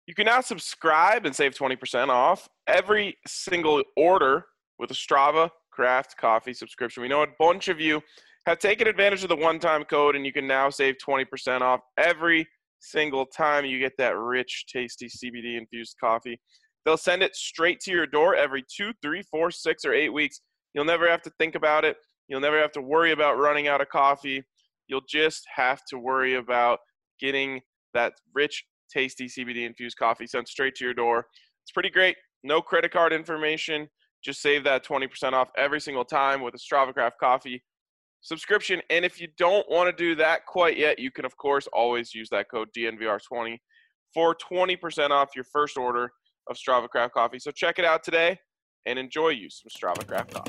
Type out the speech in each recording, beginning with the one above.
You can now subscribe and save 20% off every single order with a Strava Craft Coffee subscription. We know a bunch of you have taken advantage of the one-time code, and you can now save 20% off every single time you get that rich, tasty CBD-infused coffee. They'll send it straight to your door every 2, 3, 4, 6, or 8 weeks. You'll never have to think about it. You'll never have to worry about running out of coffee. You'll just have to worry about getting that rich, tasty CBD-infused coffee sent straight to your door. It's pretty great. No credit card information. Just save that 20% off every single time with a Strava Craft Coffee subscription. And if you don't want to do that quite yet, you can, of course, always use that code DNVR20 for 20% off your first order of Strava Craft Coffee. So check it out today and enjoy you some Strava Craft Coffee.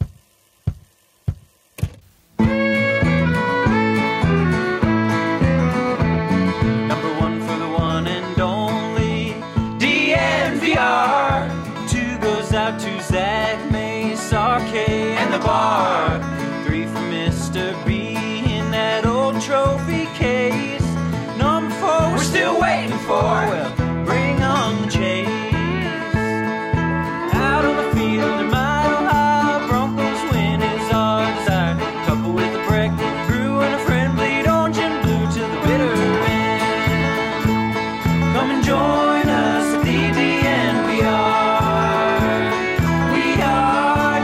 Number one for the one and only DNVR. 2 goes out to Zach, Mace, RK, and the bar. 3 for Mr. B in that old trophy case. Number 4 we're still waiting for. Well, bring on the chase. Out on the field in Mile High, Broncos win is our desire. Couple with a break, brew and a friend, bleed orange and blue to the bitter end. Come and join us at the DNVR. We are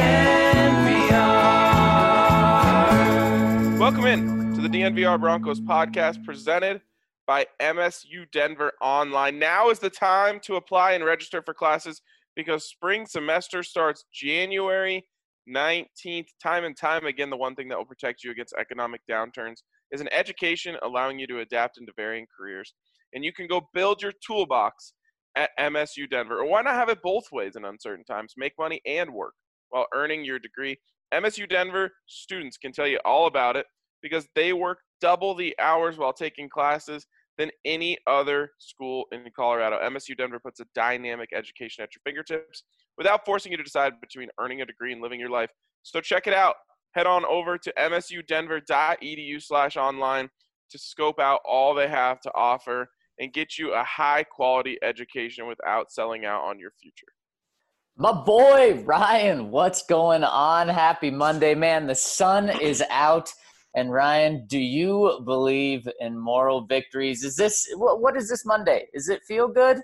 DNVR. Welcome in to the DNVR Broncos podcast presented by MSU Denver Online. Now is the time to apply and register for classes because spring semester starts January 19th. Time and time again, the one thing that will protect you against economic downturns is an education allowing you to adapt into varying careers. And you can go build your toolbox at MSU Denver. Or why not have it both ways in uncertain times? Make money and work while earning your degree. MSU Denver students can tell you all about it because they work double the hours while taking classes than any other school in Colorado. MSU Denver puts a dynamic education at your fingertips without forcing you to decide between earning a degree and living your life. So check it out. Head on over to msudenver.edu/online to scope out all they have to offer and get you a high-quality education without selling out on your future. My boy, Ryan, what's going on? Happy Monday, man. The sun is out. And Ryan, do you believe in moral victories? Is this what is this Monday? Is it feel good?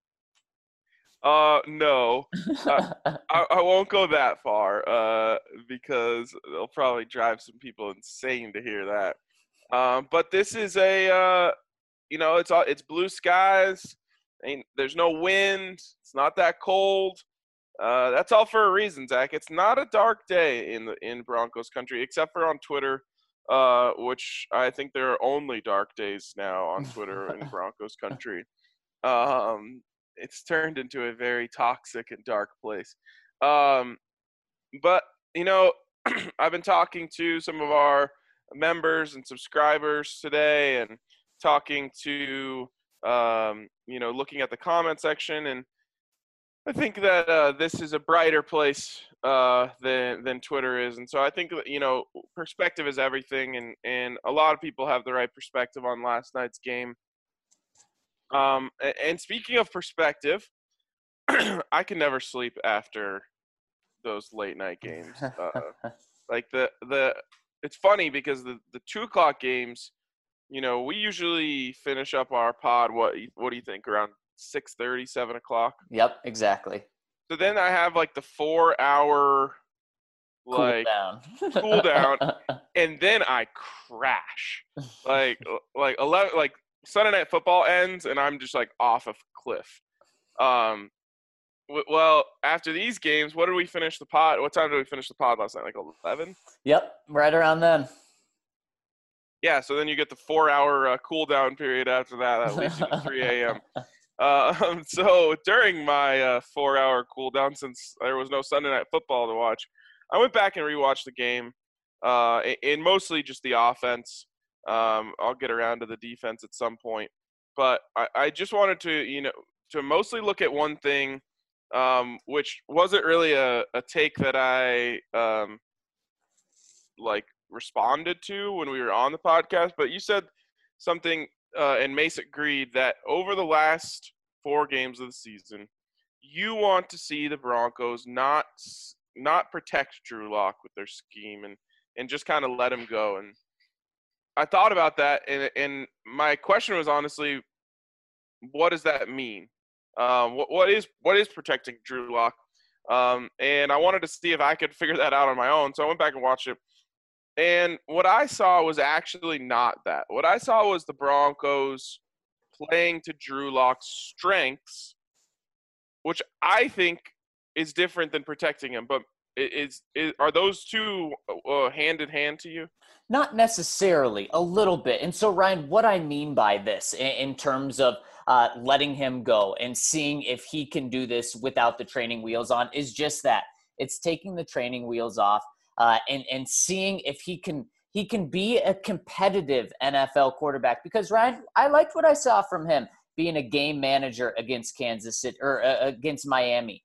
No. I won't go that far because it'll probably drive some people insane to hear that. But this is it's blue skies. There's no wind. It's not that cold. That's all for a reason, Zach. It's not a dark day in Broncos country, except for on Twitter. Which I think there are only dark days now on Twitter in Broncos country. It's turned into a very toxic and dark place. But, I've been talking to some of our members and subscribers today and talking to, looking at the comment section. And I think that this is a brighter place than Twitter is. And so I think, perspective is everything. And a lot of people have the right perspective on last night's game. And speaking of perspective, I can never sleep after those late night games. It's funny because the 2:00 games, we usually finish up our pod. What do you think? Around 6:30, 7 o'clock. Yep, exactly. So then I have the 4-hour Cool down, and then I crash. Like 11, Sunday Night Football ends, and I'm just off a cliff. Well, after these games, what did we finish the pod? What time did we finish the pod last night? 11? Yep, right around then. Yeah, so then you get the 4-hour cool down period after that. That leads you to 3 a.m. So during my 4-hour cool down, since there was no Sunday Night Football to watch, I went back and rewatched the game, and mostly just the offense. I'll get around to the defense at some point, but I just wanted to, to mostly look at one thing, which wasn't really a take that I responded to when we were on the podcast, but you said something, and Mace agreed that over the last 4 games of the season, you want to see the Broncos not protect Drew Lock with their scheme and just kind of let him go. And I thought about that, and my question was honestly, what does that mean? What is protecting Drew Lock? And I wanted to see if I could figure that out on my own. So I went back and watched it. And what I saw was actually not that. What I saw was the Broncos playing to Drew Lock's strengths, which I think is different than protecting him. But are those two hand in hand to you? Not necessarily, a little bit. And so, Ryan, what I mean by this in terms of letting him go and seeing if he can do this without the training wheels on is just that. It's taking the training wheels off and seeing if he can be a competitive NFL quarterback. Because, Ryan, I liked what I saw from him being a game manager against Kansas City or against Miami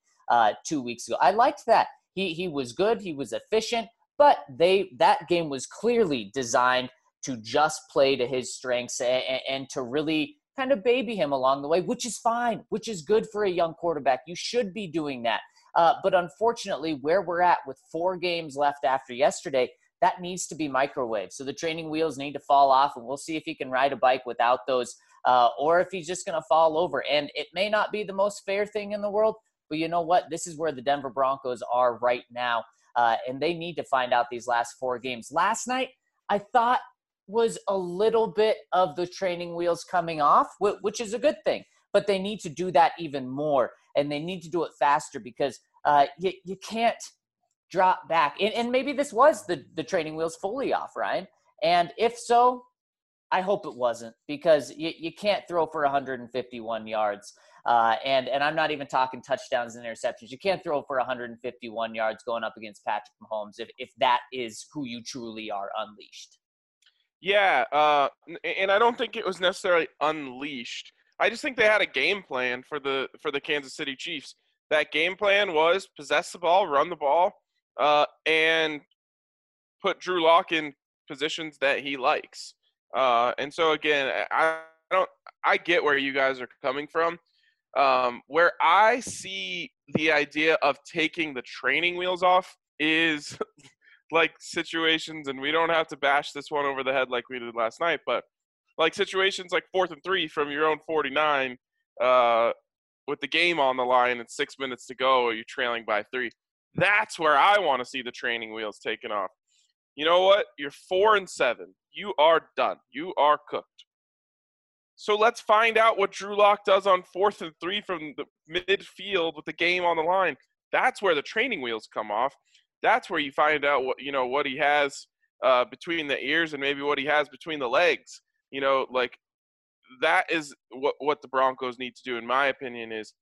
2 weeks ago. I liked that. He was good. He was efficient. But that game was clearly designed to just play to his strengths and to really kind of baby him along the way, which is fine, which is good for a young quarterback. You should be doing that. But unfortunately, where we're at with 4 games left after yesterday, that needs to be microwaved. So the training wheels need to fall off, and we'll see if he can ride a bike without those or if he's just going to fall over. And it may not be the most fair thing in the world, but you know what? This is where the Denver Broncos are right now. And they need to find out these last 4 games. Last night, I thought was a little bit of the training wheels coming off, which is a good thing. But they need to do that even more, and they need to do it faster because you can't drop back. And maybe this was the training wheels fully off, Ryan. And if so, I hope it wasn't, because you can't throw for 151 yards. And I'm not even talking touchdowns and interceptions. You can't throw for 151 yards going up against Patrick Mahomes if that is who you truly are unleashed. Yeah, and I don't think it was necessarily unleashed. I just think they had a game plan for the Kansas City Chiefs. That game plan was possess the ball, run the ball, and put Drew Lock in positions that he likes. And so again, I get where you guys are coming from. Where I see the idea of taking the training wheels off is like situations, and we don't have to bash this one over the head like we did last night, but like situations like 4th and 3 from your own 49, with the game on the line and 6 minutes to go, or you're trailing by 3. That's where I want to see the training wheels taken off. You know what? You're 4-7. You are done. You are cooked. So let's find out what Drew Lock does on 4th and 3 from the midfield with the game on the line. That's where the training wheels come off. That's where you find out what he has between the ears and maybe what he has between the legs. Like that is what the Broncos need to do, in my opinion, is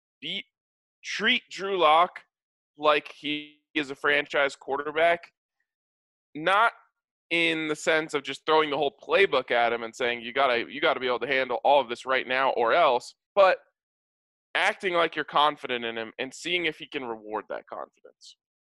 treat Drew Lock like he is a franchise quarterback, not in the sense of just throwing the whole playbook at him and saying you gotta be able to handle all of this right now or else, but acting like you're confident in him and seeing if he can reward that confidence.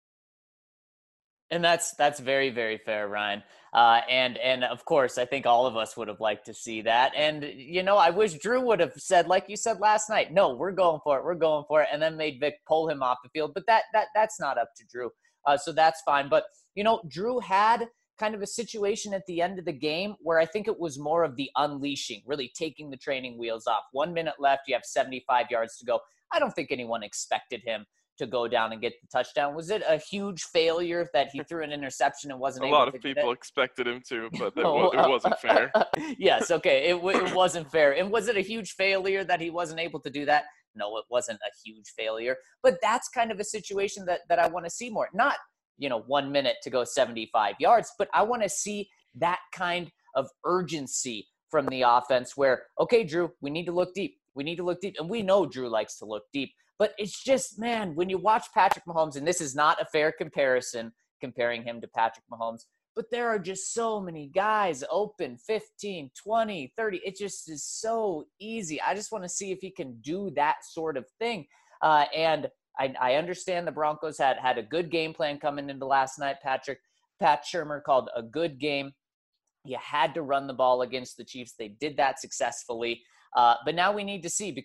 And that's very, very fair, Ryan. And of course, I think all of us would have liked to see that. And, I wish Drew would have said, like you said last night, no, we're going for it, and then made Vic pull him off the field. But that's not up to Drew. So that's fine. But, Drew had kind of a situation at the end of the game where I think it was more of the unleashing, really taking the training wheels off. 1 minute left, you have 75 yards to go. I don't think anyone expected him to go down and get the touchdown. Was it a huge failure that he threw an interception and wasn't able to get it? A lot of people expected him to, but it wasn't fair. Yes, okay, it wasn't fair. And was it a huge failure that he wasn't able to do that? No, it wasn't a huge failure. But that's kind of a situation that I want to see more. Not, 1 minute to go 75 yards, but I want to see that kind of urgency from the offense where, okay, Drew, we need to look deep. And we know Drew likes to look deep. But it's just, man, when you watch Patrick Mahomes, and this is not a fair comparison, comparing him to Patrick Mahomes, but there are just so many guys open, 15, 20, 30. It just is so easy. I just want to see if he can do that sort of thing. And I understand the Broncos had a good game plan coming into last night. Pat Shurmur called a good game. You had to run the ball against the Chiefs. They did that successfully. But now we need to see, because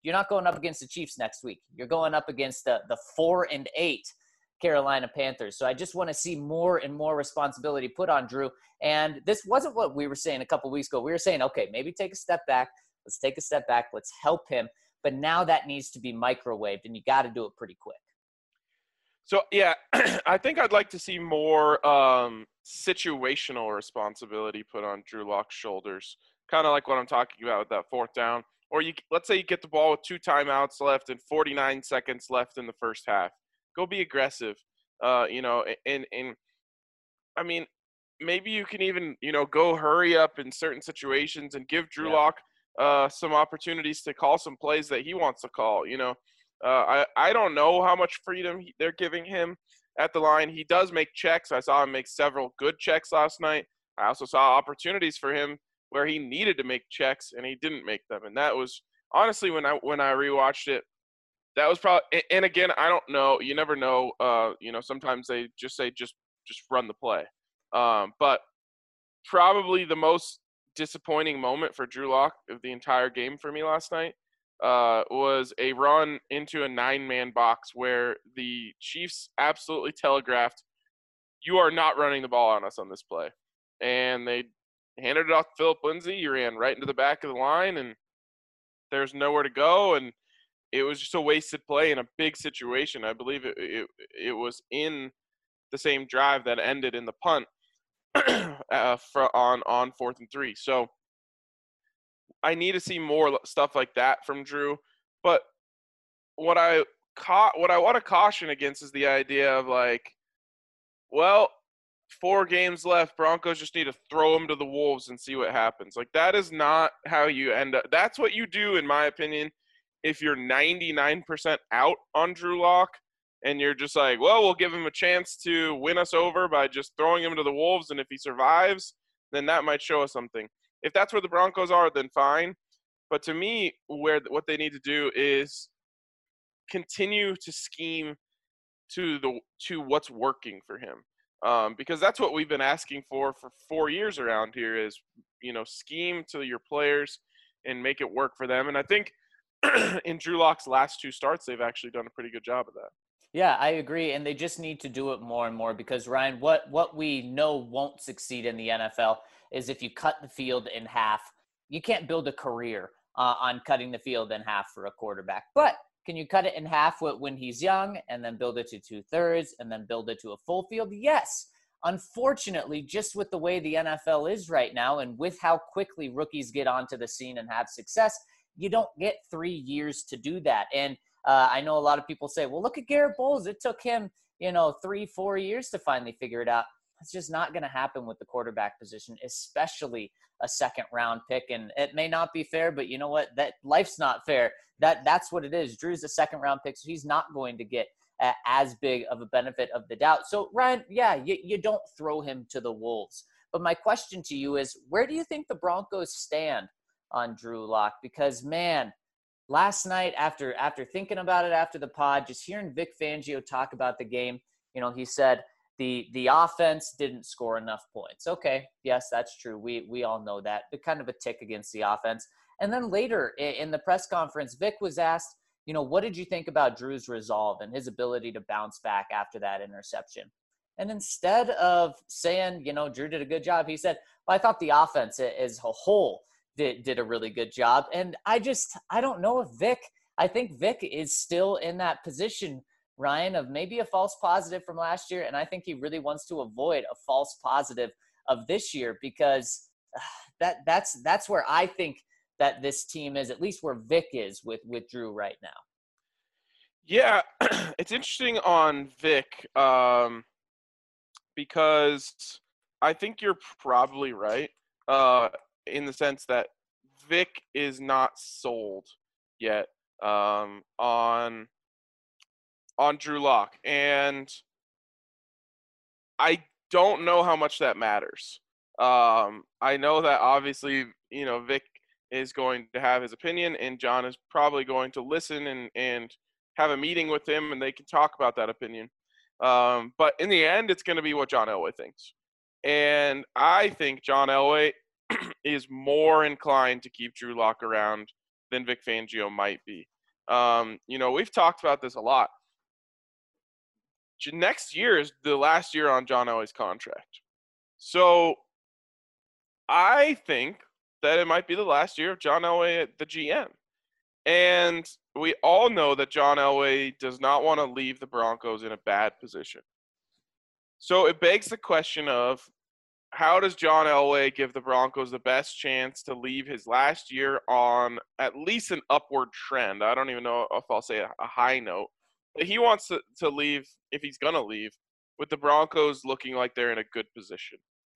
You're not going up against the Chiefs next week. You're going up against the 4-8 Carolina Panthers. So I just want to see more and more responsibility put on Drew. And this wasn't what we were saying a couple weeks ago. We were saying, okay, maybe take a step back. Let's take a step back. Let's help him. But now that needs to be microwaved, and you got to do it pretty quick. So, yeah, I think I'd like to see more situational responsibility put on Drew Lock's shoulders, kind of like what I'm talking about with that fourth down. Or let's say you get the ball with 2 timeouts left and 49 seconds left in the first half. Go be aggressive, and I mean, maybe you can even, go hurry up in certain situations and give Drew Lock some opportunities to call some plays that he wants to call, I don't know how much freedom they're giving him at the line. He does make checks. I saw him make several good checks last night. I also saw opportunities for him where he needed to make checks and he didn't make them. And that was honestly, when I rewatched it, that was probably, and again, I don't know. You never know. Sometimes they just say, just run the play. But probably the most disappointing moment for Drew Lock of the entire game for me last night was a run into a 9-man box where the Chiefs absolutely telegraphed, you are not running the ball on us on this play. And they handed it off to Phillip Lindsay. He ran right into the back of the line, and there's nowhere to go. And it was just a wasted play in a big situation. I believe it was in the same drive that ended in the punt on 4th and 3. So I need to see more stuff like that from Drew. But what I want to caution against is the idea of like, well, 4 games left, Broncos just need to throw them to the Wolves and see what happens. Like, that is not how you end up. That's what you do, in my opinion, if you're 99% out on Drew Lock and you're just like, well, we'll give him a chance to win us over by just throwing him to the Wolves, and if he survives, then that might show us something. If that's where the Broncos are, then fine. But to me, what they need to do is continue to scheme to what's working for him. Because that's what we've been asking for 4 years around here is, scheme to your players and make it work for them. And I think in Drew Lock's last 2 starts, they've actually done a pretty good job of that. Yeah, I agree. And they just need to do it more and more because, Ryan, what we know won't succeed in the NFL is if you cut the field in half. You can't build a career on cutting the field in half for a quarterback. But can you cut it in half when he's young and then build it to 2/3 and then build it to a full field? Yes. Unfortunately, just with the way the NFL is right now and with how quickly rookies get onto the scene and have success, you don't get 3 years to do that. And I know a lot of people say, well, look at Garrett Bowles. It took him, 3-4 years to finally figure it out. It's just not going to happen with the quarterback position, especially a 2nd-round pick. And it may not be fair, but you know what? That life's not fair. That's what it is. Drew's a 2nd-round pick, so he's not going to get as big of a benefit of the doubt. So, Ryan, yeah, you don't throw him to the Wolves. But my question to you is, where do you think the Broncos stand on Drew Lock? Because, man, last night after thinking about it after the pod, just hearing Vic Fangio talk about the game, he said the offense didn't score enough points. Okay, yes, that's true. We all know that. But kind of a tick against the offense. And then later in the press conference, Vic was asked, what did you think about Drew's resolve and his ability to bounce back after that interception? And instead of saying, Drew did a good job, he said, well, I thought the offense as a whole did a really good job. And I don't know if I think Vic is still in that position, Ryan, of maybe a false positive from last year. And I think he really wants to avoid a false positive of this year because that's where I think that this team is, at least where Vic is with Drew right now. Yeah, it's interesting on Vic because I think you're probably right in the sense that Vic is not sold yet on Drew Lock. And I don't know how much that matters. I know that obviously, Vic is going to have his opinion, and John is probably going to listen and have a meeting with him, and they can talk about that opinion. But in the end, it's going to be what John Elway thinks. And I think John Elway is more inclined to keep Drew Lock around than Vic Fangio might be. We've talked about this a lot. Next year is the last year on John Elway's contract. So I think that it might be the last year of John Elway at the GM. And we all know that John Elway does not want to leave the Broncos in a bad position. So it begs the question of, how does John Elway give the Broncos the best chance to leave his last year on at least an upward trend? I don't even know if I'll say a high note. But he wants to leave, if he's going to leave, with the Broncos looking like they're in a good position.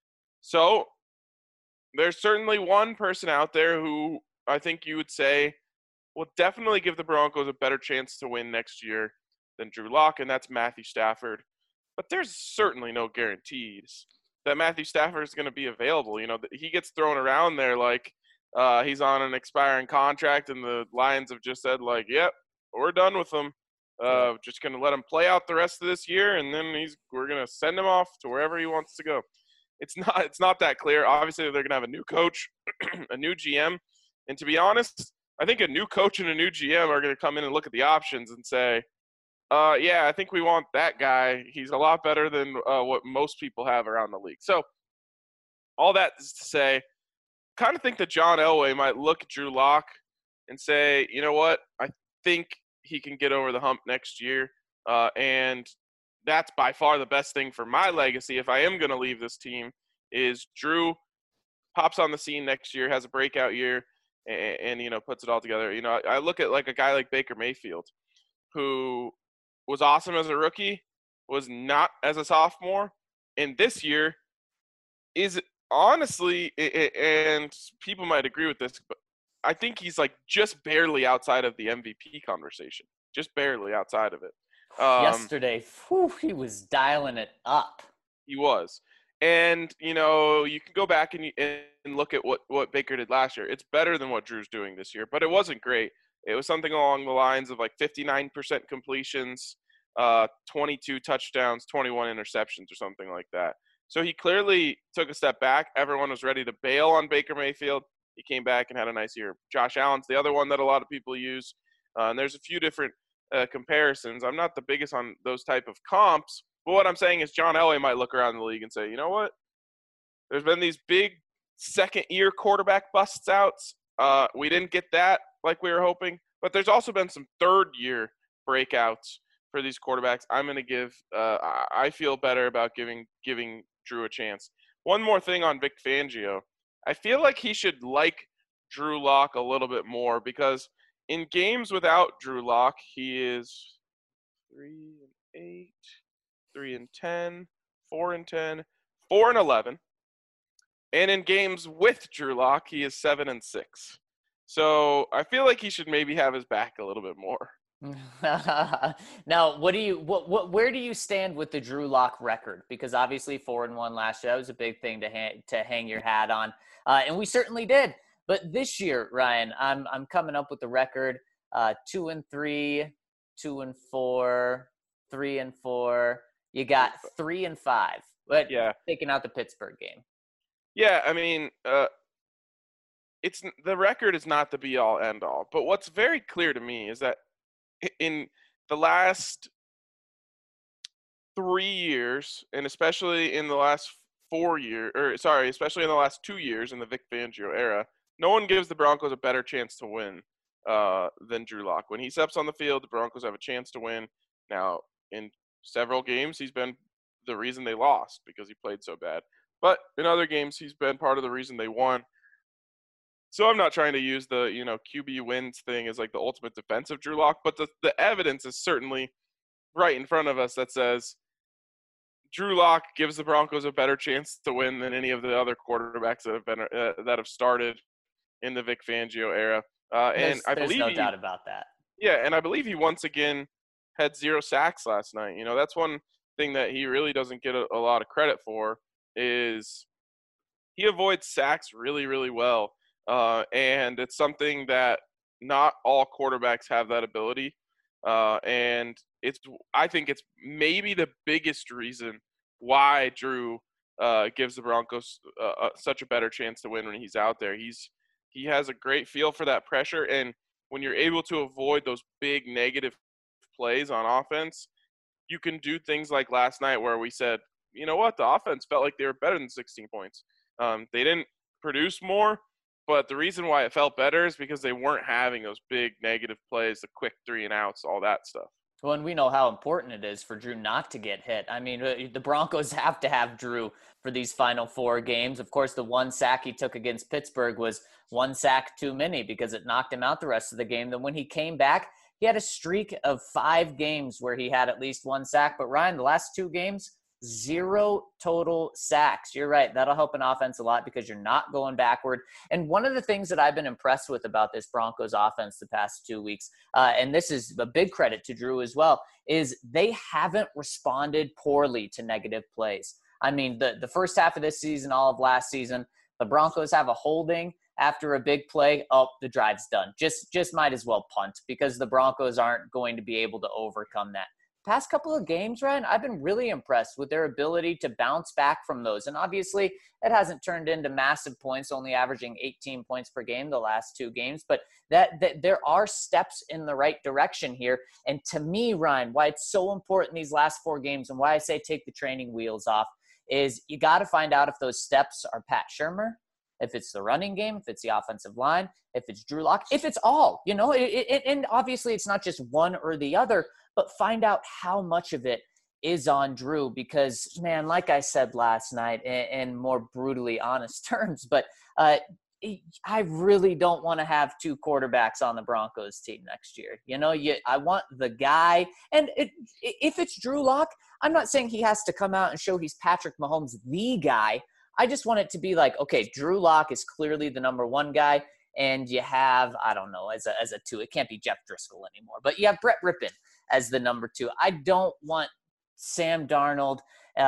So there's certainly one person out there who I think you would say will definitely give the Broncos a better chance to win next year than Drew Lock, and that's Matthew Stafford. But there's certainly no guarantees that Matthew Stafford is going to be available. He gets thrown around there like he's on an expiring contract, and the Lions have just said, like, yep, we're done with him. Just going to let him play out the rest of this year, and then we're going to send him off to wherever he wants to go. It's not that clear. Obviously, they're going to have a new coach, a new GM. And to be honest, I think a new coach and a new GM are going to come in and look at the options and say, I think we want that guy. He's a lot better than what most people have around the league. So all that is to say, kind of think that John Elway might look at Drew Lock and say, you know what, I think he can get over the hump next year. And that's by far the best thing for my legacy if I am going to leave this team, is Drew pops on the scene next year, has a breakout year, and puts it all together. I look at like a guy like Baker Mayfield, who was awesome as a rookie, was not as a sophomore, and this year is honestly, and people might agree with this, but I think he's like just barely outside of the MVP conversation, just barely outside of it. Yesterday, he was dialing it up. He was. And, you can go back and look at what Baker did last year. It's better than what Drew's doing this year, but it wasn't great. It was something along the lines of like 59% completions, 22 touchdowns, 21 interceptions or something like that. So he clearly took a step back. Everyone was ready to bail on Baker Mayfield. He came back and had a nice year. Josh Allen's the other one that a lot of people use. And there's a few different comparisons. I'm not the biggest on those type of comps, but what I'm saying is John Elway might look around the league and say, you know what? There's been these big second-year quarterback busts outs. We didn't get that like we were hoping, but there's also been some third-year breakouts for these quarterbacks. I'm going to give I feel better about giving Drew a chance. One more thing on Vic Fangio. I feel like he should like Drew Lock a little bit more, because in games without Drew Lock, he is 3-8, 3-10, 4-10, 4-11. And in games with Drew Lock, he is 7-6. So I feel like he should maybe have his back a little bit more. Now, where do you stand with the Drew Lock record? Because obviously 4-1 last year, that was a big thing to hang your hat on, and we certainly did. But this year, Ryan, I'm coming up with the record: 2-3, 2-4, 3-4. You got 3-5. But yeah, taking out the Pittsburgh game. Yeah, I mean, it's the record is not the be all end all. But what's very clear to me is that in the last 3 years, and especially in the last 4 years, especially in the last 2 years in the Vic Fangio era, no one gives the Broncos a better chance to win than Drew Lock. When he steps on the field, the Broncos have a chance to win. Now, in several games, he's been the reason they lost because he played so bad. But in other games, he's been part of the reason they won. So I'm not trying to use the, QB wins thing as like the ultimate defense of Drew Lock, but the evidence is certainly right in front of us that says Drew Lock gives the Broncos a better chance to win than any of the other quarterbacks that have started in the Vic Fangio era. And I believe there's no doubt about that. Yeah, and I believe he once again had 0 sacks last night. That's one thing that he really doesn't get a lot of credit for, is he avoids sacks really, really well. And it's something that not all quarterbacks have that ability. And I think it's maybe the biggest reason why Drew gives the Broncos such a better chance to win when he's out there. He has a great feel for that pressure, and when you're able to avoid those big negative plays on offense, you can do things like last night where we said, you know what, the offense felt like they were better than 16 points. They didn't produce more, but the reason why it felt better is because they weren't having those big negative plays, the quick 3-and-outs, all that stuff. Well, and we know how important it is for Drew not to get hit. I mean, the Broncos have to have Drew for these final 4 games. Of course, the one sack he took against Pittsburgh was one sack too many because it knocked him out the rest of the game. Then when he came back, he had a streak of 5 games where he had at least one sack. But Ryan, the last 2 games, 0 total sacks. You're right. That'll help an offense a lot because you're not going backward. And one of the things that I've been impressed with about this Broncos offense the past 2 weeks, and this is a big credit to Drew as well, is they haven't responded poorly to negative plays. I mean, the first half of this season, all of last season, the Broncos have a holding after a big play. Oh, the drive's done. Just might as well punt because the Broncos aren't going to be able to overcome that. Past couple of games, Ryan, I've been really impressed with their ability to bounce back from those. And obviously, it hasn't turned into massive points, only averaging 18 points per game the last 2 games. But that there are steps in the right direction here. And to me, Ryan, why it's so important these last 4 games and why I say take the training wheels off is you got to find out if those steps are Pat Shurmur, if it's the running game, if it's the offensive line, if it's Drew Lock, if it's all, and obviously it's not just one or the other, but find out how much of it is on Drew because, man, like I said last night in more brutally honest terms, but I really don't want to have 2 quarterbacks on the Broncos team next year. I want the guy, and if it's Drew Lock, I'm not saying he has to come out and show he's Patrick Mahomes, the guy. I just want it to be like, okay, Drew Lock is clearly the number 1 guy, and you have, I don't know, as a 2, it can't be Jeff Driscoll anymore, but you have Brett Rippon as the number 2. I don't want Sam Darnold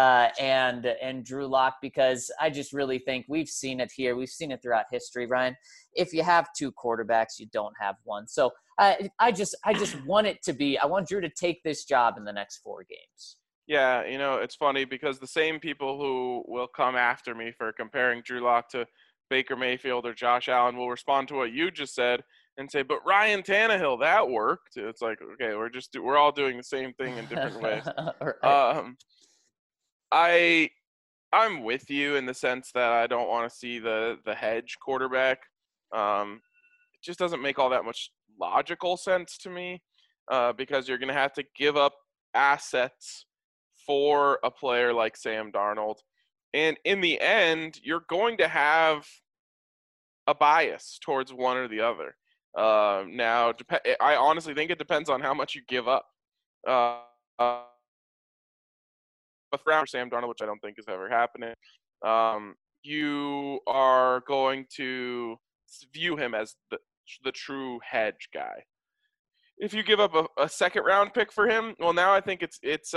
and Drew Lock because I just really think we've seen it here. We've seen it throughout history, Ryan. If you have 2 quarterbacks, you don't have one. So I just want it to be, I want Drew to take this job in the next 4 games. Yeah, it's funny because the same people who will come after me for comparing Drew Lock to Baker Mayfield or Josh Allen will respond to what you just said and say, but Ryan Tannehill, that worked. It's like, okay, we're all doing the same thing in different ways. Right. I'm with you in the sense that I don't want to see the hedge quarterback. It just doesn't make all that much logical sense to me because you're going to have to give up assets for a player like Sam Darnold. And in the end, you're going to have a bias towards one or the other. Now, I honestly think it depends on how much you give up. For Sam Darnold, which I don't think is ever happening, you are going to view him as the true hedge guy. If you give up a second round pick for him, well, now I think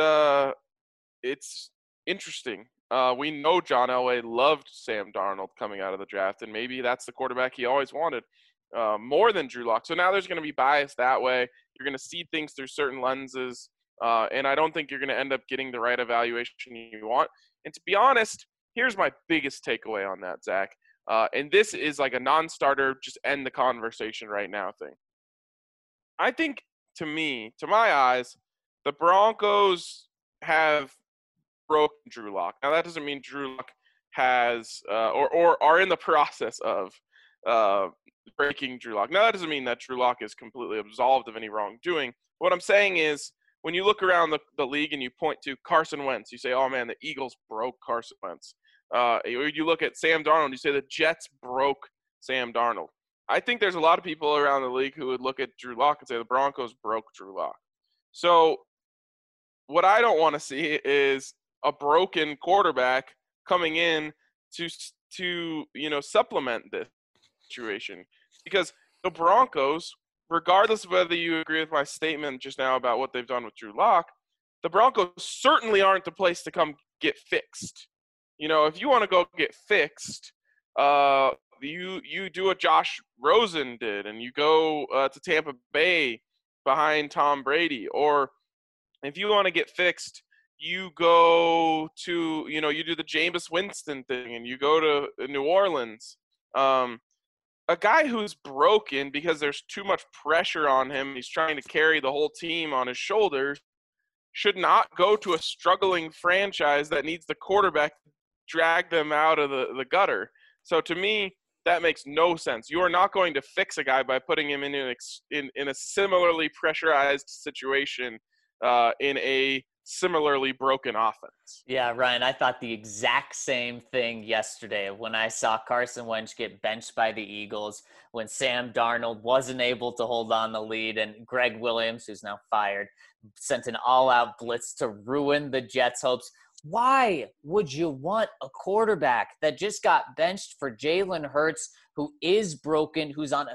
it's interesting. We know John Elway loved Sam Darnold coming out of the draft, and maybe that's the quarterback he always wanted more than Drew Lock. So now there's going to be bias that way. You're going to see things through certain lenses, and I don't think you're going to end up getting the right evaluation you want. And to be honest, here's my biggest takeaway on that, Zach. And this is like a non-starter, just end the conversation right now thing. I think, to my eyes, the Broncos have broken Drew Lock. Now, that doesn't mean Drew Lock has or are in the process of breaking Drew Lock. Now, that doesn't mean that Drew Lock is completely absolved of any wrongdoing. What I'm saying is when you look around the league and you point to Carson Wentz, you say, oh, man, the Eagles broke Carson Wentz. You look at Sam Darnold, you say the Jets broke Sam Darnold. I think there's a lot of people around the league who would look at Drew Lock and say the Broncos broke Drew Lock. So what I don't want to see is a broken quarterback coming in to supplement this situation. Because the Broncos, regardless of whether you agree with my statement just now about what they've done with Drew Lock, the Broncos certainly aren't the place to come get fixed. If you want to go get fixed, you do what Josh Rosen did, and you go to Tampa Bay behind Tom Brady. Or if you want to get fixed, you go to, you do the Jameis Winston thing, and you go to New Orleans. a guy who's broken because there's too much pressure on him, he's trying to carry the whole team on his shoulders, should not go to a struggling franchise that needs the quarterback to drag them out of the gutter. So to me, that makes no sense. You are not going to fix a guy by putting him in a similarly pressurized situation in a similarly broken offense. Yeah, Ryan, I thought the exact same thing yesterday when I saw Carson Wentz get benched by the Eagles, when Sam Darnold wasn't able to hold on the lead, and Greg Williams, who's now fired, sent an all-out blitz to ruin the Jets' hopes. Why would you want a quarterback that just got benched for Jalen Hurts, who is broken, who's on a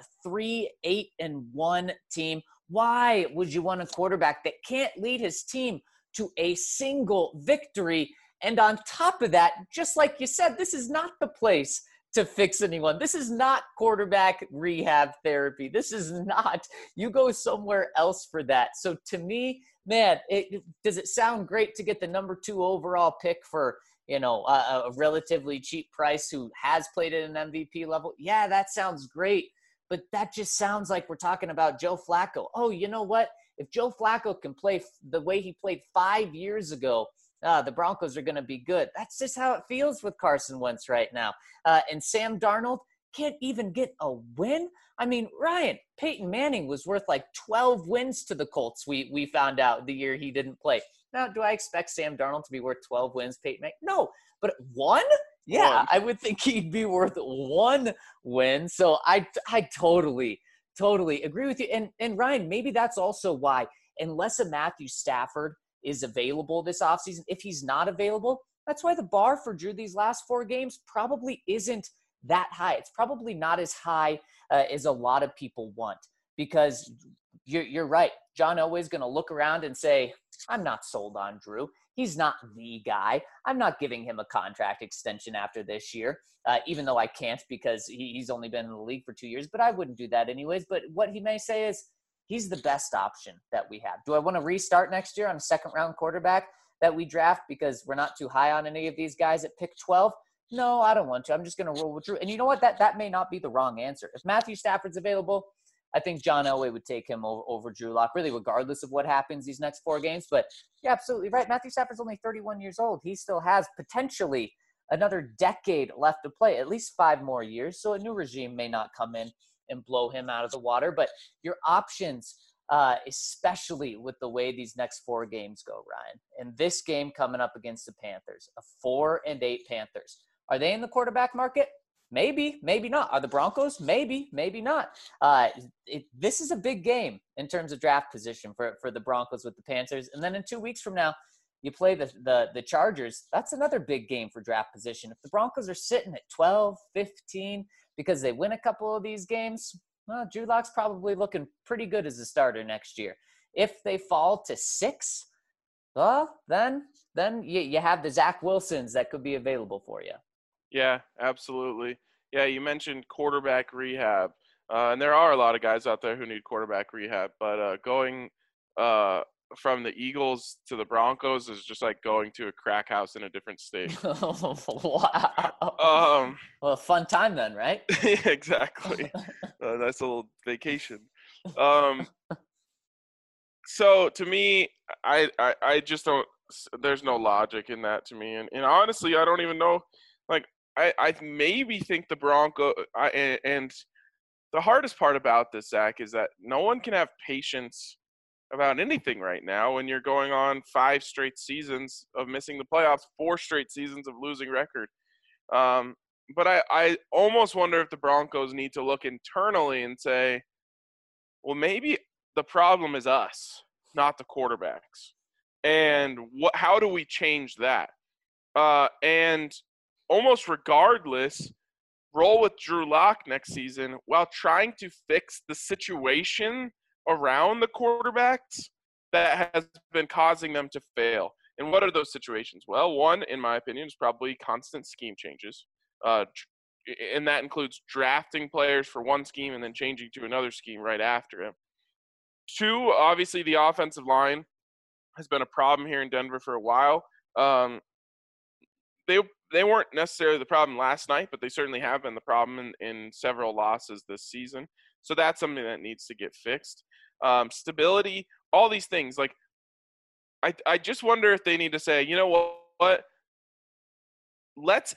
3-8-1 team? Why would you want a quarterback that can't lead his team to a single victory? And on top of that, just like you said, this is not the place to fix anyone. This is not quarterback rehab therapy. This is not, you go somewhere else for that. So to me, man, does it sound great to get the number 2 overall pick for, a relatively cheap price who has played at an MVP level? Yeah, that sounds great. But that just sounds like we're talking about Joe Flacco. Oh, you know what? If Joe Flacco can play the way he played 5 years ago, the Broncos are going to be good. That's just how it feels with Carson Wentz right now. And Sam Darnold can't even get a win. I mean, Ryan, Peyton Manning was worth like 12 wins to the Colts. We found out the year he didn't play. Now, do I expect Sam Darnold to be worth 12 wins, Peyton Manning? No, but 1? Yeah, I would think he'd be worth 1 win. So I totally agree with you. And Ryan, maybe that's also why, unless a Matthew Stafford is available this offseason, if he's not available, that's why the bar for Drew these last 4 games probably isn't that high. It's probably not as high as a lot of people want, because you're right. John Elway's going to look around and say, I'm not sold on Drew. He's not the guy. I'm not giving him a contract extension after this year, even though I can't because he's only been in the league for 2 years, but I wouldn't do that anyways. But what he may say is, he's the best option that we have. Do I want to restart next year on a second-round quarterback that we draft because we're not too high on any of these guys at pick 12? No, I don't want to. I'm just going to roll with Drew. And you know what? That may not be the wrong answer. If Matthew Stafford's available, I think John Elway would take him over Drew Lock, really regardless of what happens these next 4 games. But you're absolutely right. Matthew Stafford's only 31 years old. He still has potentially another decade left to play, at least 5 more years. So a new regime may not come in and blow him out of the water. But your options, especially with the way these next 4 games go, Ryan, and this game coming up against the Panthers, a 4-8 Panthers, are they in the quarterback market? Maybe, maybe not. Are the Broncos? Maybe, maybe not. This is a big game in terms of draft position for the Broncos with the Panthers. And then in 2 weeks from now, you play the Chargers. That's another big game for draft position. If the Broncos are sitting at 12, 15 because they win a couple of these games, well, Drew Lock's probably looking pretty good as a starter next year. If they fall to 6, well, then you have the Zach Wilsons that could be available for you. Yeah, absolutely. Yeah, you mentioned quarterback rehab, and there are a lot of guys out there who need quarterback rehab. But going from the Eagles to the Broncos is just like going to a crack house in a different state. Wow. Well, fun time then, right? Yeah, exactly. Nice little vacation. So to me, I just don't. There's no logic in that to me, and honestly, I don't even know. Like, I maybe think the and the hardest part about this, Zach, is that no one can have patience about anything right now when you're going on 5 straight seasons of missing the playoffs, 4 straight seasons of losing record. But I almost wonder if the Broncos need to look internally and say, well, maybe the problem is us, not the quarterbacks. And how do we change that? And almost regardless, roll with Drew Lock next season while trying to fix the situation around the quarterbacks that has been causing them to fail. And what are those situations? Well, one, in my opinion, is probably constant scheme changes. And that includes drafting players for one scheme and then changing to another scheme right after it. 2, obviously the offensive line has been a problem here in Denver for a while. they weren't necessarily the problem last night, but they certainly have been the problem in several losses this season. So that's something that needs to get fixed. Stability, all these things. Like, I just wonder if they need to say, you know what? Let's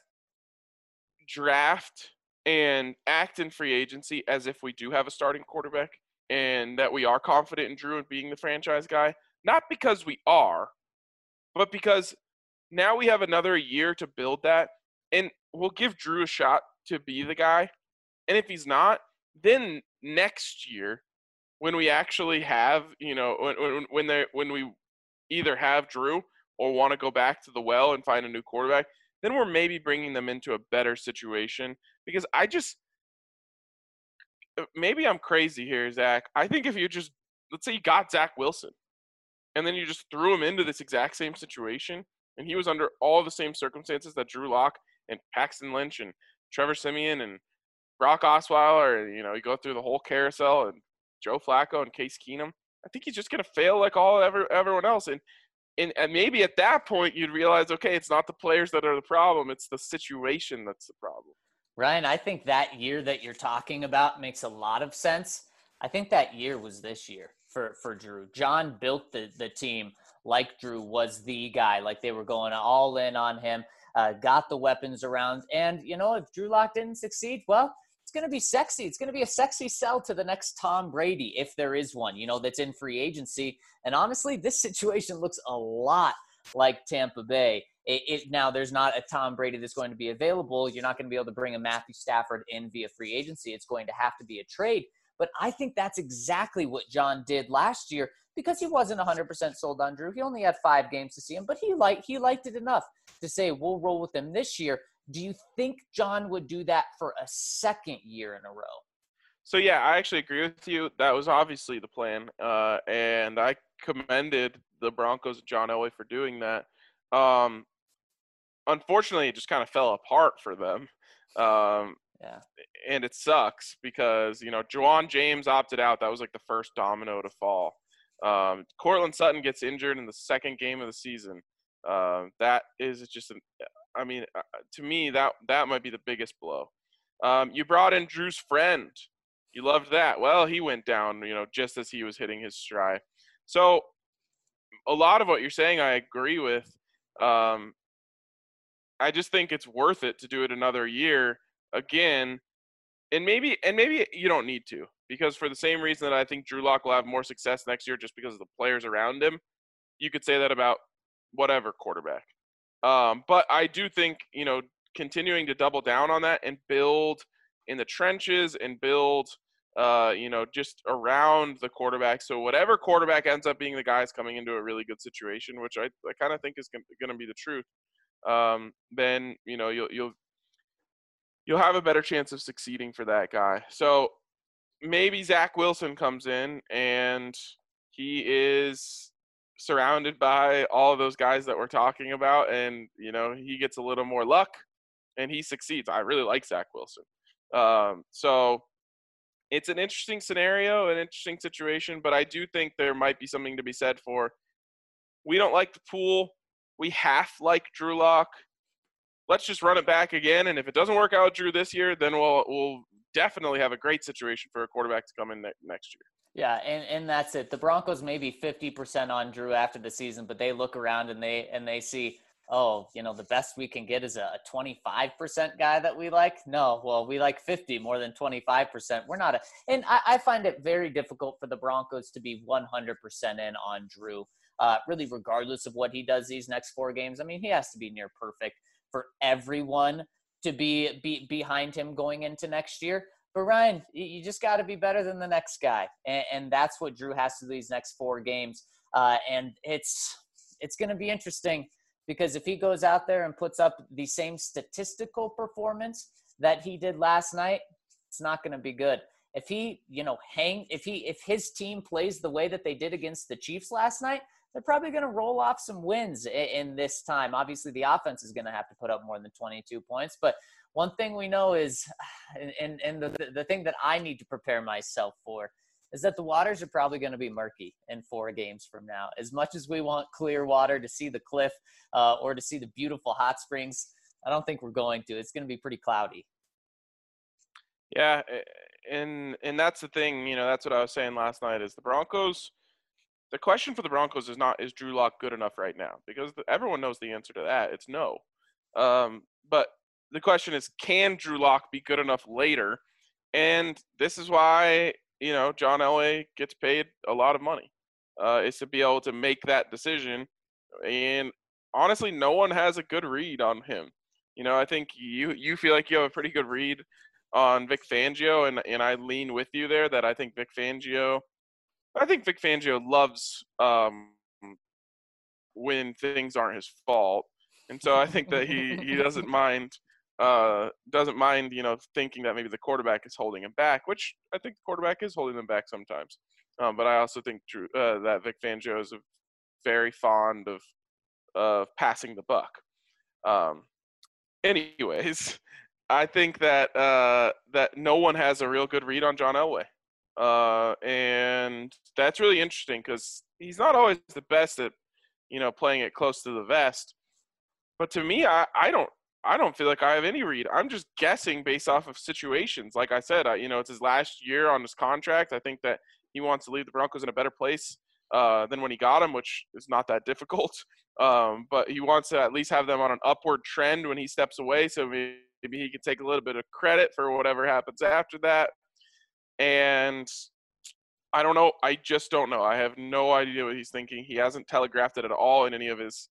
draft and act in free agency as if we do have a starting quarterback and that we are confident in Drew and being the franchise guy. Not because we are, but because now we have another year to build that, and we'll give Drew a shot to be the guy. And if he's not, then next year, when we actually have, when we either have Drew or want to go back to the well and find a new quarterback, then we're maybe bringing them into a better situation. Because maybe I'm crazy here, Zach. I think if you just, let's say you got Zach Wilson, and then you just threw him into this exact same situation, and he was under all the same circumstances that Drew Lock and Paxton Lynch and Trevor Siemian and Brock Osweiler, you go through the whole carousel, and Joe Flacco and Case Keenum, I think he's just going to fail like everyone else. And maybe at that point you'd realize, okay, it's not the players that are the problem, it's the situation that's the problem. Ryan, I think that year that you're talking about makes a lot of sense. I think that year was this year for Drew. John built the team like Drew was the guy, like they were going all in on him, got the weapons around. And, if Drew Lock didn't succeed, well, it's going to be sexy. It's going to be a sexy sell to the next Tom Brady, if there is one, that's in free agency. And honestly, this situation looks a lot like Tampa Bay. Now, there's not a Tom Brady that's going to be available. You're not going to be able to bring a Matthew Stafford in via free agency. It's going to have to be a trade. But I think that's exactly what John did last year because he wasn't 100% sold on Drew. He only had 5 games to see him, but he liked it enough to say, we'll roll with him this year. Do you think John would do that for a second year in a row? So, yeah, I actually agree with you. That was obviously the plan, and I commended the Broncos and John Elway for doing that. Unfortunately, it just kind of fell apart for them. Yeah. And it sucks because, Juwan James opted out. That was like the first domino to fall. Courtland Sutton gets injured in the second game of the season. That is just to me, that might be the biggest blow. You brought in Drew's friend. You loved that. Well, he went down, just as he was hitting his stride. So a lot of what you're saying, I agree with. I just think it's worth it to do it another year again. And maybe you don't need to, because for the same reason that I think Drew Lock will have more success next year just because of the players around him, you could say that about whatever quarterback. But I do think, continuing to double down on that and build in the trenches and build, just around the quarterback. So whatever quarterback ends up being the guy is coming into a really good situation, which I kind of think is going to be the truth. Then, you'll have a better chance of succeeding for that guy. So maybe Zach Wilson comes in and he is surrounded by all of those guys that we're talking about, and he gets a little more luck and he succeeds. I really like Zach Wilson. So it's an interesting scenario, an interesting situation, but I do think there might be something to be said for, we don't like the pool, we half like Drew Lock, let's just run it back again, and if it doesn't work out with Drew this year, then we'll definitely have a great situation for a quarterback to come in next year. Yeah, and that's it. The Broncos may be 50% on Drew after the season, but they look around and they see, the best we can get is a 25% guy that we like. No, well, we like 50 more than 25%. We're not and I find it very difficult for the Broncos to be 100% in on Drew, really regardless of what he does these next 4 games. I mean, he has to be near perfect for everyone to be behind him going into next year. But Ryan, you just got to be better than the next guy, and that's what Drew has to do these next 4 games. And it's going to be interesting because if he goes out there and puts up the same statistical performance that he did last night, it's not going to be good. If he, if his team plays the way that they did against the Chiefs last night, they're probably going to roll off some wins in this time. Obviously, the offense is going to have to put up more than 22 points. But one thing we know is, and the thing that I need to prepare myself for, is that the waters are probably going to be murky in 4 games from now. As much as we want clear water to see the cliff or to see the beautiful hot springs, I don't think we're going to. It's going to be pretty cloudy. Yeah, and that's the thing. That's what I was saying last night. Is the Broncos? The question for the Broncos is Drew Lock good enough right now? Because everyone knows the answer to that. It's no. But the question is, can Drew Lock be good enough later? And this is why John Elway gets paid a lot of money, is to be able to make that decision. And honestly, no one has a good read on him. I think you feel like you have a pretty good read on Vic Fangio, and I lean with you there that I think Vic Fangio loves when things aren't his fault, and so I think that he doesn't mind thinking that maybe the quarterback is holding him back, which I think the quarterback is holding them back sometimes. But I also think that Vic Fangio is very fond of passing the buck. Anyways, I think that that no one has a real good read on John Elway. And that's really interesting because he's not always the best at, playing it close to the vest. But to me, I don't feel like I have any read. I'm just guessing based off of situations. Like I said, it's his last year on his contract. I think that he wants to leave the Broncos in a better place than when he got him, which is not that difficult. But he wants to at least have them on an upward trend when he steps away. So maybe he could take a little bit of credit for whatever happens after that. And I don't know. I just don't know. I have no idea what he's thinking. He hasn't telegraphed it at all in any of his,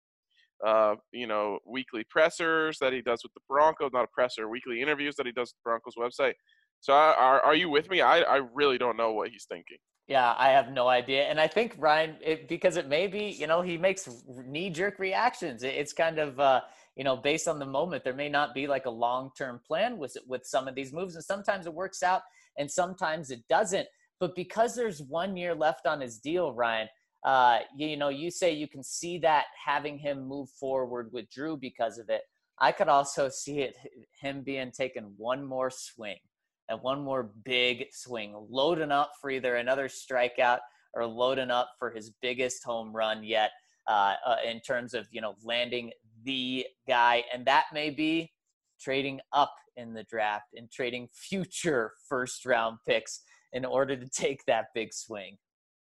weekly pressers that he does with the Broncos, not a presser, weekly interviews that he does with the Broncos website. So are you with me? I really don't know what he's thinking. Yeah, I have no idea. And I think, Ryan, because it may be, he makes knee-jerk reactions. It's kind of, based on the moment. There may not be like a long-term plan with some of these moves. And sometimes it works out and sometimes it doesn't. But because there's 1 year left on his deal, Ryan, you say you can see that having him move forward with Drew because of it. I could also see him being taken one more swing. And one more big swing, loading up for either another strikeout or loading up for his biggest home run yet in terms of, landing the guy. And that may be trading up in the draft and trading future first-round picks in order to take that big swing.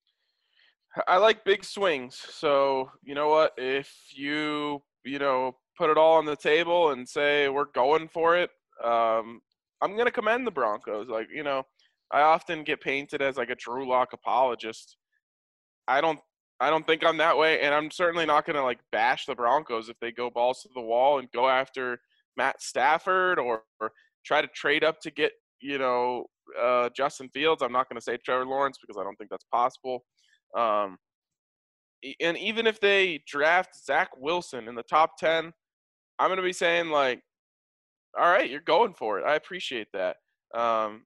I like big swings. So, you know what? If you, put it all on the table and say we're going for it, I'm going to commend the Broncos. I often get painted as like a Drew Lock apologist. I don't think I'm that way, and I'm certainly not going to like bash the Broncos if they go balls to the wall and go after Matt Stafford or try to trade up to get, Justin Fields. I'm not going to say Trevor Lawrence because I don't think that's possible. And even if they draft Zach Wilson in the top 10, I'm going to be saying like, all right, you're going for it. I appreciate that. I'm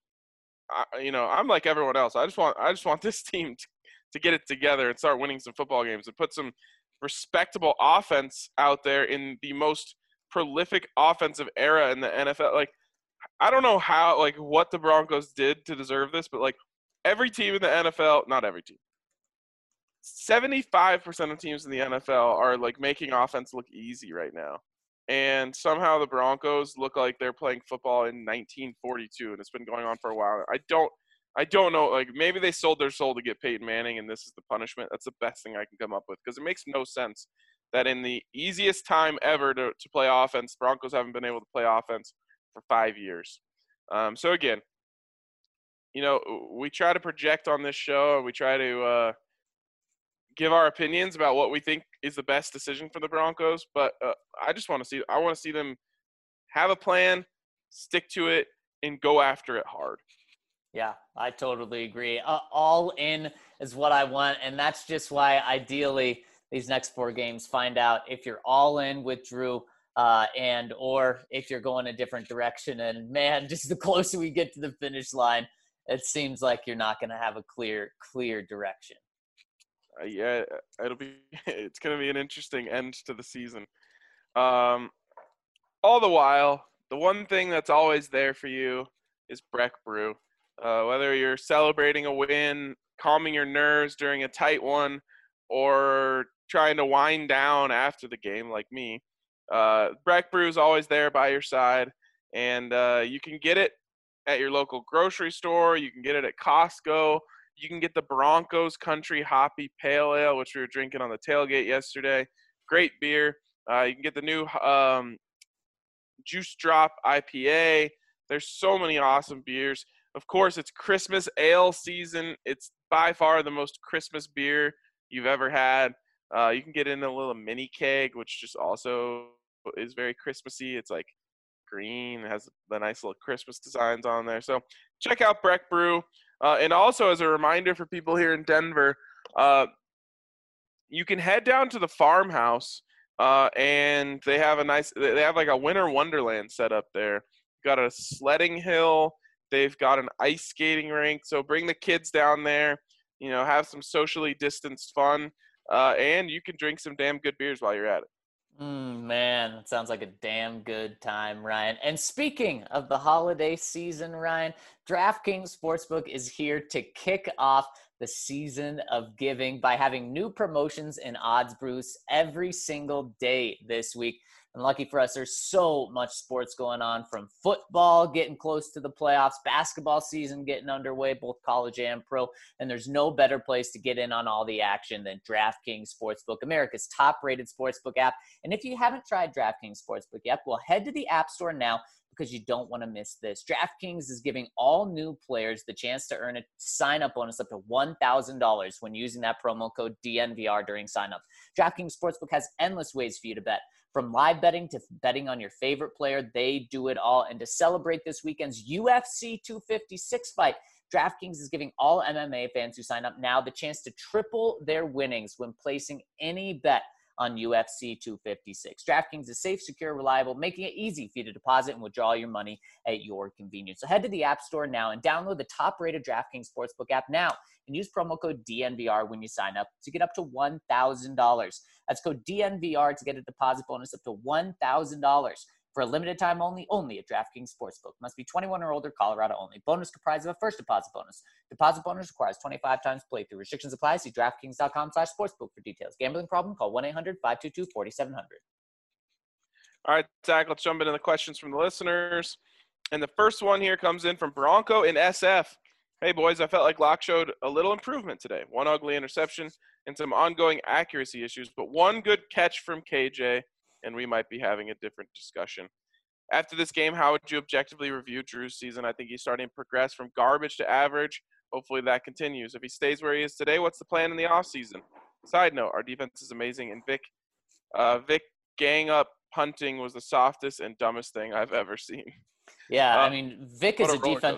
like everyone else. I just want this team to get it together and start winning some football games and put some respectable offense out there in the most prolific offensive era in the NFL. Like, I don't know what the Broncos did to deserve this, but like every team in the NFL, not every team, 75% of teams in the NFL are like making offense look easy right now. And somehow the Broncos look like they're playing football in 1942, and it's been going on for a while. I don't know. Like, maybe they sold their soul to get Peyton Manning, and this is the punishment. That's the best thing I can come up with because it makes no sense that in the easiest time ever to play offense, Broncos haven't been able to play offense for 5 years. So, again, we try to project on this show, and we try to give our opinions about what we think is the best decision for the Broncos, but I want to see them have a plan, stick to it, and go after it hard. Yeah, I totally agree. All in is what I want, and that's just why ideally these next 4 games find out if you're all in with Drew or if you're going a different direction. And man, just the closer we get to the finish line, it seems like you're not going to have a clear direction. Yeah, it's going to be an interesting end to the season. All the while, the one thing that's always there for you is Breck Brew. Whether you're celebrating a win, calming your nerves during a tight one, or trying to wind down after the game like me, Breck Brew is always there by your side, and you can get it at your local grocery store. You can get it at Costco. You can get the Broncos Country Hoppy Pale Ale, which we were drinking on the tailgate yesterday. Great beer. You can get the new Juice Drop IPA. There's so many awesome beers. Of course, it's Christmas ale season. It's by far the most Christmas beer you've ever had. You can get in a little mini keg, which just also is very Christmassy. It's like green, has the nice little Christmas designs on there. So check out Breck Brew. And also as a reminder for people here in Denver, you can head down to the farmhouse, and they have like a winter wonderland set up there. Got a sledding hill. They've got an ice skating rink. So bring the kids down there, have some socially distanced fun, and you can drink some damn good beers while you're at it. Man, that sounds like a damn good time, Ryan. And speaking of the holiday season, Ryan, DraftKings Sportsbook is here to kick off the season of giving by having new promotions and odds boosts every single day this week. And lucky for us, there's so much sports going on, from football getting close to the playoffs, basketball season getting underway, both college and pro. And there's no better place to get in on all the action than DraftKings Sportsbook, America's top-rated sportsbook app. And if you haven't tried DraftKings Sportsbook yet, well, head to the App Store now, because you don't want to miss this. DraftKings is giving all new players the chance to earn a sign-up bonus up to $1,000 when using that promo code DNVR during sign-up. DraftKings Sportsbook has endless ways for you to bet. From live betting to betting on your favorite player, they do it all. And to celebrate this weekend's UFC 256 fight, DraftKings is giving all MMA fans who sign up now the chance to triple their winnings when placing any bet on UFC 256. DraftKings is safe, secure, reliable, making it easy for you to deposit and withdraw your money at your convenience. So head to the App Store now and download the top-rated DraftKings Sportsbook app now and use promo code DNVR when you sign up to get up to $1,000. That's code DNVR to get a deposit bonus up to $1,000. For a limited time only at DraftKings Sportsbook. Must be 21 or older, Colorado only. Bonus comprised of a first deposit bonus. Deposit bonus requires 25 times playthrough. Restrictions apply. See DraftKings.com/sportsbook for details. Gambling problem? Call 1-800-522-4700. All right, Zach, let's jump into the questions from the listeners. And the first one here comes in from Bronco in SF. Hey, boys, I felt like Locke showed a little improvement today. One ugly interception and some ongoing accuracy issues, but one good catch from KJ, and we might be having a different discussion. After this game, how would you objectively review Drew's season? I think he's starting to progress from garbage to average. Hopefully that continues. If he stays where he is today, what's the plan in the offseason? Side note, our defense is amazing, and Vic gang up punting was the softest and dumbest thing I've ever seen. Yeah, I mean, Vic is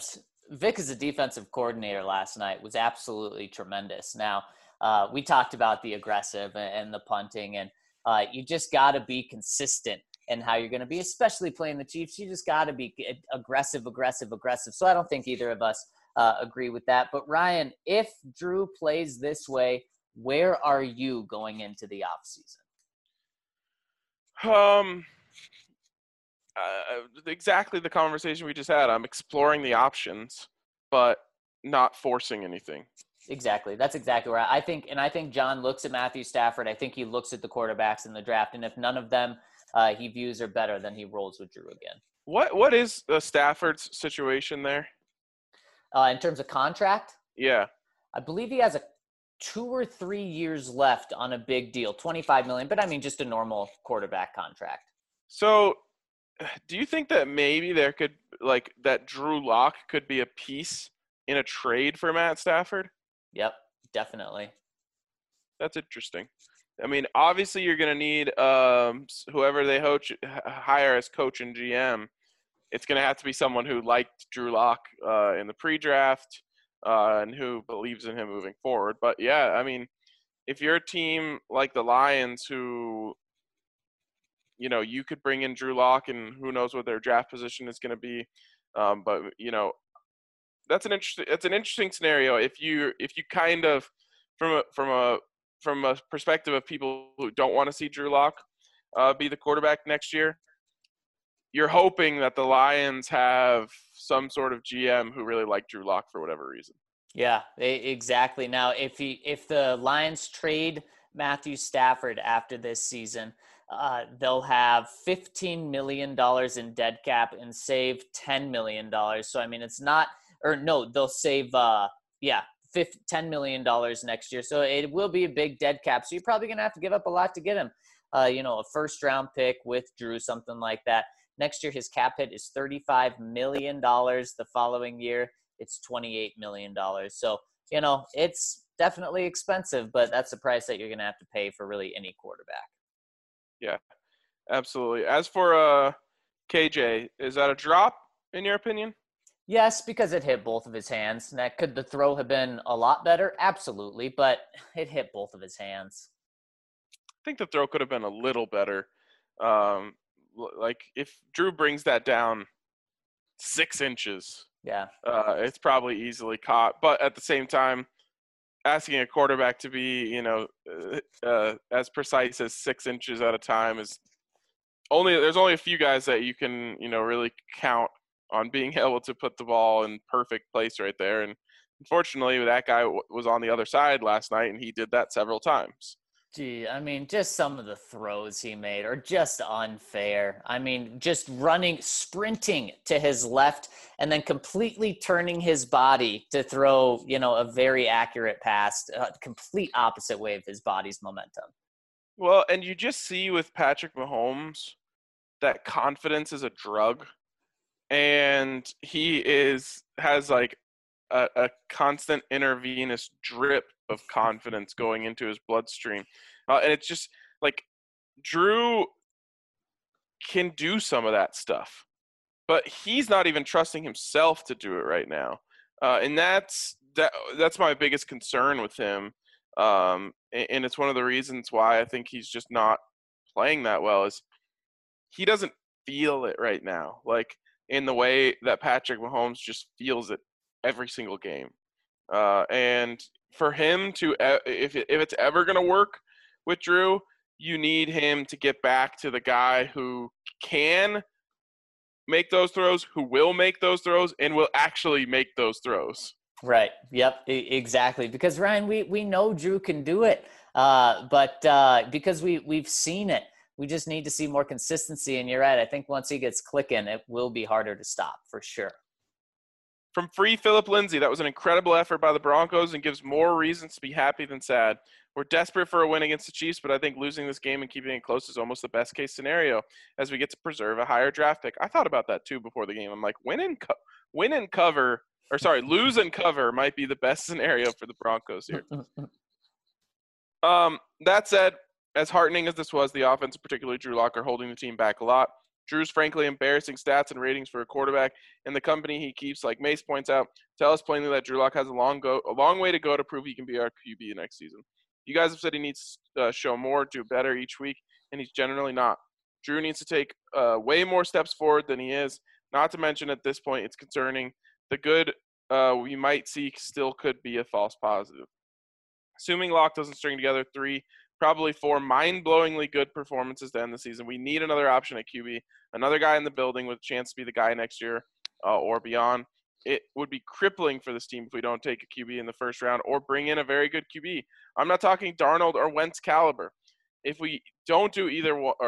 a defensive coordinator last night, was absolutely tremendous. Now, we talked about the aggressive and the punting, and you just got to be consistent in how you're going to be, especially playing the Chiefs. You just got to be aggressive. So I don't think either of us agree with that. But Ryan, if Drew plays this way, where are you going into the offseason? Exactly the conversation we just had. I'm exploring the options, but not forcing anything. Exactly. That's exactly right. I think John looks at Matthew Stafford. I think he looks at the quarterbacks in the draft, and if none of them he views are better, then he rolls with Drew again. What is Stafford's situation there? In terms of contract? Yeah. I believe he has 2 or 3 years left on a big deal, $25 million, but I mean just a normal quarterback contract. So do you think that maybe there could, like, that Drew Lock could be a piece in a trade for Matt Stafford? Yep, definitely. That's interesting. I mean, obviously you're going to need whoever they hire as coach and GM. It's going to have to be someone who liked Drew Lock in the pre-draft and who believes in him moving forward. But, yeah, I mean, if you're a team like the Lions who, you could bring in Drew Lock, and who knows what their draft position is going to be. But, that's an interesting scenario. If you kind of from a perspective of people who don't want to see Drew Lock be the quarterback next year, you're hoping that the Lions have some sort of GM who really like Drew Lock for whatever reason. Yeah, exactly. Now, if the Lions trade Matthew Stafford after this season, they'll have $15 million in dead cap and save $10 million. So, I mean, it's not – or no, they'll save $10 million next year. So it will be a big dead cap. So you're probably going to have to give up a lot to get him. A first-round pick with Drew, something like that. Next year, his cap hit is $35 million. The following year, it's $28 million. So, it's definitely expensive, but that's the price that you're going to have to pay for really any quarterback. Yeah, absolutely. As for KJ, is that a drop in your opinion? Yes, because it hit both of his hands. Now, could the throw have been a lot better? Absolutely, but it hit both of his hands. I think the throw could have been a little better. Like if Drew brings that down 6 inches, it's probably easily caught. But at the same time, asking a quarterback to be, as precise as 6 inches at a time is there's only a few guys that you can, really count on being able to put the ball in perfect place right there. And unfortunately, that guy was on the other side last night, and he did that several times. Gee, I mean, just some of the throws he made are just unfair. I mean, just sprinting to his left, and then completely turning his body to throw, a very accurate pass, complete opposite way of his body's momentum. Well, and you just see with Patrick Mahomes that confidence is a drug, and he has like a constant intravenous drip of confidence going into his bloodstream. And it's just like Drew can do some of that stuff, but he's not even trusting himself to do it right now. And that's my biggest concern with him. And it's one of the reasons why I think he's just not playing that well is he doesn't feel it right now. Like in the way that Patrick Mahomes just feels it every single game. And for him to, if it's ever going to work with Drew, you need him to get back to the guy who can make those throws, who will make those throws, and will actually make those throws. Right. Yep. Exactly. Because Ryan, we know Drew can do it, but because we've seen it, we just need to see more consistency. And you're right. I think once he gets clicking, it will be harder to stop for sure. From Free Philip Lindsay, that was an incredible effort by the Broncos and gives more reasons to be happy than sad. We're desperate for a win against the Chiefs, but I think losing this game and keeping it close is almost the best case scenario as we get to preserve a higher draft pick. I thought about that too before the game. I'm like, lose and cover might be the best scenario for the Broncos here. That said, as heartening as this was, the offense, particularly Drew Lock, are holding the team back a lot. Drew's frankly embarrassing stats and ratings for a quarterback and the company he keeps, like Mace points out, tell us plainly that Drew Lock has a long way to go to prove he can be our QB next season. You guys have said he needs to show more, do better each week, and he's generally not. Drew needs to take way more steps forward than he is. Not to mention at this point, it's concerning. The good we might see still could be a false positive. Assuming Lock doesn't string together 3, probably 4 mind-blowingly good performances to end the season, we need another option at QB, another guy in the building with a chance to be the guy next year or beyond. It would be crippling for this team if we don't take a QB in the first round or bring in a very good QB. I'm not talking Darnold or Wentz caliber. If we don't do either one,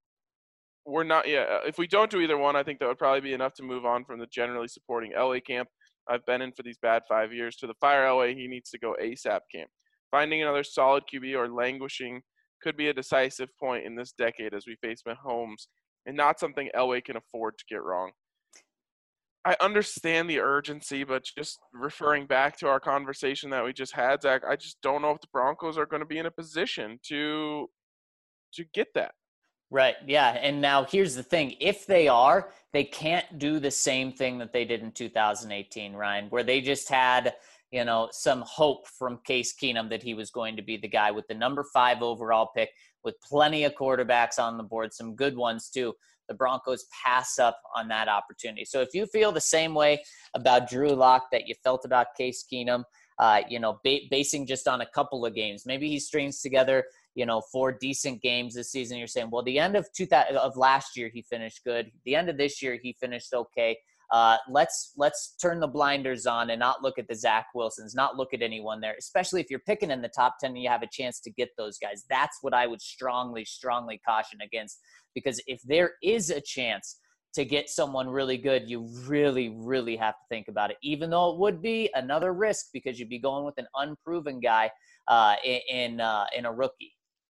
if we don't do either one, I think that would probably be enough to move on from the generally supporting Elway camp I've been in for these bad 5 years to the fire Elway, he needs to go ASAP camp. Finding another solid QB or languishing could be a decisive point in this decade as we face Mahomes, and not something Elway can afford to get wrong. I understand the urgency, but just referring back to our conversation that we just had, Zach, I just don't know if the Broncos are going to be in a position to get that. Right. Yeah. And now here's the thing. If they are, they can't do the same thing that they did in 2018, Ryan, where they just had, some hope from Case Keenum that he was going to be the guy with the number 5 overall pick with plenty of quarterbacks on the board, some good ones too. The Broncos pass up on that opportunity. So if you feel the same way about Drew Lock that you felt about Case Keenum, basing just on a couple of games, maybe he strings together, 4 decent games this season. You're saying, well, the end of last year, he finished good. The end of this year, he finished okay. Let's turn the blinders on and not look at the Zach Wilsons, not look at anyone there, especially if you're picking in the top 10 and you have a chance to get those guys. That's what I would strongly caution against, because if there is a chance to get someone really good, you really, really have to think about it, even though it would be another risk because you'd be going with an unproven guy in a rookie.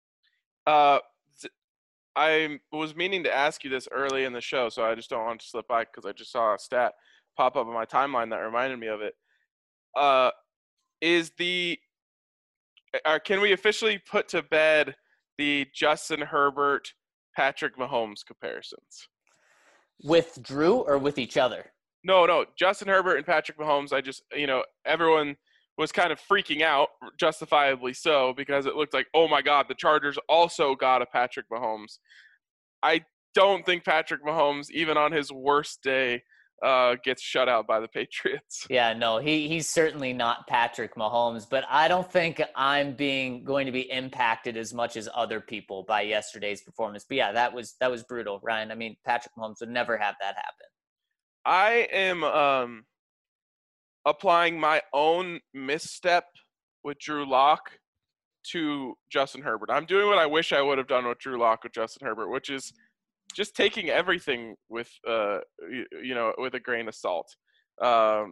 I was meaning to ask you this early in the show, so I just don't want to slip by because I just saw a stat pop up on my timeline that reminded me of it. Can we officially put to bed the Justin Herbert, Patrick Mahomes comparisons? With Drew or with each other? No, Justin Herbert and Patrick Mahomes. Everyone was kind of freaking out, justifiably so, because it looked like, oh my God, the Chargers also got a Patrick Mahomes. I don't think Patrick Mahomes, even on his worst day, gets shut out by the Patriots. Yeah, no, he's certainly not Patrick Mahomes, but I don't think I'm going to be impacted as much as other people by yesterday's performance. But yeah, that was brutal, Ryan. I mean, Patrick Mahomes would never have that happen. I am applying my own misstep with Drew Lock to Justin Herbert. I'm doing what I wish I would have done with Drew Lock with Justin Herbert, which is just taking everything with with a grain of salt. I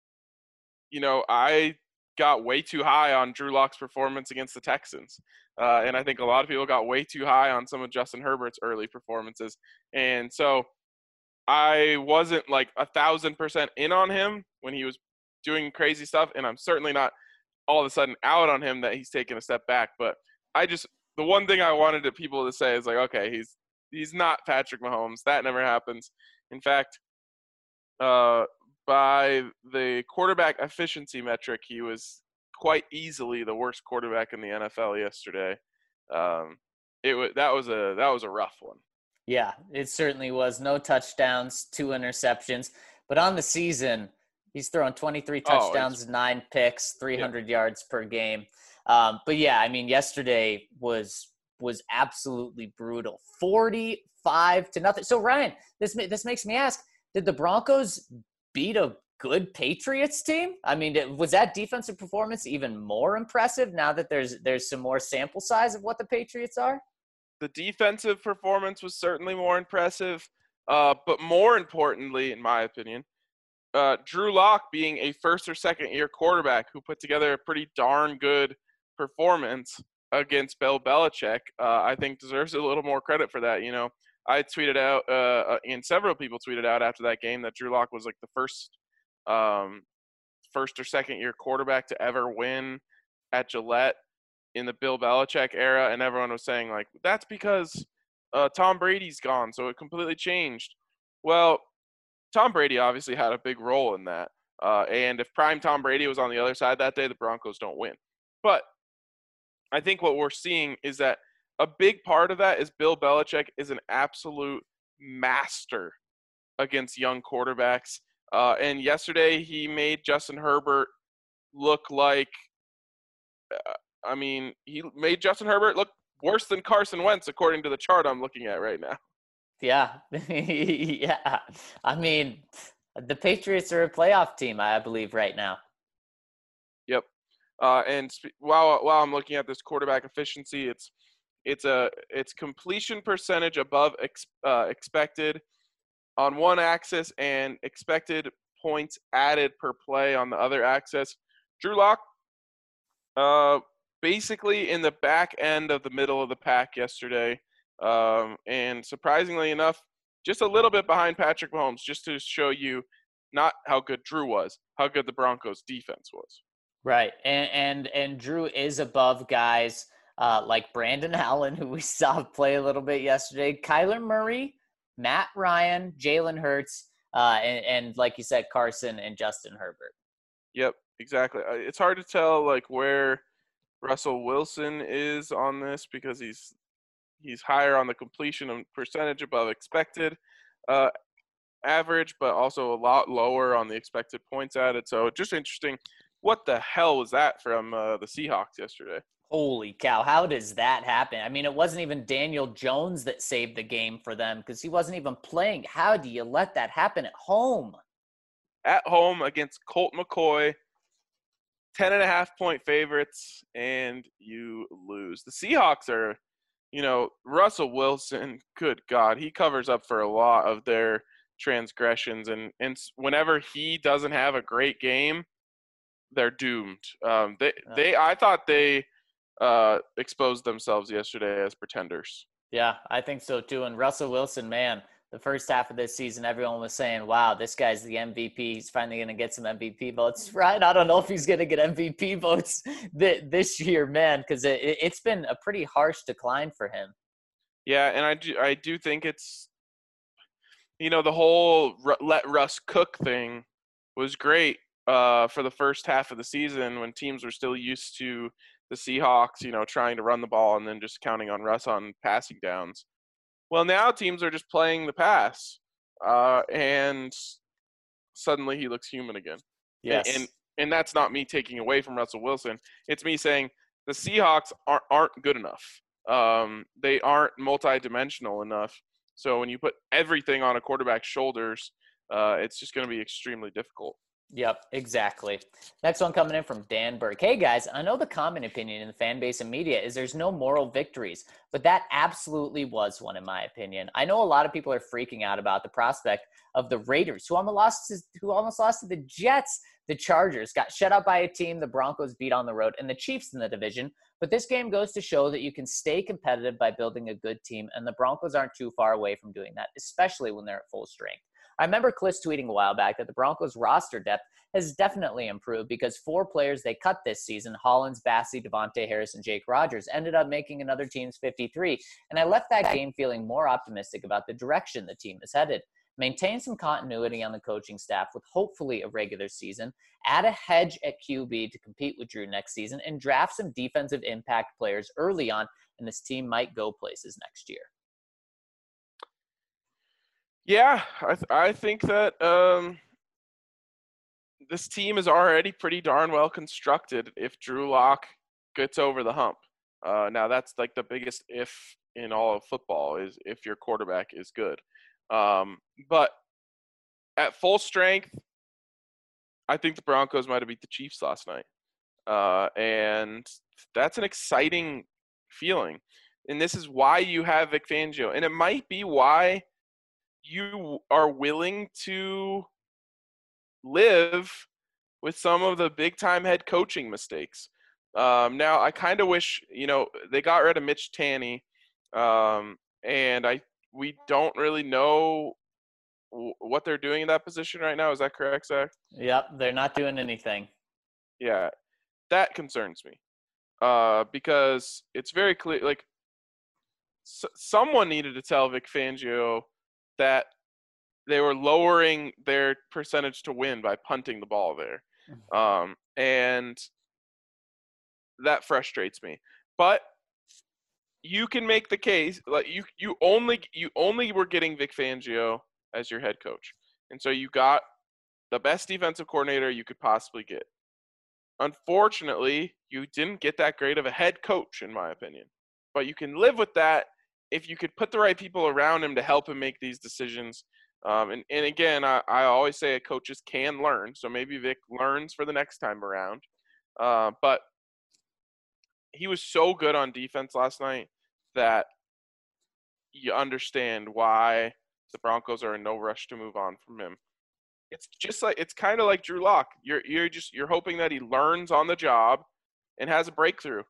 got way too high on Drew Lock's performance against the Texans. And I think a lot of people got way too high on some of Justin Herbert's early performances. And so I wasn't like 1,000% in on him when he was doing crazy stuff, and I'm certainly not all of a sudden out on him that he's taken a step back. But the one thing I wanted people to say is like, okay, he's not Patrick Mahomes. That never happens. In fact, by the quarterback efficiency metric, he was quite easily the worst quarterback in the NFL yesterday. That was a rough one. Yeah, it certainly was. No touchdowns, 2 interceptions, but on the season, he's thrown 23 touchdowns, 9 picks, 300 yards per game. But yeah, I mean, yesterday was absolutely brutal. 45-0. So Ryan, this makes me ask: did the Broncos beat a good Patriots team? I mean, was that defensive performance even more impressive now that there's some more sample size of what the Patriots are? The defensive performance was certainly more impressive, but more importantly, in my opinion, Drew Lock being a first or second year quarterback who put together a pretty darn good performance against Bill Belichick, I think deserves a little more credit for that. I tweeted out, and several people tweeted out after that game that Drew Lock was like the first or second year quarterback to ever win at Gillette in the Bill Belichick era, and everyone was saying like, that's because Tom Brady's gone, so it completely changed. Well, Tom Brady obviously had a big role in that. And if prime Tom Brady was on the other side that day, the Broncos don't win. But I think what we're seeing is that a big part of that is Bill Belichick is an absolute master against young quarterbacks. And yesterday he made Justin Herbert look like he made Justin Herbert look worse than Carson Wentz, according to the chart I'm looking at right now. Yeah. Yeah. I mean, the Patriots are a playoff team, I believe, right now. Yep. And while I'm looking at this quarterback efficiency, it's completion percentage above expected on one axis and expected points added per play on the other axis. Drew Lock, basically in the back end of the middle of the pack yesterday. And surprisingly enough, just a little bit behind Patrick Mahomes, just to show you not how good Drew was, how good the Broncos defense was. Right. And Drew is above guys like Brandon Allen, who we saw play a little bit yesterday, Kyler Murray, Matt Ryan, Jalen Hurts, and like you said, Carson and Justin Herbert. Yep, exactly. It's hard to tell like where Russell Wilson is on this because he's higher on the completion percentage above expected average, but also a lot lower on the expected points added. So just interesting. What the hell was that from the Seahawks yesterday? Holy cow. How does that happen? I mean, it wasn't even Daniel Jones that saved the game for them because he wasn't even playing. How do you let that happen at home? at home against Colt McCoy. 10.5-point favorites, and you lose. The Seahawks are, Russell Wilson, good God, he covers up for a lot of their transgressions, and whenever he doesn't have a great game, they're doomed. I thought they exposed themselves yesterday as pretenders. Yeah, I think so too. And Russell Wilson, man, the first half of this season, everyone was saying, wow, this guy's the MVP. He's finally going to get some MVP votes. Right? I don't know if he's going to get MVP votes this year, man, because it's been a pretty harsh decline for him. Yeah, and I do think it's, the whole let Russ cook thing was great for the first half of the season when teams were still used to the Seahawks, trying to run the ball and then just counting on Russ on passing downs. Well, now teams are just playing the pass, and suddenly he looks human again. Yes. And that's not me taking away from Russell Wilson. It's me saying the Seahawks aren't good enough. They aren't multi-dimensional enough. So when you put everything on a quarterback's shoulders, it's just going to be extremely difficult. Yep, exactly. Next one coming in from Dan Burke. Hey, guys, I know the common opinion in the fan base and media is there's no moral victories, but that absolutely was one, in my opinion. I know a lot of people are freaking out about the prospect of the Raiders, who almost lost to the Jets. The Chargers got shut out by a team the Broncos beat on the road, and the Chiefs in the division. But this game goes to show that you can stay competitive by building a good team, and the Broncos aren't too far away from doing that, especially when they're at full strength. I remember Cliff tweeting a while back that the Broncos roster depth has definitely improved because 4 players they cut this season, Hollins, Bassey, Devontae Harris, and Jake Rogers, ended up making another team's 53. And I left that game feeling more optimistic about the direction the team is headed. Maintain some continuity on the coaching staff with hopefully a regular season, add a hedge at QB to compete with Drew next season, and draft some defensive impact players early on, and this team might go places next year. Yeah, I think that this team is already pretty darn well constructed if Drew Lock gets over the hump. Now, that's like the biggest if in all of football is if your quarterback is good. But at full strength, I think the Broncos might have beat the Chiefs last night. And that's an exciting feeling. And this is why you have Vic Fangio. And it might be why you are willing to live with some of the big-time head coaching mistakes. Now, I kind of wish, they got rid of Mitch Tanny, and we don't really know what they're doing in that position right now. Is that correct, Zach? Yep, they're not doing anything. Yeah, that concerns me because it's very clear, like, someone needed to tell Vic Fangio that they were lowering their percentage to win by punting the ball there. And that frustrates me. But you can make the case, like you only were getting Vic Fangio as your head coach. And so you got the best defensive coordinator you could possibly get. Unfortunately, you didn't get that great of a head coach, in my opinion. But you can live with that if you could put the right people around him to help him make these decisions. And again, I always say coaches can learn. So maybe Vic learns for the next time around. But he was so good on defense last night that you understand why the Broncos are in no rush to move on from him. It's kind of like Drew Lock. You're hoping that he learns on the job and has a breakthrough.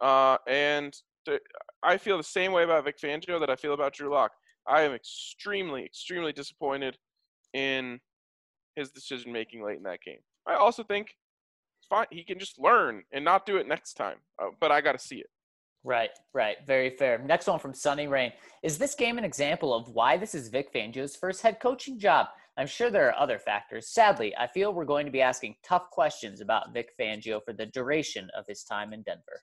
I feel the same way about Vic Fangio that I feel about Drew Lock. I am extremely, extremely disappointed in his decision-making late in that game. I also think it's fine. He can just learn and not do it next time, but I got to see it. Right. Very fair. Next one from Sunny Rain. Is this game an example of why this is Vic Fangio's first head coaching job? I'm sure there are other factors. Sadly, I feel we're going to be asking tough questions about Vic Fangio for the duration of his time in Denver.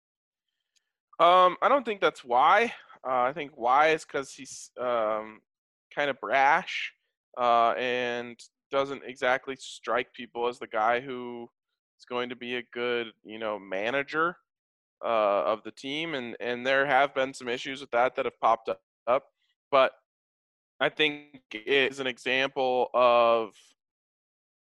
I don't think that's why. I think why is because he's kind of brash and doesn't exactly strike people as the guy who is going to be a good, manager of the team. And there have been some issues with that have popped up. But I think it is an example of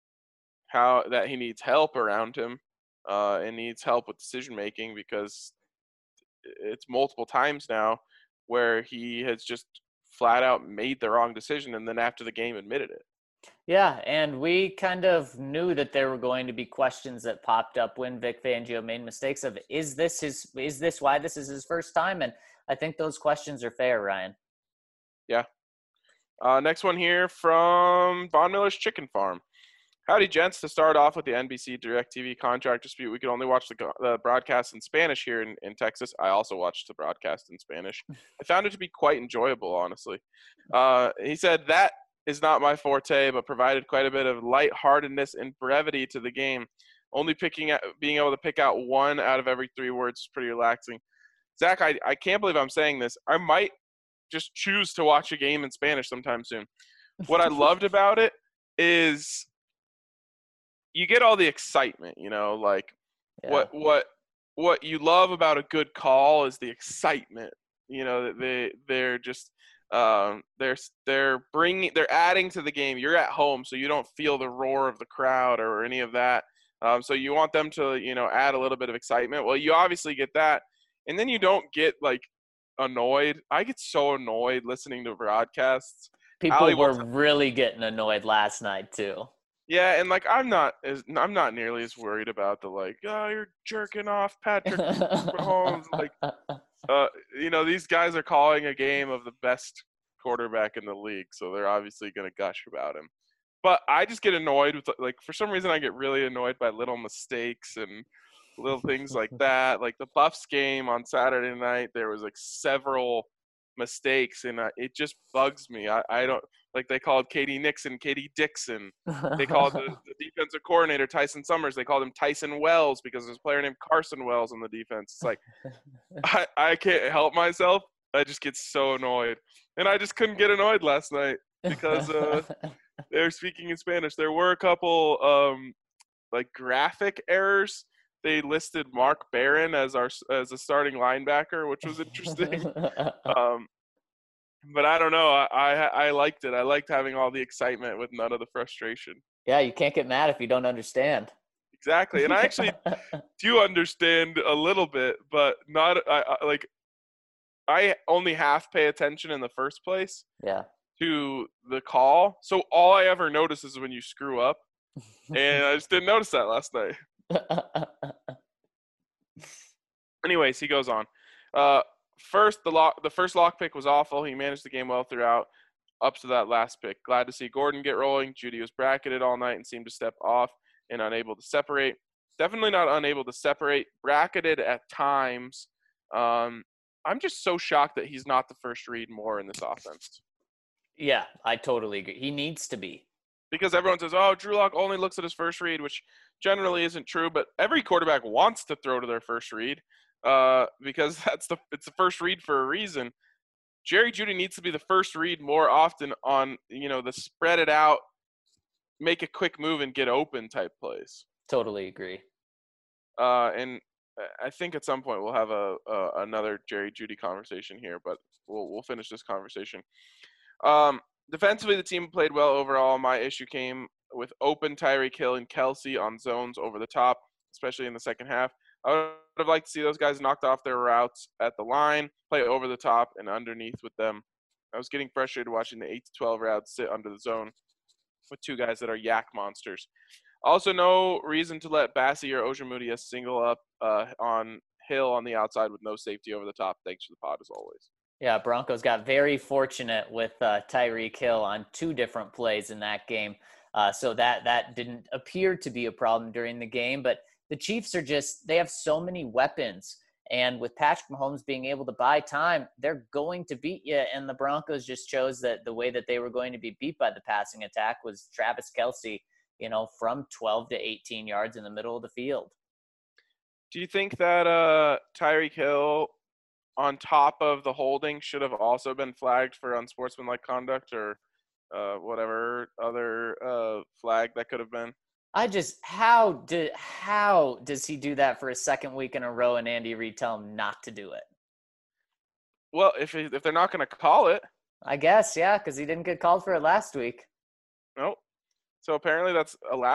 how that he needs help around him, and needs help with decision making, because it's multiple times now where he has just flat out made the wrong decision and then after the game admitted it. Yeah, and we kind of knew that there were going to be questions that popped up when Vic Fangio made mistakes of, is this why this is his first time? And I think those questions are fair, Ryan. Yeah. Next one here from Von Miller's Chicken Farm. Howdy, gents. To start off with the NBC DirecTV contract dispute, we could only watch the broadcast in Spanish here in Texas. I also watched the broadcast in Spanish. I found it to be quite enjoyable, honestly. He said, that is not my forte, but provided quite a bit of lightheartedness and brevity to the game. Only being able to pick out one out of every 3 words is pretty relaxing. Zach, I can't believe I'm saying this. I might just choose to watch a game in Spanish sometime soon. What I loved about it is you get all the excitement, like Yeah. what you love about a good call is the excitement, that they're just they're adding to the game. You're at home, so you don't feel the roar of the crowd or any of that. So you want them to, add a little bit of excitement. Well, you obviously get that, and then you don't get like annoyed. I get so annoyed listening to broadcasts. People were really getting annoyed last night too. Yeah, and like I'm not nearly as worried about the like, oh, you're jerking off Patrick Mahomes. Like, these guys are calling a game of the best quarterback in the league, so they're obviously going to gush about him. But I just get annoyed with, like, for some reason I get really annoyed by little mistakes and little things like that. Like the Buffs game on Saturday night, there was like several mistakes, and it just bugs me. I don't like, they called Katie Nixon Katie Dixon. They called the defensive coordinator Tyson Summers. They called him Tyson Wells because there's a player named Carson Wells on the defense. It's like I can't help myself. I just get so annoyed, and I just couldn't get annoyed last night because they were speaking in Spanish. There were a couple like graphic errors. They listed Mark Barron as a starting linebacker, which was interesting. But I don't know. I liked it. I liked having all the excitement with none of the frustration. Yeah, you can't get mad if you don't understand. Exactly. And I actually do understand a little bit, but not I only half pay attention in the first place. Yeah. To the call. So all I ever notice is when you screw up. And I just didn't notice that last night. Anyways, he goes on. First, the first lock pick was awful. He managed the game well throughout, up to that last pick. Glad to see Gordon get rolling. Judy was bracketed all night and seemed to step off and unable to separate. Definitely not unable to separate. Bracketed at times. I'm just so shocked that he's not the first read more in this offense. Yeah, I totally agree. He needs to be. Because everyone says, oh, Drew Lock only looks at his first read, which generally isn't true. But every quarterback wants to throw to their first read. Because it's the first read for a reason. Jerry Jeudy needs to be the first read more often on, the spread it out, make a quick move and get open type plays. Totally agree. And I think at some point we'll have another Jerry Jeudy conversation here, but we'll finish this conversation. Defensively, the team played well overall. My issue came with open Tyreek Hill and Kelsey on zones over the top, especially in the second half. I would have liked to see those guys knocked off their routes at the line, play over the top and underneath with them. I was getting frustrated watching the 8 to 12 routes sit under the zone with 2 guys that are yak monsters. Also, no reason to let Bassie or Ojemudia single up on Hill on the outside with no safety over the top. Thanks for the pod, as always. Yeah, Broncos got very fortunate with Tyreek Hill on 2 different plays in that game. So that didn't appear to be a problem during the game, but the Chiefs they have so many weapons, and with Patrick Mahomes being able to buy time, they're going to beat you. And the Broncos just chose that the way that they were going to be beat by the passing attack was Travis Kelce, from 12 to 18 yards in the middle of the field. Do you think that Tyreek Hill, on top of the holding, should have also been flagged for unsportsmanlike conduct or whatever other flag that could have been? How does he do that for a second week in a row and Andy Reid tell him not to do it? Well, if they're not going to call it. I guess, yeah, because he didn't get called for it last week. Nope. So apparently that's allowed.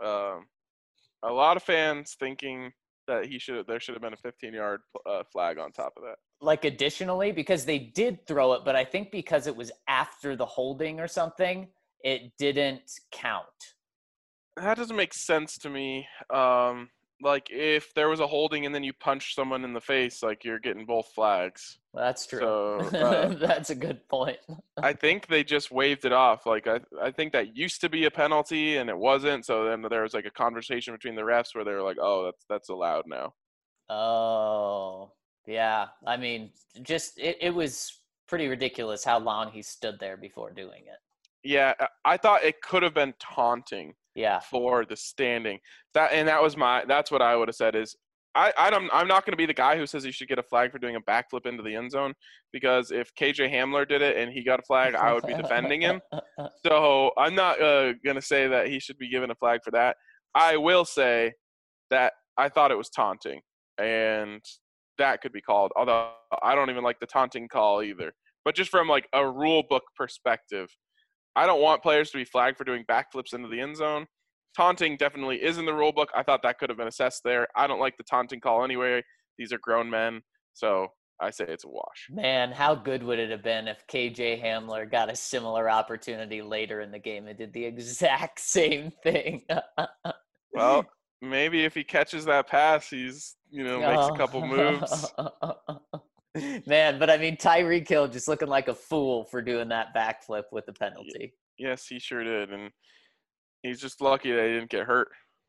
A lot of fans thinking that there should have been a 15-yard flag on top of that. Like additionally, because they did throw it, but I think because it was after the holding or something, it didn't count. That doesn't make sense to me. Like if there was a holding and then you punch someone in the face, like you're getting both flags. Well, that's true. So that's a good point. I think they just waved it off. Like I think that used to be a penalty and it wasn't. So then there was like a conversation between the refs where they were like, "Oh, that's allowed now." Oh, yeah. I mean, just it was pretty ridiculous how long he stood there before doing it. Yeah, I thought it could have been taunting. Yeah. For the standing. That's what I would have said is I'm not going to be the guy who says you should get a flag for doing a backflip into the end zone, because if KJ Hamler did it and he got a flag, I would be defending him. So I'm not going to say that he should be given a flag for that. I will say that I thought it was taunting, and that could be called, although I don't even like the taunting call either. But just from like a rule book perspective, I don't want players to be flagged for doing backflips into the end zone. Taunting definitely is in the rule book. I thought that could have been assessed there. I don't like the taunting call anyway. These are grown men, so I say it's a wash. Man, how good would it have been if KJ Hamler got a similar opportunity later in the game and did the exact same thing? Well, maybe if he catches that pass, he's, makes a couple moves. Man, but I mean, Tyreek Hill just looking like a fool for doing that backflip with the penalty. Yes, he sure did. And he's just lucky that he didn't get hurt.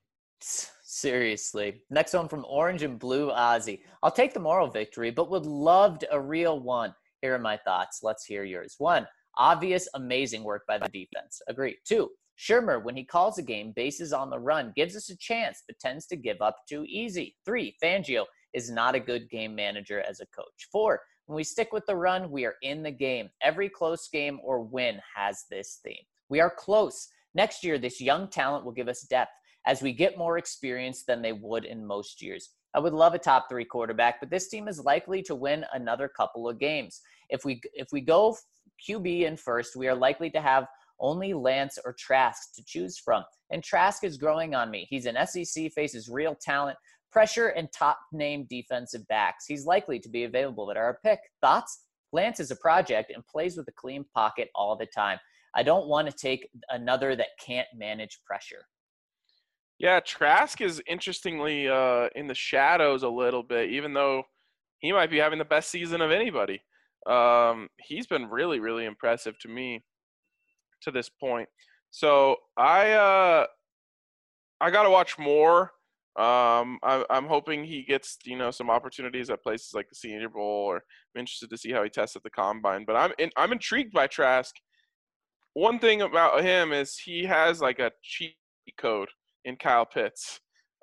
Seriously. Next one from Orange and Blue Ozzy. I'll take the moral victory, but would loved a real one. Here are my thoughts. Let's hear yours. 1, obvious, amazing work by the defense. Agree. 2, Shermer, when he calls a game, bases on the run, gives us a chance, but tends to give up too easy. 3, Fangio is not a good game manager as a coach. 4, when we stick with the run, we are in the game. Every close game or win has this theme. We are close. Next year, this young talent will give us depth as we get more experience than they would in most years. I would love a top 3 quarterback, but this team is likely to win another couple of games. If we go QB in first, we are likely to have only Lance or Trask to choose from. And Trask is growing on me. He's an SEC, faces real talent, pressure, and top-name defensive backs. He's likely to be available at our pick. Thoughts? Lance is a project and plays with a clean pocket all the time. I don't want to take another that can't manage pressure. Yeah, Trask is interestingly in the shadows a little bit, even though he might be having the best season of anybody. He's been really, really impressive to me to this point. So I got to watch more. I'm hoping he gets, some opportunities at places like the Senior Bowl, or I'm interested to see how he tests at the Combine. But I'm intrigued by Trask. One thing about him is he has like a cheat code in Kyle Pitts.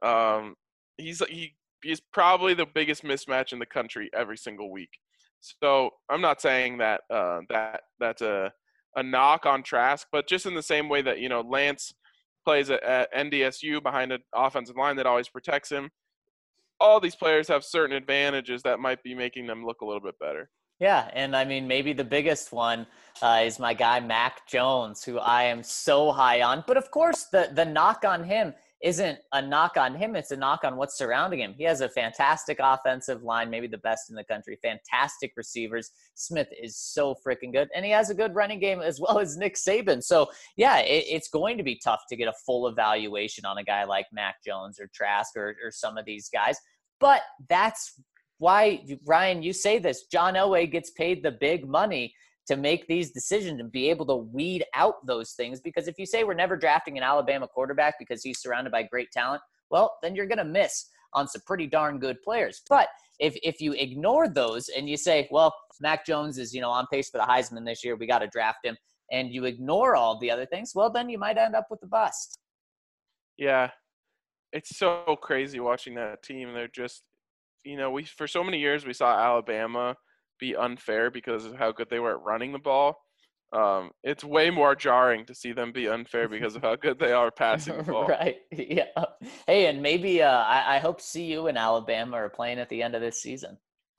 He's probably the biggest mismatch in the country every single week. So I'm not saying that that's a knock on Trask, but just in the same way that Lance plays at NDSU behind an offensive line that always protects him. All these players have certain advantages that might be making them look a little bit better. Yeah, and I mean, maybe the biggest one is my guy Mac Jones, who I am so high on. But of course, the knock on him isn't a knock on him. It's a knock on what's surrounding him. He has a fantastic offensive line, maybe the best in the country, fantastic receivers. Smith is so freaking good. And he has a good running game as well as Nick Saban. So, yeah, it's going to be tough to get a full evaluation on a guy like Mac Jones or Trask or some of these guys. But that's why, Ryan, you say this. John Elway gets paid the big money to make these decisions and be able to weed out those things. Because if you say we're never drafting an Alabama quarterback because he's surrounded by great talent, well, then you're going to miss on some pretty darn good players. But if you ignore those and you say, well, Mac Jones is, on pace for the Heisman this year, we got to draft him, and you ignore all the other things, well, then you might end up with a bust. Yeah, it's so crazy watching that team. They're just, we for so many years we saw Alabama be unfair because of how good they were at running the ball. It's way more jarring to see them be unfair because of how good they are passing the ball. Right. Yeah. Hey, and maybe I hope CU and Alabama are playing at the end of this season.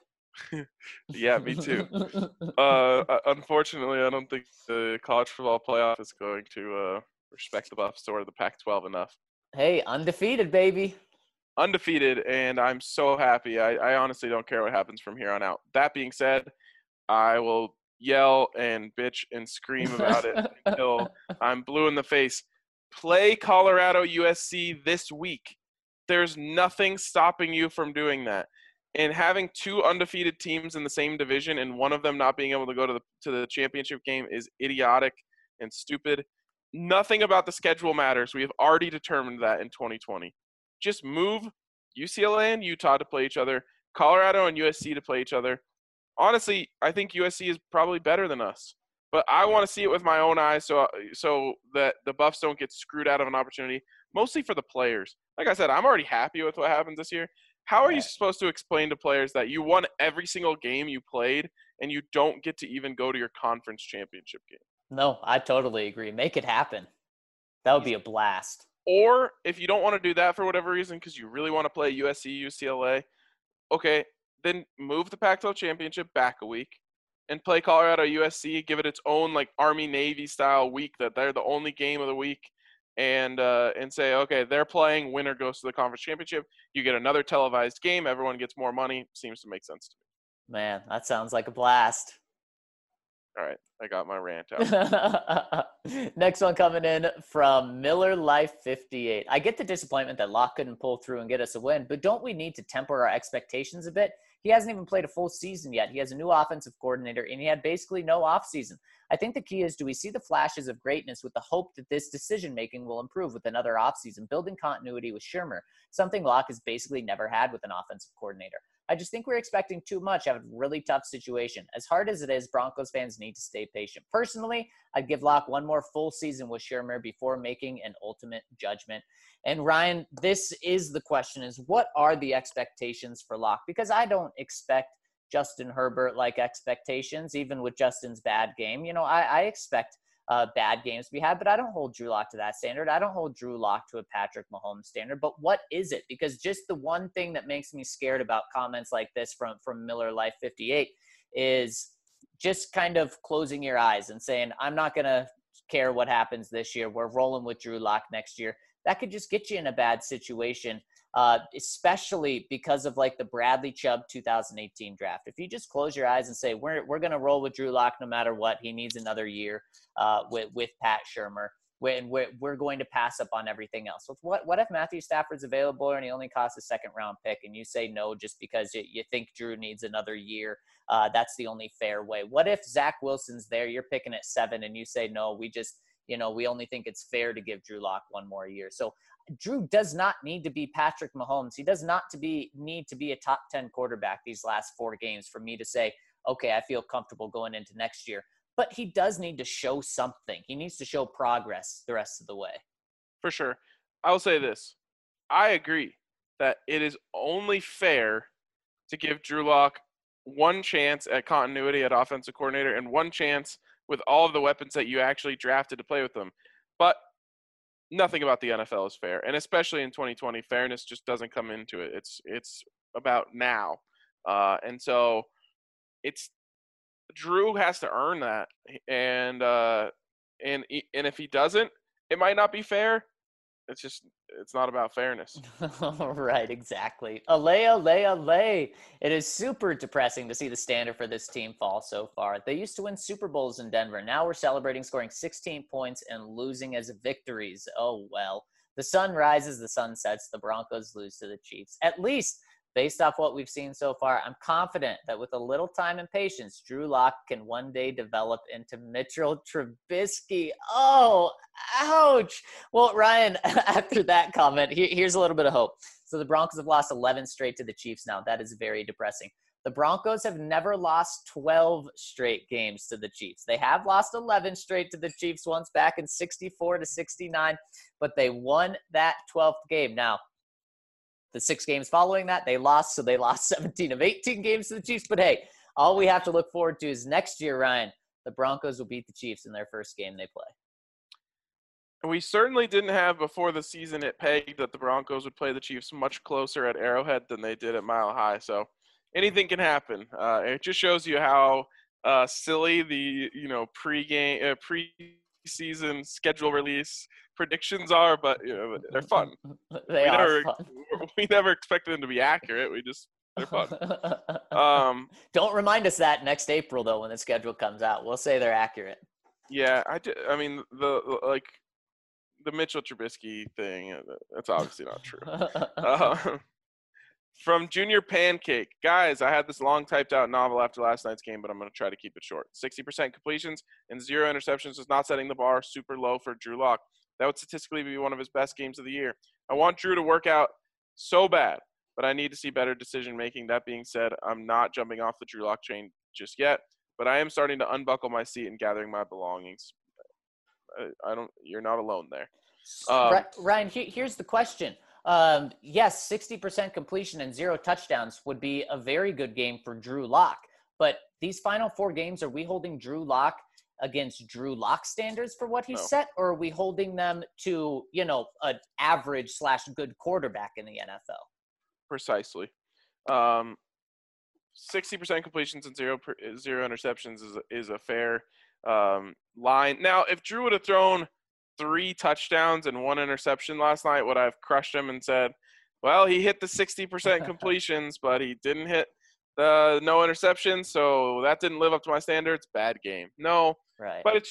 Yeah, me too. Unfortunately, I don't think the college football playoff is going to respect the Buffs or the Pac-12 enough. Hey, undefeated, baby. Undefeated, and I'm so happy. I honestly don't care what happens from here on out. That being said, I will yell and bitch and scream about it until I'm blue in the face. Play Colorado USC this week. There's nothing stopping you from doing that. And having two undefeated teams in the same division and one of them not being able to go to the championship game is idiotic and stupid. Nothing about the schedule matters. We have already determined that in 2020. Just move UCLA and Utah to play each other, Colorado and USC to play each other. Honestly, I think USC is probably better than us. But I want to see it with my own eyes so that the Buffs don't get screwed out of an opportunity, mostly for the players. Like I said, I'm already happy with what happens this year. How are you supposed to explain to players that you won every single game you played and you don't get to even go to your conference championship game? No, I totally agree. Make it happen. That would be a blast. Or if you don't want to do that for whatever reason because you really want to play USC, UCLA, okay, then move the Pac-12 championship back a week and play Colorado USC, give it its own like Army-Navy style week that they're the only game of the week, and say, okay, they're playing, winner goes to the conference championship. You get another televised game, everyone gets more money. Seems to make sense to me. Man, that sounds like a blast. All right, I got my rant out. Next one coming in from Miller Life 58. I get the disappointment that Locke couldn't pull through and get us a win, but don't we need to temper our expectations a bit? He hasn't even played a full season yet. He has a new offensive coordinator, and he had basically no offseason. I think the key is, do we see the flashes of greatness with the hope that this decision-making will improve with another offseason, building continuity with Shurmur, something Locke has basically never had with an offensive coordinator. I just think we're expecting too much out of a really tough situation. As hard as it is, Broncos fans need to stay patient. Personally, I'd give Locke one more full season with Shurmur before making an ultimate judgment. And Ryan, this is the question, is what are the expectations for Locke? Because I don't expect Justin Herbert-like expectations, even with Justin's bad game. You know, I expect bad games to be had, but I don't hold Drew Lock to that standard. I don't hold Drew Lock to a Patrick Mahomes standard. But what is it? Because just the one thing that makes me scared about comments like this from Miller Life 58 is just kind of closing your eyes and saying, I'm not going to care what happens this year. We're rolling with Drew Lock next year. That could just get you in a bad situation, especially because of like the Bradley Chubb 2018 draft. If you just close your eyes and say, we're going to roll with Drew Lock no matter what, he needs another year with Pat Shurmur, and we're going to pass up on everything else. So what if Matthew Stafford's available and he only costs a second-round pick and you say no just because you think Drew needs another year? That's the only fair way. What if Zach Wilson's there, you're picking at 7, and you say no, we only think it's fair to give Drew Lock one more year. So Drew does not need to be Patrick Mahomes. He does not need to be a top 10 quarterback these last 4 games for me to say, okay, I feel comfortable going into next year. But he does need to show something. He needs to show progress the rest of the way. For sure. I will say this. I agree that it is only fair to give Drew Lock one chance at continuity at offensive coordinator and one chance with all of the weapons that you actually drafted to play with them. But nothing about the NFL is fair. And especially in 2020, fairness just doesn't come into it. It's about now. And so Drew has to earn that. And if he doesn't, it might not be fair. It's not about fairness. Right, exactly. Allay. It is super depressing to see the standard for this team fall so far. They used to win Super Bowls in Denver. Now we're celebrating scoring 16 points and losing as victories. Oh, well. The sun rises, the sun sets. The Broncos lose to the Chiefs. At least, based off what we've seen so far, I'm confident that with a little time and patience, Drew Lock can one day develop into Mitchell Trubisky. Oh, ouch. Well, Ryan, after that comment, here's a little bit of hope. So the Broncos have lost 11 straight to the Chiefs now. That is very depressing. The Broncos have never lost 12 straight games to the Chiefs. They have lost 11 straight to the Chiefs once back in 64-69, but they won that 12th game. Now, the 6 games following that, they lost. So they lost 17 of 18 games to the Chiefs. But hey, all we have to look forward to is next year, Ryan, the Broncos will beat the Chiefs in their first game they play. And we certainly didn't have before the season it pegged that the Broncos would play the Chiefs much closer at Arrowhead than they did at Mile High. So anything can happen. It just shows you how silly the preseason schedule release predictions are, but they're fun. They are fun. We never expected them to be accurate. They're fun. Don't remind us that next April though when the schedule comes out. We'll say they're accurate. Yeah, I mean the Mitchell Trubisky thing. That's obviously not true. From Junior Pancake. Guys, I had this long typed out novel after last night's game, but I'm going to try to keep it short. 60% completions and 0 interceptions is not setting the bar super low for Drew Lock. That would statistically be one of his best games of the year. I want Drew to work out so bad, but I need to see better decision making. That being said, I'm not jumping off the Drew Lock train just yet, but I am starting to unbuckle my seat and gathering my belongings. You're not alone there. Ryan, here's the question. Yes, 60% completion and 0 touchdowns would be a very good game for Drew Lock. But these final 4 games, are we holding Drew Lock against Drew Lock standards for what he's set, or are we holding them to, an average / good quarterback in the NFL? Precisely. 60% completions and 0 interceptions is a fair line. Now, if Drew would have thrown 3 touchdowns and 1 interception last night, would I have crushed him and said, well, he hit the 60% completions, but he didn't hit the no interceptions, so that didn't live up to my standards. Bad game. No, right. But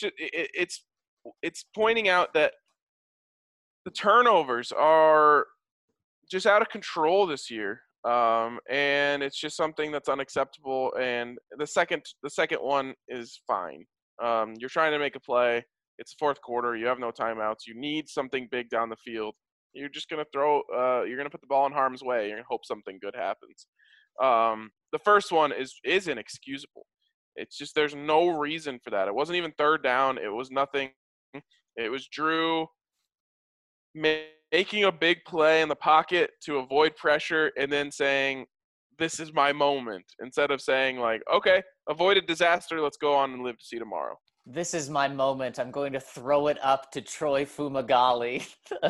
it's pointing out that the turnovers are just out of control this year, and it's just something that's unacceptable. And the second one is fine. You're trying to make a play. It's the fourth quarter. You have no timeouts. You need something big down the field. You're just going to you're going to put the ball in harm's way. You're going to hope something good happens. The first one is inexcusable. It's just there's no reason for that. It wasn't even third down. It was nothing. It was Drew making a big play in the pocket to avoid pressure and then saying, this is my moment, instead of saying, like, okay, avoided disaster. Let's go on and live to see tomorrow. This is my moment. I'm going to throw it up to Troy Fumagalli.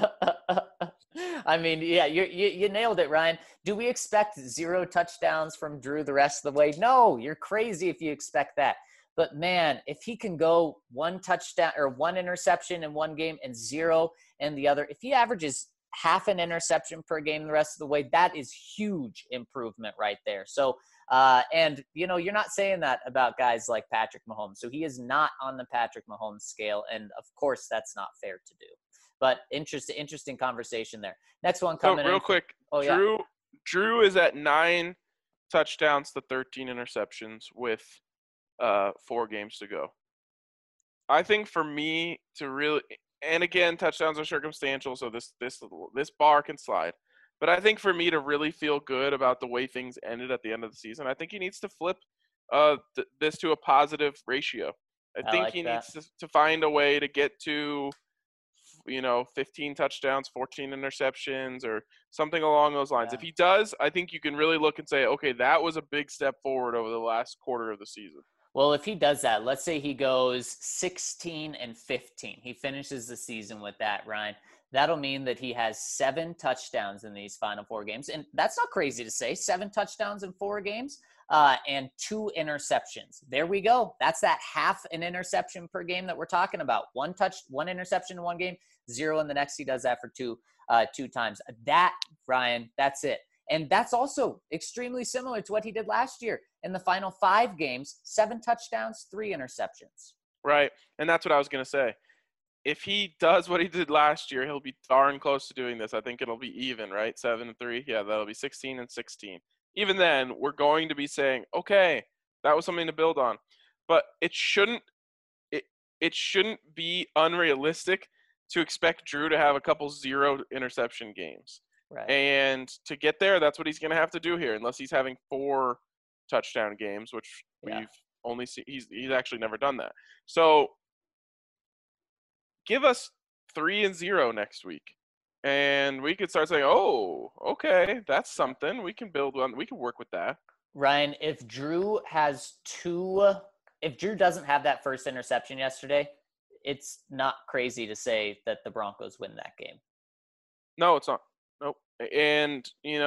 I mean, yeah, you nailed it, Ryan. Do we expect 0 touchdowns from Drew the rest of the way? No, you're crazy if you expect that. But, man, if he can go 1 touchdown or 1 interception in one game and 0 in the other, if he averages half an interception per game the rest of the way, that is huge improvement right there. So, and, you're not saying that about guys like Patrick Mahomes. So he is not on the Patrick Mahomes scale. And, of course, that's not fair to do. But interesting conversation there. Next one coming real quick. Oh, Drew is at 9 touchdowns to 13 interceptions with 4 games to go. I think for me to really – and, again, touchdowns are circumstantial, so this bar can slide. But I think for me to really feel good about the way things ended at the end of the season, I think he needs to flip this to a positive ratio. I think he needs to find a way to get to, 15 touchdowns, 14 interceptions, or something along those lines. Yeah. If he does, I think you can really look and say, okay, that was a big step forward over the last quarter of the season. Well, if he does that, let's say he goes 16-15. He finishes the season with that, Ryan. That'll mean that he has 7 touchdowns in these final 4 games. And that's not crazy to say, 7 touchdowns in 4 games and 2 interceptions. There we go. That's that half an interception per game that we're talking about. 1 interception in one game, 0 in the next. He does that for 2 times. That, Ryan, that's it. And that's also extremely similar to what he did last year. In the final 5 games, 7 touchdowns, 3 interceptions. Right. And that's what I was going to say. If he does what he did last year, he'll be darn close to doing this. I think it'll be even, right? 7-3. Yeah, that'll be 16-16. Even then, we're going to be saying, okay, that was something to build on. But it shouldn't be unrealistic to expect Drew to have a couple 0 interception games. Right. And to get there, that's what he's going to have to do here, unless he's having 4 touchdown games, which we've only seen. He's actually never done that. So give us 3-0 next week, and we could start saying, oh, okay, that's something. We can build on. We can work with that. Ryan, if Drew doesn't have that first interception yesterday, it's not crazy to say that the Broncos win that game. No, it's not. Nope. And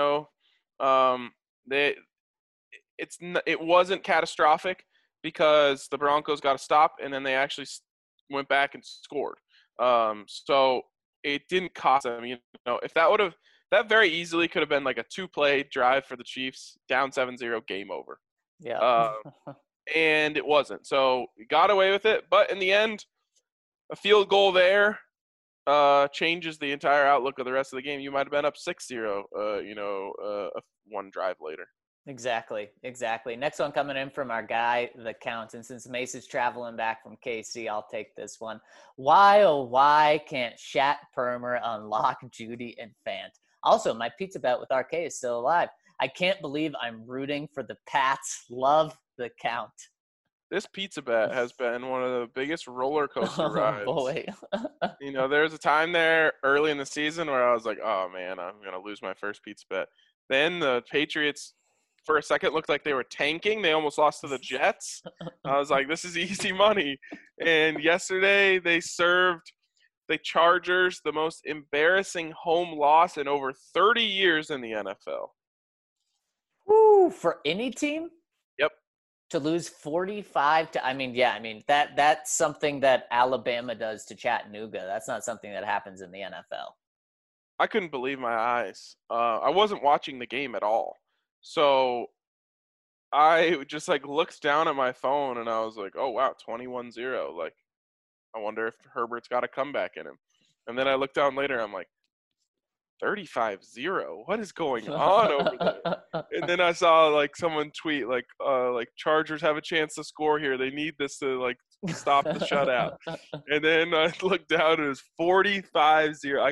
it wasn't catastrophic because the Broncos got a stop and then they actually went back and scored. So it didn't cost them. You know, if that very easily could have been like a 2-play drive for the Chiefs, down 7-0, game over. Yeah. And it wasn't. So we got away with it. But in the end, a field goal there changes the entire outlook of the rest of the game. You might have been up 6-0, one drive later. Exactly. Next one coming in from our guy, the Count. And since Mace is traveling back from KC, I'll take this one. Why, oh, why can't Shat Permer unlock Judy and Fant? Also, my pizza bet with RK is still alive. I can't believe I'm rooting for the Pats. Love the Count. This pizza bet has been one of the biggest roller coaster rides. Oh, boy. You know, there was a time there early in the season where I was like, oh, man, I'm going to lose my first pizza bet. Then the Patriots, for a second, looked like they were tanking. They almost lost to the Jets. I was like, this is easy money. And yesterday they served the Chargers the most embarrassing home loss in over 30 years in the NFL. Woo, for any team? Yep. To lose 45 to that's something that Alabama does to Chattanooga. That's not something that happens in the NFL. I couldn't believe my eyes. I wasn't watching the game at all. So I just looked down at my phone and I was like, oh wow, 21-0. Like, I wonder if Herbert's got a comeback in him. And then I looked down later, I'm like, 35-0. What is going on over there? And then I saw someone tweet Chargers have a chance to score here. They need this to stop the shutout. And then I looked down and it was 45-0.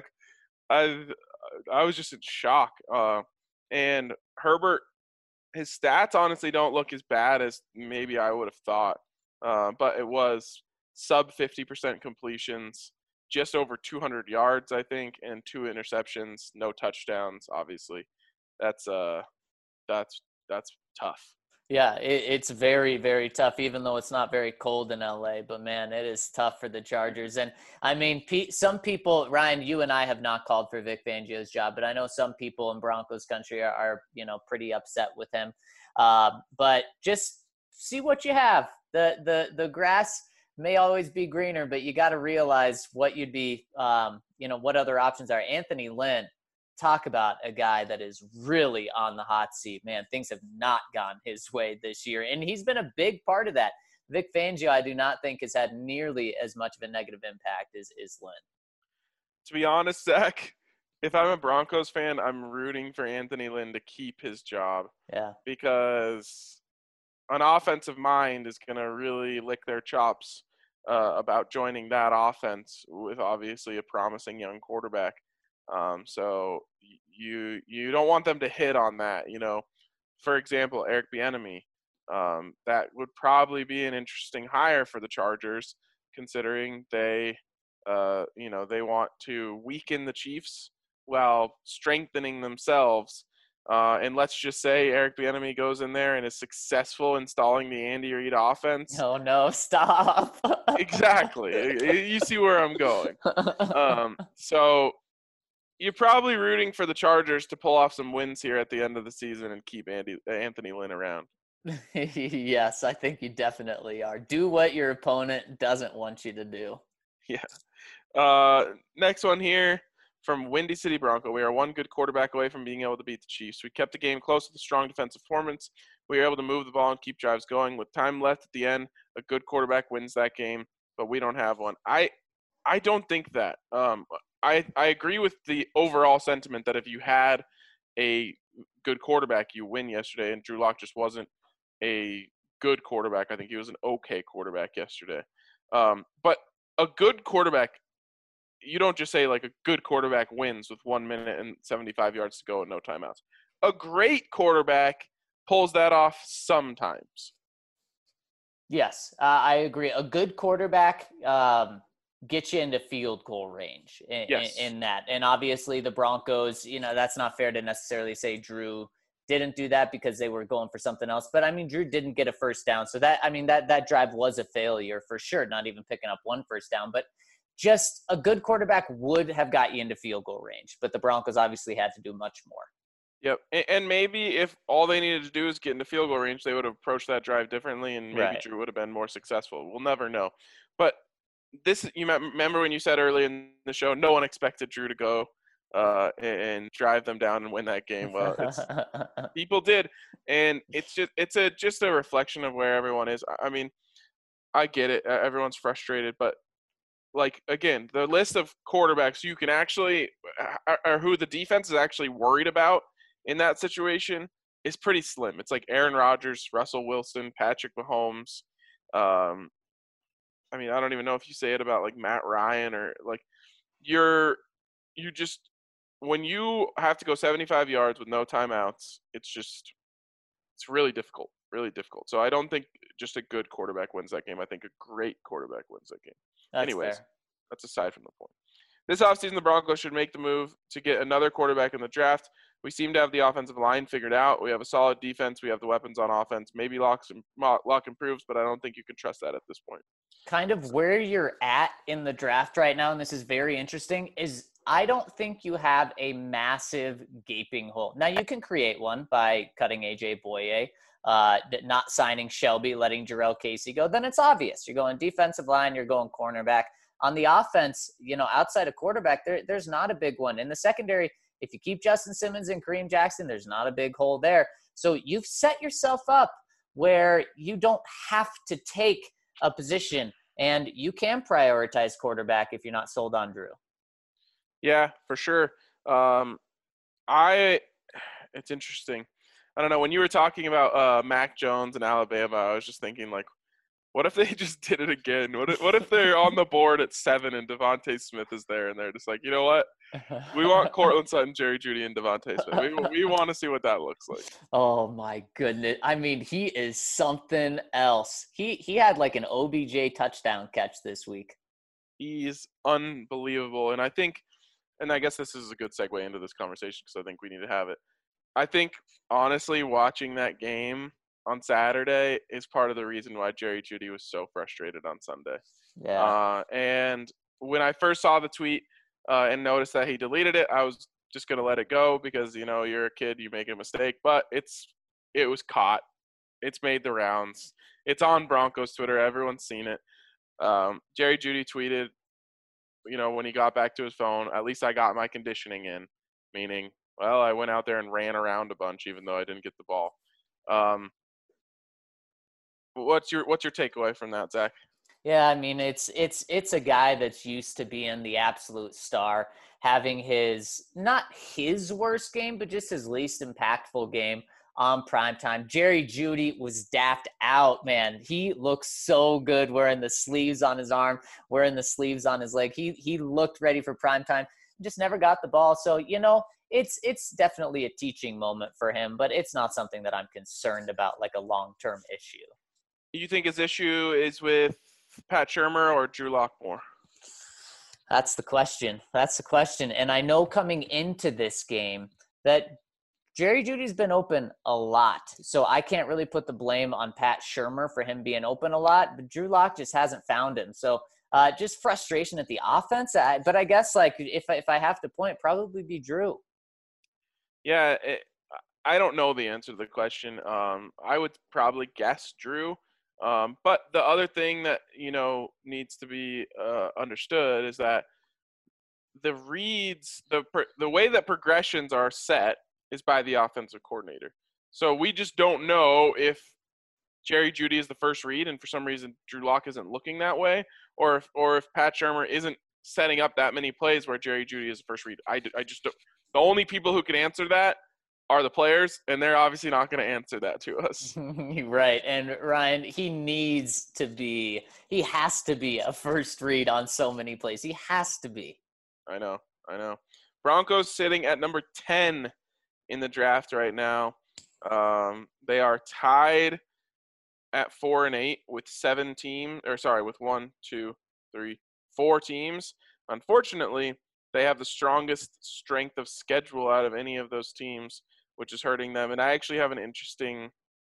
I was just in shock. And Herbert, his stats honestly don't look as bad as maybe I would have thought. But it was sub 50% completions, just over 200 yards, I think, and 2 interceptions, no touchdowns, obviously. That's tough. Yeah, it's very, very tough, even though it's not very cold in LA. But, man, it is tough for the Chargers. And, I mean, some people, Ryan, you and I have not called for Vic Fangio's job, but I know some people in Broncos country are pretty upset with him. But just see what you have. The grass may always be greener, but you got to realize what you'd be, what other options are. Anthony Lynn, talk about a guy that is really on the hot seat. Man, things have not gone his way this year, and he's been a big part of that. Vic Fangio, I do not think, has had nearly as much of a negative impact as Lynn. To be honest, Zach, if I'm a Broncos fan, I'm rooting for Anthony Lynn to keep his job. Yeah. Because an offensive mind is going to really lick their chops about joining that offense with obviously a promising young quarterback. So you don't want them to hit on that. For example, Eric Bieniemy, that would probably be an interesting hire for the Chargers, considering they want to weaken the Chiefs while strengthening themselves. And let's just say Eric Bieniemy goes in there and is successful installing the Andy Reid offense. Oh, no, stop. Exactly. You see where I'm going. So you're probably rooting for the Chargers to pull off some wins here at the end of the season and keep Anthony Lynn around. Yes, I think you definitely are. Do what your opponent doesn't want you to do. Yeah. Next one here from Windy City Bronco. We are one good quarterback away from being able to beat the Chiefs. We kept the game close with a strong defensive performance. We were able to move the ball and keep drives going. With time left at the end, a good quarterback wins that game, but we don't have one. I don't think that. I agree with the overall sentiment that if you had a good quarterback, you win yesterday, and Drew Lock just wasn't a good quarterback. I think he was an okay quarterback yesterday. But a good quarterback, you don't just say a good quarterback wins with 1 minute and 75 yards to go and no timeouts. A great quarterback pulls that off sometimes. Yes, I agree. A good quarterback get you into field goal range in that. And obviously the Broncos, that's not fair to necessarily say Drew didn't do that because they were going for something else. But, Drew didn't get a first down. So that drive was a failure for sure, not even picking up one first down. But just a good quarterback would have got you into field goal range. But the Broncos obviously had to do much more. Yep. And maybe if all they needed to do is get into field goal range, they would have approached that drive differently, and maybe Drew would have been more successful. We'll never know. But this you remember when you said early in the show, no one expected Drew to go and drive them down and win that game. Well, people did, and it's just a reflection of where everyone is. I mean, I get it. Everyone's frustrated, but like again, the list of quarterbacks you can actually or who the defense is actually worried about in that situation is pretty slim. It's like Aaron Rodgers, Russell Wilson, Patrick Mahomes. I mean, I don't even know if you say it about like Matt Ryan or like you just when you have to go 75 yards with no timeouts, it's really difficult, really difficult. So I don't think just a good quarterback wins that game. I think a great quarterback wins that game. That's Anyways, fair. that's aside from the point. This offseason, the Broncos should make the move to get another quarterback in the draft. We seem to have the offensive line figured out. We have a solid defense. We have the weapons on offense. Maybe Locke improves, but I don't think you can trust that at this point. Kind of where you're at in the draft right now, and this is very interesting, is I don't think you have a massive gaping hole. Now, you can create one by cutting AJ Boye, not signing Shelby, letting Jarrell Casey go. Then it's obvious. You're going defensive line, you're going cornerback. On the offense, outside of quarterback, there's not a big one. In the secondary, if you keep Justin Simmons and Kareem Jackson, there's not a big hole there. So you've set yourself up where you don't have to take a position, and you can prioritize quarterback if you're not sold on Drew. Yeah, for sure. It's interesting. I don't know. When you were talking about Mac Jones and Alabama, I was just thinking, like, what if they just did it again? What if they're on the board at 7 and Devontae Smith is there, and they're just like, you know what? We want Cortland Sutton, Jerry Jeudy, and Devontae Smith. We want to see what that looks like. Oh my goodness! I mean, he is something else. He had like an OBJ touchdown catch this week. He's unbelievable, and I guess this is a good segue into this conversation because I think we need to have it. I think honestly, watching that game on Saturday is part of the reason why Jerry Jeudy was so frustrated on Sunday. Yeah. And when I first saw the tweet and noticed that he deleted it, I was just going to let it go because, you're a kid, you make a mistake. But it was caught. It's made the rounds. It's on Broncos Twitter. Everyone's seen it. Jerry Jeudy tweeted, when he got back to his phone, at least I got my conditioning in, meaning, well, I went out there and ran around a bunch even though I didn't get the ball. What's your takeaway from that, Zach? Yeah, I mean, it's a guy that's used to being the absolute star, having not his worst game, but just his least impactful game on primetime. Jerry Jeudy was daffed out, man. He looks so good wearing the sleeves on his arm, wearing the sleeves on his leg. He looked ready for primetime, just never got the ball. So, it's definitely a teaching moment for him, but it's not something that I'm concerned about like a long-term issue. You think his issue is with Pat Shurmur or Drew Lock more? That's the question. And I know coming into this game that Jerry Jeudy's been open a lot. So I can't really put the blame on Pat Shurmur for him being open a lot, but Drew Lock just hasn't found him. So just frustration at the offense. But I guess like if I have to point, probably be Drew. Yeah, I don't know the answer to the question. I would probably guess Drew. But the other thing that, needs to be understood is that the reads, the way that progressions are set is by the offensive coordinator. So we just don't know if Jerry Jeudy is the first read and for some reason Drew Lock isn't looking that way, or if Pat Shurmur isn't setting up that many plays where Jerry Jeudy is the first read. I just don't. The only people who can answer that are the players, and they're obviously not going to answer that to us. Right. And Ryan, he has to be a first read on so many plays. He has to be. I know. Broncos sitting at number 10 in the draft right now. They are tied at 4-8 with 4 teams. Unfortunately, they have the strongest strength of schedule out of any of those teams, which is hurting them. And I actually have an interesting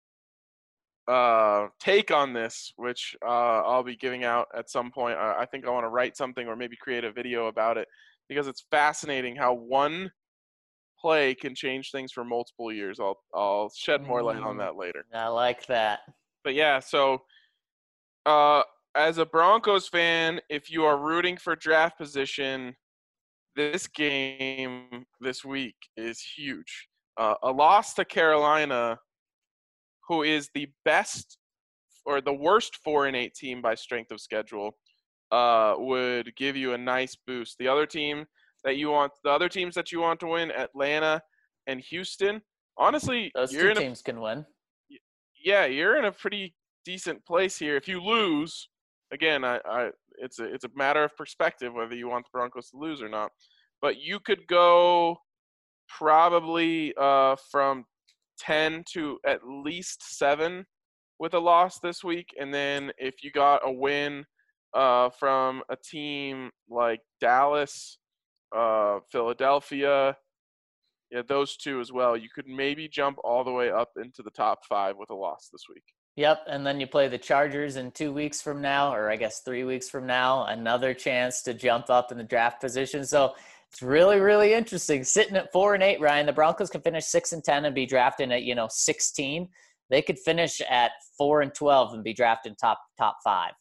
take on this, which I'll be giving out at some point. I think I want to write something or maybe create a video about it because it's fascinating how one play can change things for multiple years. I'll shed more light on that later. I like that. But yeah, so as a Broncos fan, if you are rooting for draft position, this game this week is huge. A loss to Carolina, who is the best or the worst 4-8 team by strength of schedule, would give you a nice boost. The other teams that you want to win, Atlanta and Houston, honestly, Those two teams can win. Yeah, you're in a pretty decent place here. If you lose, again, it's a matter of perspective whether you want the Broncos to lose or not. But you could go probably from 10 to at least 7 with a loss this week, and then if you got a win from a team like Dallas, Philadelphia, yeah, those two as well, you could maybe jump all the way up into the top 5 with a loss this week. Yep, and then you play the Chargers in 2 weeks from now, or I guess 3 weeks from now, another chance to jump up in the draft position. So it's really, really interesting. Sitting at 4-8, Ryan, the Broncos can finish 6-10 and be drafted at 16. They could finish at 4-12 and be drafted top 5.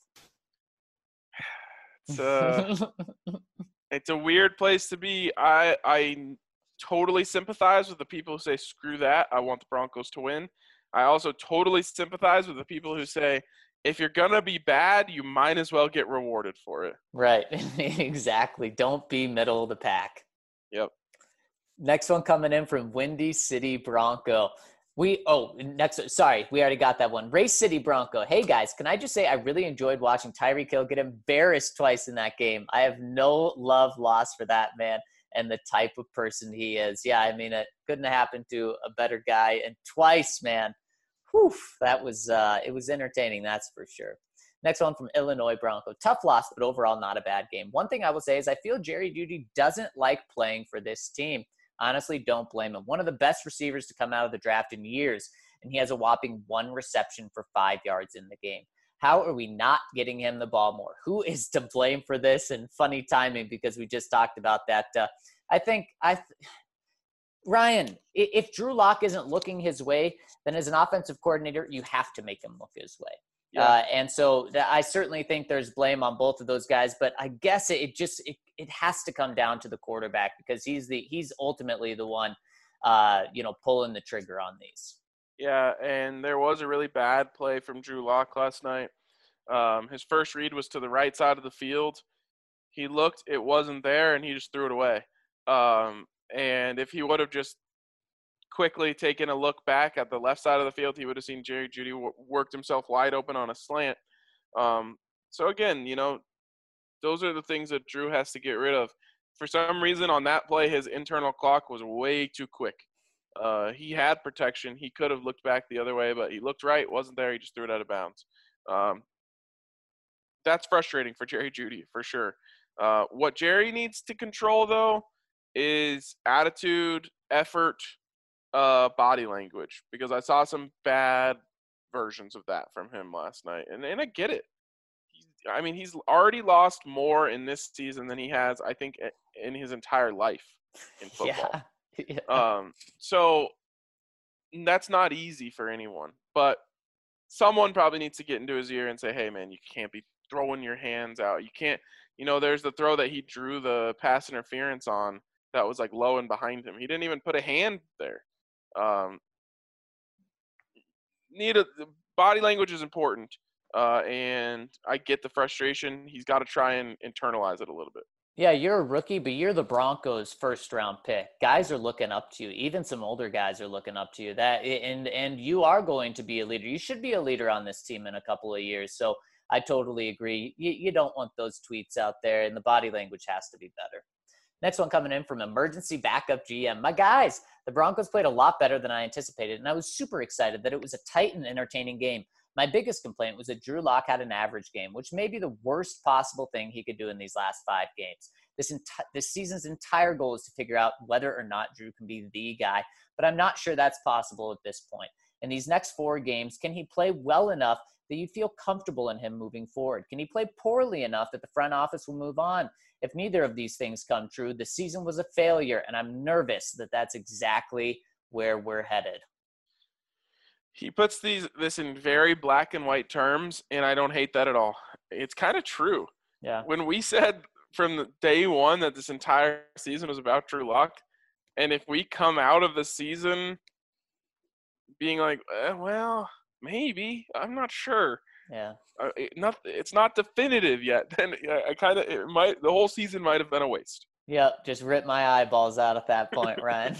It's a weird place to be. I totally sympathize with the people who say, screw that, I want the Broncos to win. I also totally sympathize with the people who say, if you're going to be bad, you might as well get rewarded for it. Right. Exactly. Don't be middle of the pack. Yep. Next one coming in from Windy City Bronco. We already got that one. Race City Bronco. Hey, guys, can I just say I really enjoyed watching Tyreek Hill get embarrassed twice in that game. I have no love lost for that man and the type of person he is. Yeah, I mean, it couldn't have happened to a better guy. And twice, man, whew, that was it was entertaining, that's for sure. Next one from Illinois Bronco. Tough loss, but overall not a bad game. One thing I will say is I feel Jerry Jeudy doesn't like playing for this team. Honestly, don't blame him. One of the best receivers to come out of the draft in years, and he has a whopping 1 reception for 5 yards in the game. How are we not getting him the ball more? Who is to blame for this? And funny timing because we just talked about that. Ryan, if Drew Lock isn't looking his way, then as an offensive coordinator, you have to make him look his way. Yeah. And so I certainly think there's blame on both of those guys, but I guess it has to come down to the quarterback because he's ultimately the one, pulling the trigger on these. Yeah, and there was a really bad play from Drew Lock last night. His first read was to the right side of the field. He looked, it wasn't there, and he just threw it away. And if he would have just quickly taken a look back at the left side of the field, he would have seen Jerry Jeudy worked himself wide open on a slant. So again, those are the things that Drew has to get rid of. For some reason on that play, his internal clock was way too quick. He had protection. He could have looked back the other way, but he looked right, wasn't there. He just threw it out of bounds. That's frustrating for Jerry Jeudy for sure. What Jerry needs to control though is attitude, effort, body language, because I saw some bad versions of that from him last night, and I get it. He's already lost more in this season than he has, I think, in his entire life in football. Yeah. So that's not easy for anyone, but someone probably needs to get into his ear and say, hey man, you can't be throwing your hands out. You can't, there's the throw that he drew the pass interference on that was like low and behind him. He didn't even put a hand there. Body language is important. And I get the frustration. He's got to try and internalize it a little bit. Yeah, you're a rookie, but you're the Broncos' first-round pick. Guys are looking up to you. Even some older guys are looking up to you. And you are going to be a leader. You should be a leader on this team in a couple of years. So I totally agree. You don't want those tweets out there, and the body language has to be better. Next one coming in from Emergency Backup GM. My guys, the Broncos played a lot better than I anticipated, and I was super excited that it was a tight and entertaining game. My biggest complaint was that Drew Lock had an average game, which may be the worst possible thing he could do in these last 5 games. This season's entire goal is to figure out whether or not Drew can be the guy, but I'm not sure that's possible at this point. In these next 4 games, can he play well enough that you feel comfortable in him moving forward? Can he play poorly enough that the front office will move on? If neither of these things come true, the season was a failure, and I'm nervous that that's exactly where we're headed. He puts this in very black and white terms, and I don't hate that at all. it's kind of true. Yeah. When we said from the day one that this entire season was about Drew Lock, and if we come out of the season being like, well, maybe, I'm not sure. Yeah. It's not definitive yet. Then the whole season might have been a waste. Yep. Just rip my eyeballs out at that point, Ryan.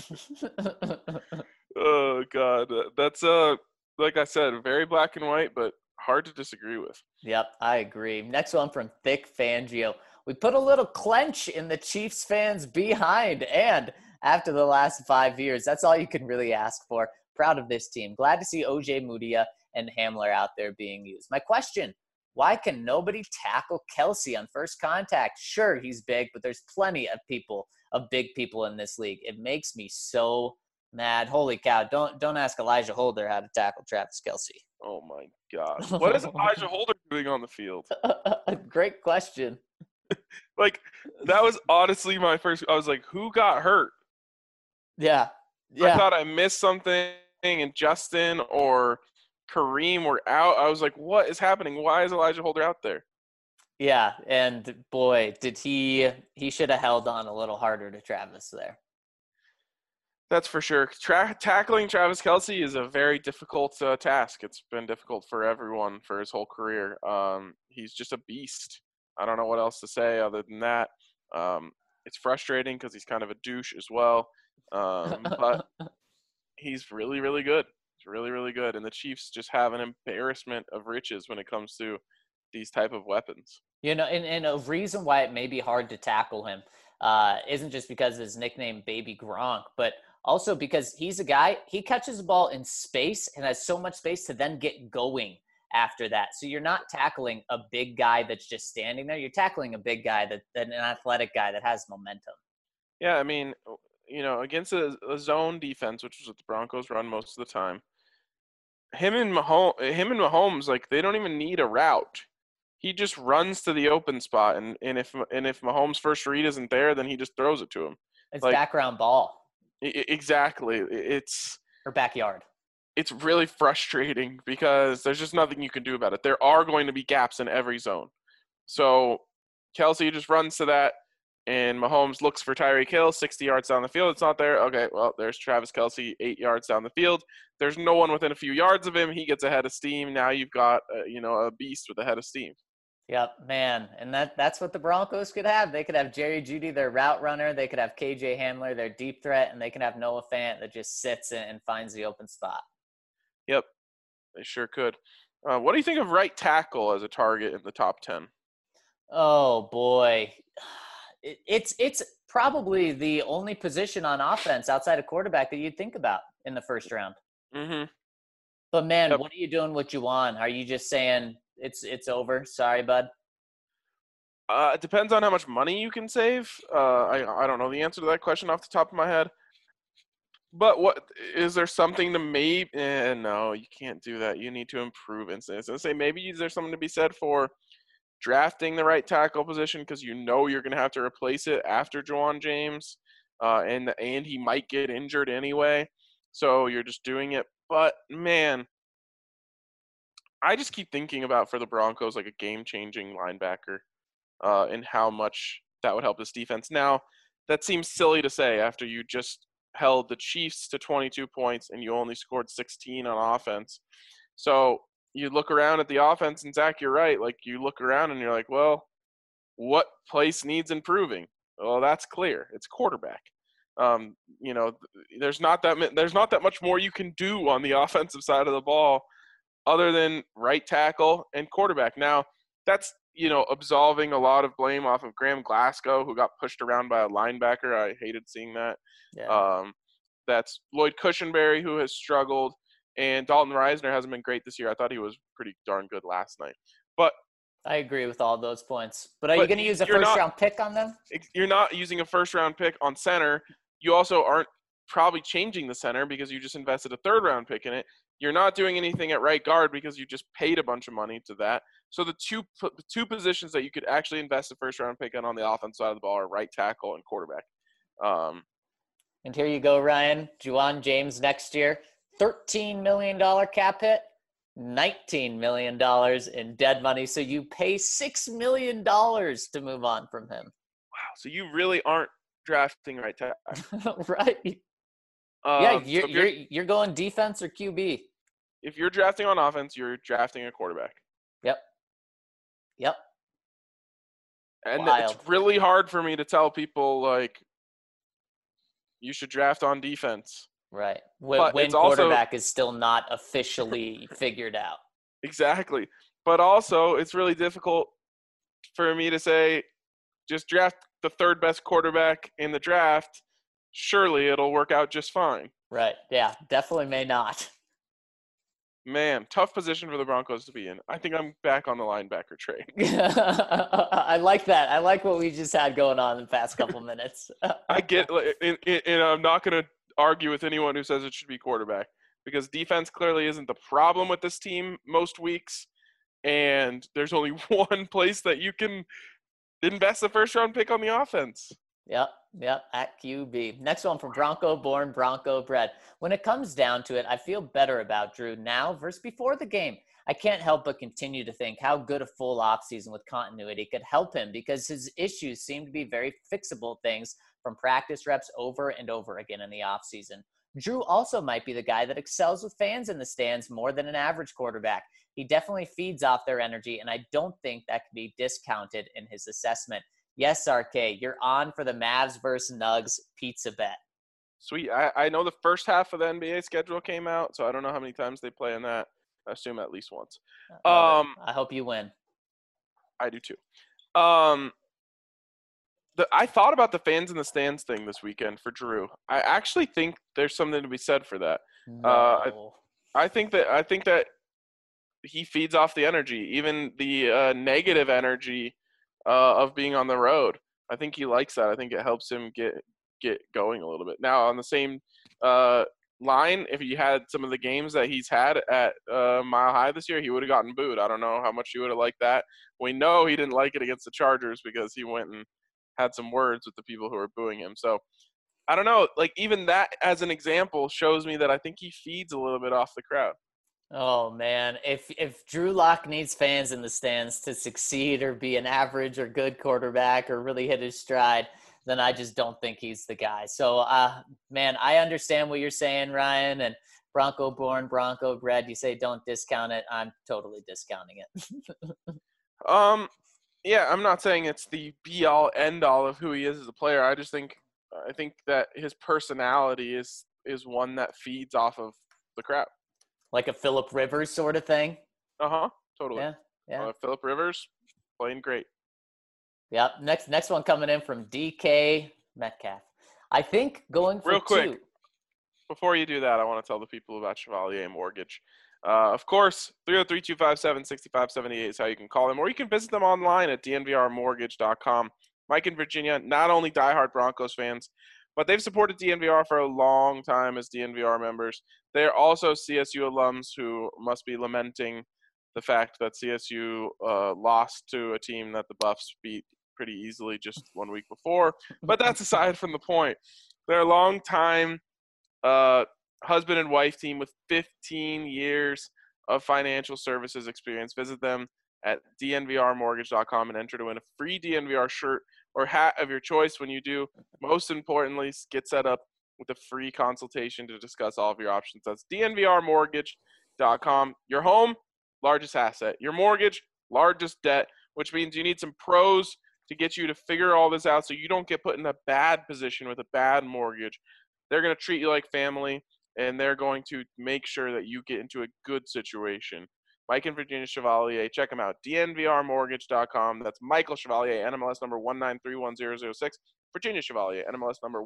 Oh God, that's like I said, very black and white, but hard to disagree with. Yep, I agree. Next one from Thick Fangio. We put a little clench in the Chiefs fans' behind, and after the last 5 years, that's all you can really ask for. Proud of this team. Glad to see OJ Mudia and Hamler out there being used. My question, why can nobody tackle Kelsey on first contact? Sure, he's big, but there's plenty of big people in this league. It makes me so mad. Holy cow. Don't ask Elijah Holder how to tackle Travis Kelsey. Oh my God. What is Elijah Holder doing on the field? Great question. Like, that was honestly my first. I was like, who got hurt? Yeah. I thought I missed something, and Justin or Kareem were out. I was like, what is happening? Why is Elijah Holder out there? Yeah, and boy, did he should have held on a little harder to Travis there. That's for sure. Tackling Travis Kelsey is a very difficult task. It's been difficult for everyone for his whole career. He's just a beast. I don't know what else to say other than that. It's frustrating because he's kind of a douche as well. But he's really, really good. He's really, really good. And the Chiefs just have an embarrassment of riches when it comes to these type of weapons. You know, and a reason why it may be hard to tackle him isn't just because of his nickname Baby Gronk, but also because he's a guy, he catches the ball in space and has so much space to then get going after that. So you're not tackling a big guy that's just standing there. You're tackling a big guy, that an athletic guy that has momentum. Yeah, I mean, you know, against a zone defense, which is what the Broncos run most of the time, him and Mahomes, like, they don't even need a route. He just runs to the open spot, and if Mahomes' first read isn't there, then he just throws it to him. It's like, background ball. Exactly. Or backyard. It's really frustrating because there's just nothing you can do about it. There are going to be gaps in every zone. So Kelsey just runs to that, and Mahomes looks for Tyreek Hill 60 yards down the field. It's not there. Okay, well, there's Travis Kelsey 8 yards down the field. There's no one within a few yards of him. He gets a head of steam. Now you've got a beast with a head of steam. Yep, man. And that's what the Broncos could have. They could have Jerry Jeudy, their route runner. They could have KJ Hamler, their deep threat. And they can have Noah Fant that just sits and finds the open spot. Yep, they sure could. What do you think of right tackle as a target in the top 10? Oh, boy. It's probably the only position on offense outside of quarterback that you'd think about in the first round. Mm-hmm. But, man, What are you doing with Juwan? Are you just saying – It's over. Sorry, bud. It depends on how much money you can save. I don't know the answer to that question off the top of my head. But what is there something to maybe? No, you can't do that. You need to improve instincts. And say maybe is there something to be said for drafting the right tackle position because you know you're going to have to replace it after Juwan James, and he might get injured anyway. So you're just doing it. But man, I just keep thinking about for the Broncos like a game-changing linebacker, and how much that would help this defense. Now, that seems silly to say after you just held the Chiefs to 22 points and you only scored 16 on offense. So you look around at the offense, and Zach, you're right. Like, you look around and you're like, well, what place needs improving? Well, that's clear. It's quarterback. There's not that much more you can do on the offensive side of the ball other than right tackle and quarterback. Now, that's, absolving a lot of blame off of Graham Glasgow, who got pushed around by a linebacker. I hated seeing that. Yeah. That's Lloyd Cushenberry, who has struggled, and Dalton Reisner hasn't been great this year. I thought he was pretty darn good last night. But I agree with all those points. But are you going to use a first-round pick on them? You're not using a first-round pick on center. You also aren't probably changing the center because you just invested a third-round pick in it. You're not doing anything at right guard because you just paid a bunch of money to that. So the two positions that you could actually invest a first-round pick on the offense side of the ball are right tackle and quarterback. And here you go, Ryan. Juwan James next year, $13 million cap hit. $19 million in dead money. So you pay $6 million to move on from him. Wow. So you really aren't drafting right time. Right. Yeah, you're going defense or QB. If you're drafting on offense, you're drafting a quarterback. Yep. And Wild. it's really hard for me to tell people, like, you should draft on defense. Right. When quarterback is still not officially figured out. Exactly. But also, it's really difficult for me to say, just draft the third best quarterback in the draft. Surely it'll work out just fine. Right. Yeah, definitely may not. Man, tough position for the Broncos to be in. I think I'm back on the linebacker train. I like that. I like what we just had going on in the past couple minutes. I get, and I'm not going to argue with anyone who says it should be quarterback, because defense clearly isn't the problem with this team most weeks, and there's only one place that you can invest the first-round pick on the offense. Yep, at QB. Next one from Bronco born, Bronco bred. When it comes down to it, I feel better about Drew now versus before the game. I can't help but continue to think how good a full offseason with continuity could help him, because his issues seem to be very fixable things from practice reps over and over again in the offseason. Drew also might be the guy that excels with fans in the stands more than an average quarterback. He definitely feeds off their energy, and I don't think that can be discounted in his assessment. Yes, RK, you're on for the Mavs versus Nugs pizza bet. Sweet. I know the first half of the NBA schedule came out, so I don't know how many times they play in that. I assume at least once. I hope you win. I do too. I thought about the fans in the stands thing this weekend for Drew. I actually think there's something to be said for that. No. I think that he feeds off the energy, even the negative energy of being on the road. I think he likes that. I think it helps him get going a little bit. Now, on the same line, if he had some of the games that he's had at Mile High this year, he would have gotten booed. I don't know how much he would have liked that. We know he didn't like it against the Chargers because he went and had some words with the people who were booing him. So I don't know. Like, even that as an example shows me that I think he feeds a little bit off the crowd. Oh, man. If Drew Lock needs fans in the stands to succeed or be an average or good quarterback or really hit his stride, then I just don't think he's the guy. So, man, I understand what you're saying, Ryan, and Bronco born, Bronco bred. You say don't discount it. I'm totally discounting it. Yeah, I'm not saying it's the be-all, end-all of who he is as a player. I think that his personality is one that feeds off of the crowd. Like a Phillip Rivers sort of thing? Totally. Yeah. Phillip Rivers, playing great. Yep. Next one coming in from DK Metcalf. I think going for Real quick, before you do that, I want to tell the people about Chevalier Mortgage. Of course, 303-257-6578 is how you can call them, or you can visit them online at dnvrmortgage.com. Mike in Virginia, not only diehard Broncos fans, but they've supported DNVR for a long time as DNVR members. They're also CSU alums who must be lamenting the fact that CSU lost to a team that the Buffs beat pretty easily just 1 week before. But that's aside from the point. They're a long-time husband and wife team with 15 years of financial services experience. Visit them at dnvrmortgage.com and enter to win a free DNVR shirt or hat of your choice when you do. Most importantly, get set up with a free consultation to discuss all of your options. That's dnvrmortgage.com. Your home, largest asset. Your mortgage, largest debt, which means you need some pros to get you to figure all this out so you don't get put in a bad position with a bad mortgage. They're going to treat you like family, and they're going to make sure that you get into a good situation. Mike and Virginia Chevalier, check them out. dnvrmortgage.com. That's Michael Chevalier, NMLS number 1931006. Virginia Chevalier, NMLS number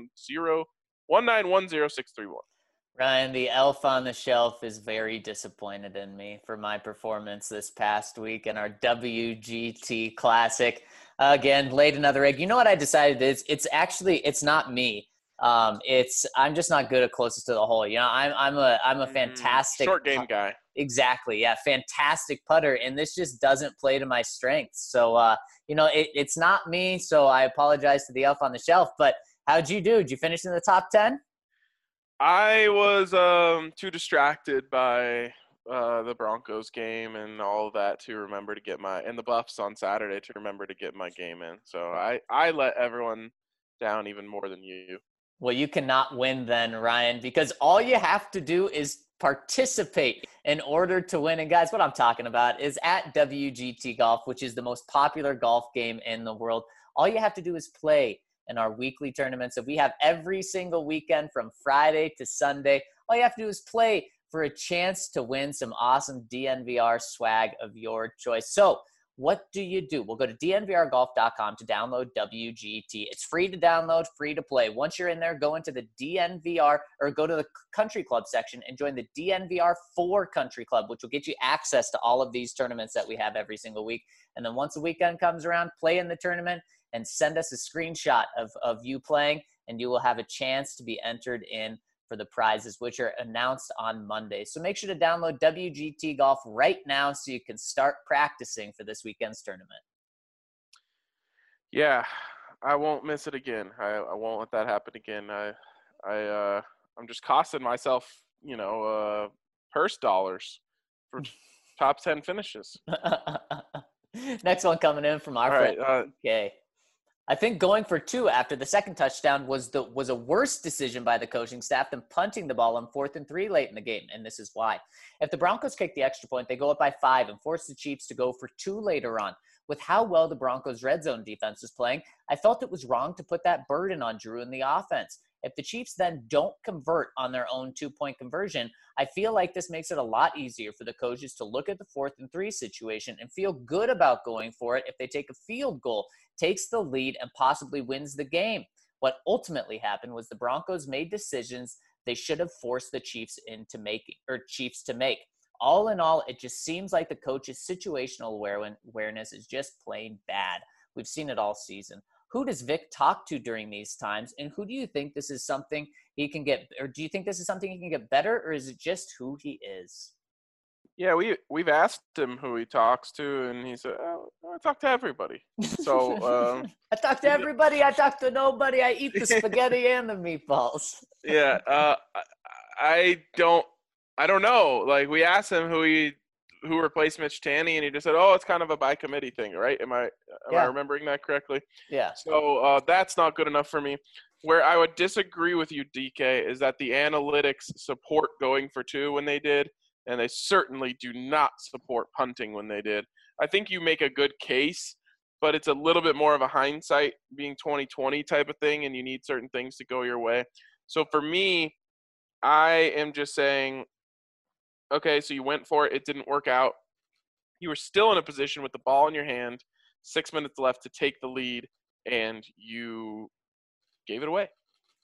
1910631. Ryan, the elf on the shelf is very disappointed in me for my performance this past week in our WGT Classic. Again, laid another egg. You know what I decided is? It's not me. I'm just not good at closest to the hole. You know, I'm a fantastic short game guy. Exactly. Yeah. Fantastic putter. And this just doesn't play to my strengths. So, it's not me. So I apologize to the elf on the shelf, but how'd you do? Did you finish in the top 10? I was too distracted by the Broncos game and all of that to remember to get and the Buffs on Saturday to remember to get my game in. So I let everyone down even more than you. Well, you cannot win then, Ryan, because all you have to do is participate in order to win. And guys, what I'm talking about is at WGT Golf, which is the most popular golf game in the world. All you have to do is play in our weekly tournaments that we have every single weekend from Friday to Sunday. All you have to do is play for a chance to win some awesome DNVR swag of your choice. So what do you do? We'll go to dnvrgolf.com to download WGT. It's free to download, free to play. Once you're in there, go into the DNVR or go to the country club section and join the DNVR 4 country club, which will get you access to all of these tournaments that we have every single week. And then once the weekend comes around, play in the tournament and send us a screenshot of you playing, and you will have a chance to be entered in for the prizes, which are announced on Monday. So make sure to download WGT Golf right now so you can start practicing for this weekend's tournament. Yeah, I won't miss it again. I won't let that happen again. I'm just costing myself, purse dollars for top 10 finishes. Next one coming in from our friend. Okay. I think going for 2 after the second touchdown was a worse decision by the coaching staff than punting the ball on 4th and 3 late in the game, and this is why. If the Broncos kick the extra point, they go up by 5 and force the Chiefs to go for 2 later on. With how well the Broncos' red zone defense was playing, I felt it was wrong to put that burden on Drew in the offense. If the Chiefs then don't convert on their own 2-point conversion, I feel like this makes it a lot easier for the coaches to look at the 4th and 3 situation and feel good about going for it if they take a field goal, takes the lead, and possibly wins the game. What ultimately happened was the Broncos made decisions they should have forced the Chiefs to make. All in all, it just seems like the coach's situational awareness is just plain bad. We've seen it all season. Who does Vic talk to during these times, and who do you think this is something he can get, or do you think this is something he can get better, or is it just who he is? Yeah, we've asked him who he talks to, and he said, I talk to everybody. So I talk to everybody. I talk to nobody. I eat the spaghetti and the meatballs. Yeah, I don't know. Like, we asked him who replaced Mitch Tanny, and he just said, it's kind of a by committee thing, right? Am I remembering that correctly? Yeah. So that's not good enough for me. Where I would disagree with you, DK, is that the analytics support going for 2 when they did, and they certainly do not support punting when they did. I think you make a good case, but it's a little bit more of a hindsight being 2020 type of thing, and you need certain things to go your way. So for me, I am just saying, okay, so you went for it. It didn't work out. You were still in a position with the ball in your hand, 6 minutes left to take the lead, and you gave it away.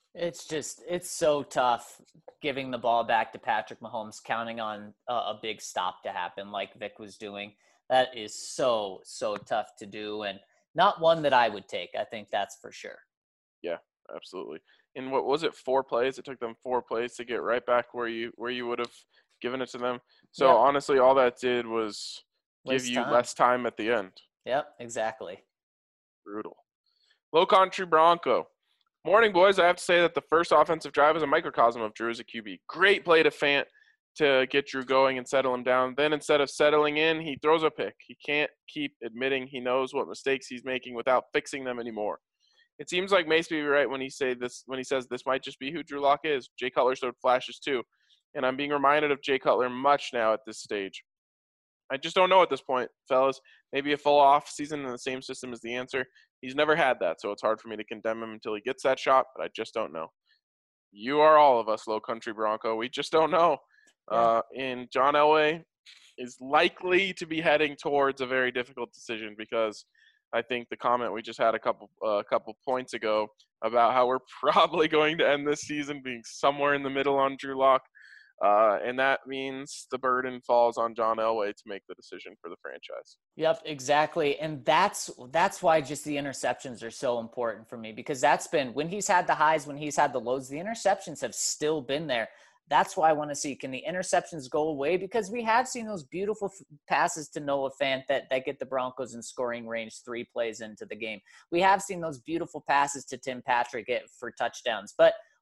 It's so tough giving the ball back to Patrick Mahomes, counting on a big stop to happen like Vic was doing. That is so tough to do, and not one that I would take. I think that's for sure. Yeah, absolutely. And what was it, 4 plays? It took them 4 plays to get right back where you would have given it to them. So Yep. Honestly, all that did was give you less time at the end. Yep, exactly. Brutal. Low Country Bronco. Morning, boys. I have to say that the first offensive drive is a microcosm of Drew as a QB. Great play to Fant to get Drew going and settle him down. Then instead of settling in, he throws a pick. He can't keep admitting he knows what mistakes he's making without fixing them anymore. It seems like Mace may be right when he says this might just be who Drew Lock is. Jay Cutler showed flashes too, and I'm being reminded of Jay Cutler much now at this stage. I just don't know at this point, fellas. Maybe a full off season in the same system is the answer. He's never had that, so it's hard for me to condemn him until he gets that shot, but I just don't know. You are all of us, Low Country Bronco. We just don't know. Yeah. And John Elway is likely to be heading towards a very difficult decision because I think the comment we just had a couple points ago about how we're probably going to end this season being somewhere in the middle on Drew Lock. And that means the burden falls on John Elway to make the decision for the franchise. Yep, exactly. And that's why just the interceptions are so important for me, because that's been when he's had the highs, when he's had the lows, the interceptions have still been there. That's why I want to see, can the interceptions go away? Because we have seen those beautiful passes to Noah Fant that get the Broncos in scoring range 3 plays into the game. We have seen those beautiful passes to Tim Patrick for touchdowns. But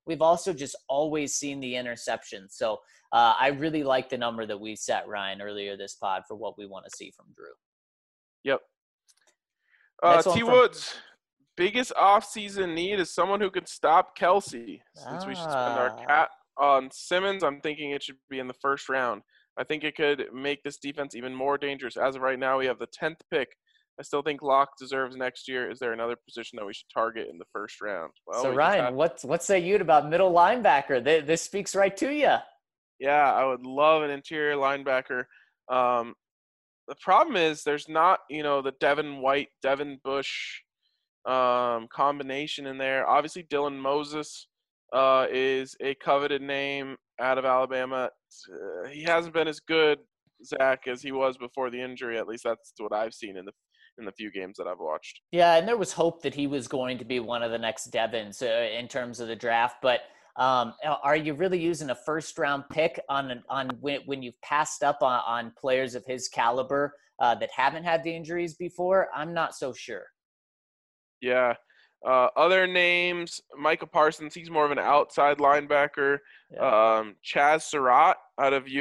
we've also just always seen the interceptions. So I really like the number that we set, Ryan, earlier this pod for what we want to see from Drew. Yep. Next one T. from- Woods, biggest offseason need is someone who could stop Kelsey. Since we should spend our cap on Simmons, I'm thinking it should be in the first round. I think it could make this defense even more dangerous. As of right now, we have the 10th pick. I still think Locke deserves next year. Is there another position that we should target in the first round? Well, so Ryan, what say you about middle linebacker? This speaks right to you. Yeah, I would love an interior linebacker. The problem is there's not, the Devin White, Devin Bush combination in there. Obviously, Dylan Moses is a coveted name out of Alabama. He hasn't been as good, Zach, as he was before the injury. At least that's what I've seen in the few games that I've watched. Yeah, and there was hope that he was going to be one of the next Devins in terms of the draft, but are you really using a first-round pick on when you've passed up on players of his caliber that haven't had the injuries before? I'm not so sure. Yeah. Other names, Micah Parsons, he's more of an outside linebacker. Yeah. Chaz Surratt out of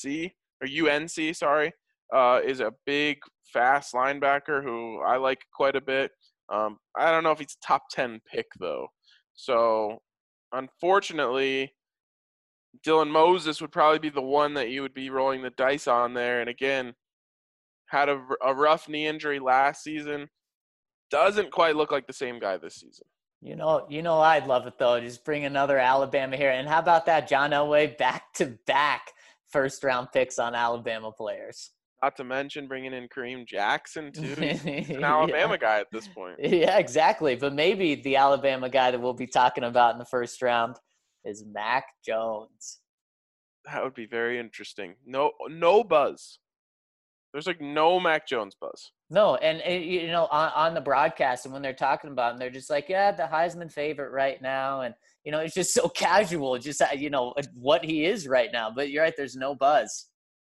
UNC, sorry, is a big, fast linebacker who I like quite a bit. I don't know if he's a top 10 pick, though. So, unfortunately, Dylan Moses would probably be the one that you would be rolling the dice on there. And again, had a rough knee injury last season. Doesn't quite look like the same guy this season. I'd love it, though. Just bring another Alabama here. And how about that, John Elway, back-to-back first-round picks on Alabama players? Not to mention bringing in Kareem Jackson, too. He's an Alabama guy at this point. Yeah, exactly. But maybe the Alabama guy that we'll be talking about in the first round is Mac Jones. That would be very interesting. No buzz. There's no Mac Jones buzz. No, and on the broadcast and when they're talking about him, they're just like, yeah, the Heisman favorite right now. And, it's just so casual, just, what he is right now. But you're right, there's no buzz.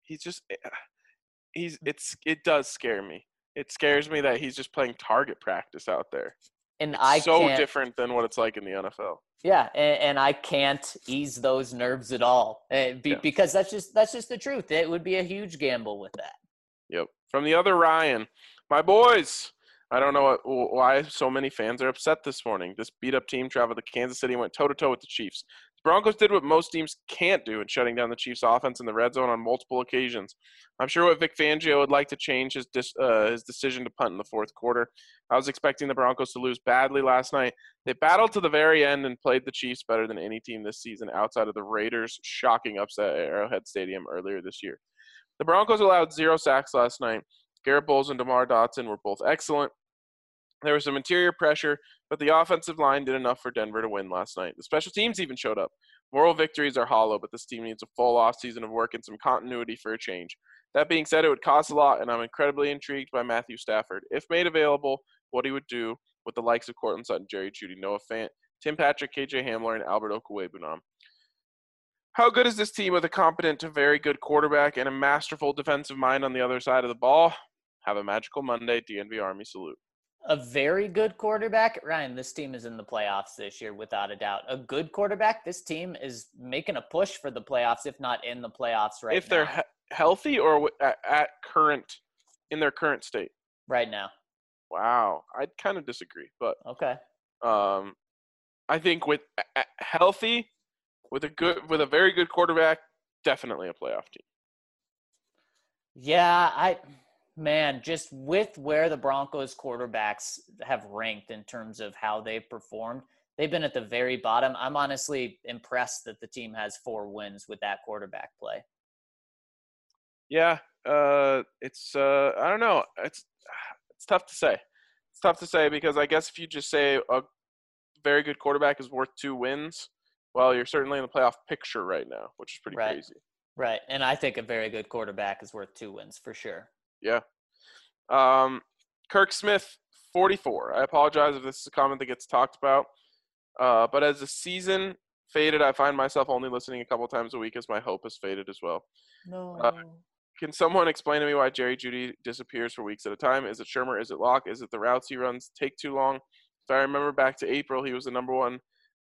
It does scare me. It scares me that he's just playing target practice out there. And it's so different than what it's like in the NFL. Yeah, and I can't ease those nerves at all because that's just the truth. It would be a huge gamble with that. Yep. From the other Ryan, my boys. I don't know why so many fans are upset this morning. This beat-up team traveled to Kansas City and went toe-to-toe with the Chiefs. The Broncos did what most teams can't do in shutting down the Chiefs' offense in the red zone on multiple occasions. I'm sure what Vic Fangio would like to change his decision to punt in the fourth quarter. I was expecting the Broncos to lose badly last night. They battled to the very end and played the Chiefs better than any team this season outside of the Raiders' shocking upset at Arrowhead Stadium earlier this year. The Broncos allowed 0 sacks last night. Garrett Bowles and DeMar Dotson were both excellent. There was some interior pressure, but the offensive line did enough for Denver to win last night. The special teams even showed up. Moral victories are hollow, but this team needs a full offseason of work and some continuity for a change. That being said, it would cost a lot, and I'm incredibly intrigued by Matthew Stafford. If made available, what he would do with the likes of Courtland Sutton, Jerry Jeudy, Noah Fant, Tim Patrick, KJ Hamler, and Albert Okwuegbunam. How good is this team with a competent to very good quarterback and a masterful defensive mind on the other side of the ball? Have a magical Monday. DNV Army salute. A very good quarterback. Ryan, this team is in the playoffs this year without a doubt. A good quarterback, this team is making a push for the playoffs, if not in the playoffs right now. If they're healthy or in their current state? Right now. Wow. I'd kind of disagree, but okay. I think with healthy, with a very good quarterback, definitely a playoff team. Yeah, just with where the Broncos quarterbacks have ranked in terms of how they've performed, they've been at the very bottom. I'm honestly impressed that the team has 4 wins with that quarterback play. Yeah, it's I don't know. It's tough to say. It's tough to say because I guess if you just say a very good quarterback is worth 2 wins, well, you're certainly in the playoff picture right now, which is pretty crazy. Right, and I think a very good quarterback is worth 2 wins for sure. Yeah. Kirk Smith, 44. I apologize if this is a comment that gets talked about. But as the season faded, I find myself only listening a couple times a week as my hope has faded as well. No. Can someone explain to me why Jerry Jeudy disappears for weeks at a time? Is it Shermer? Is it Locke? Is it the routes he runs take too long? If I remember back to April, he was the number one